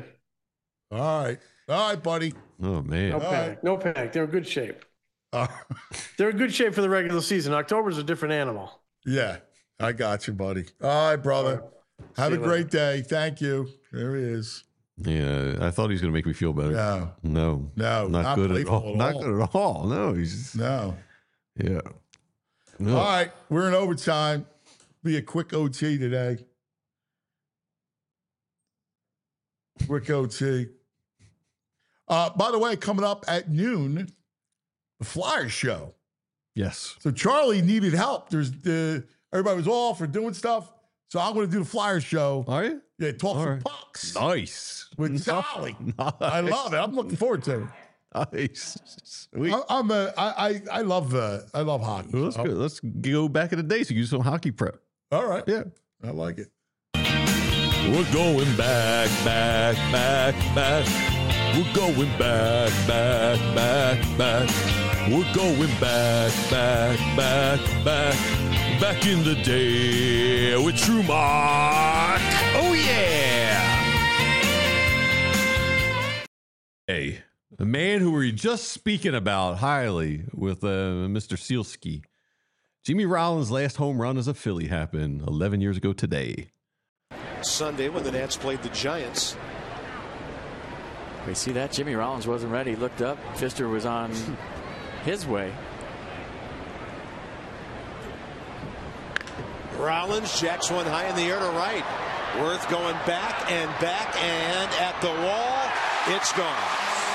All right. All right, buddy. Oh man. No All panic. Right. No panic. They're in good shape. Uh, They're in good shape for the regular season. October's a different animal. Yeah, I got you, buddy. All right, brother. All right. Have See a great later. day. Thank you. There he is. Yeah, I thought he was going to make me feel better. No. No. No. Not, not good at all. At not all. good at all. No. He's just, no. Yeah. No. All right. We're in overtime. Be a quick O T today. Quick O T. Uh, by the way, coming up at noon, the Flyers show. Yes. So Charlie needed help. There's the everybody was off or doing stuff. So I'm going to do the Flyers show. Are you? Yeah, talk All some right. pucks. Nice. With Charlie. Nice. I love it. I'm looking forward to it. Nice. Sweet. I, I'm a, I, I, I love uh, I love hockey. Well, that's so. good. Let's go back in the day so you do some hockey prep. All right. Yeah. I like it. We're going back, back, back, back. We're going back, back, back, back. We're going back, back, back, back, back in the day with True Mark. Oh, yeah. Hey, the man who we were just speaking about highly with uh, Mister Sealski. Jimmy Rollins' last home run as a Philly happened eleven years ago today. Sunday when the Nats played the Giants. We see that Jimmy Rollins wasn't ready. He looked up. Pfister was on his way. Rollins jacks one high in the air to right. Worth going back and back and at the wall. It's gone.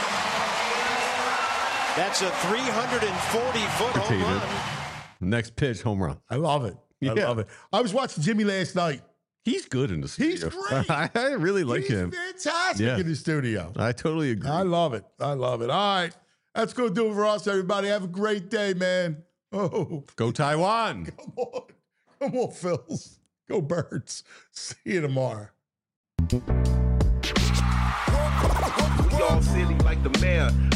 That's a three hundred forty foot home run. Next pitch, home run. I love it. I Yeah. love it. I was watching Jimmy last night. He's good in the studio. He's great. I really like He's him. fantastic Yeah. in the studio. I totally agree. I love it. I love it. All right. That's going to do it for us, everybody. Have a great day, man. Oh, Go Taiwan. come on. Come on, Phils. Go Birds. See you tomorrow. We all silly like the mayor.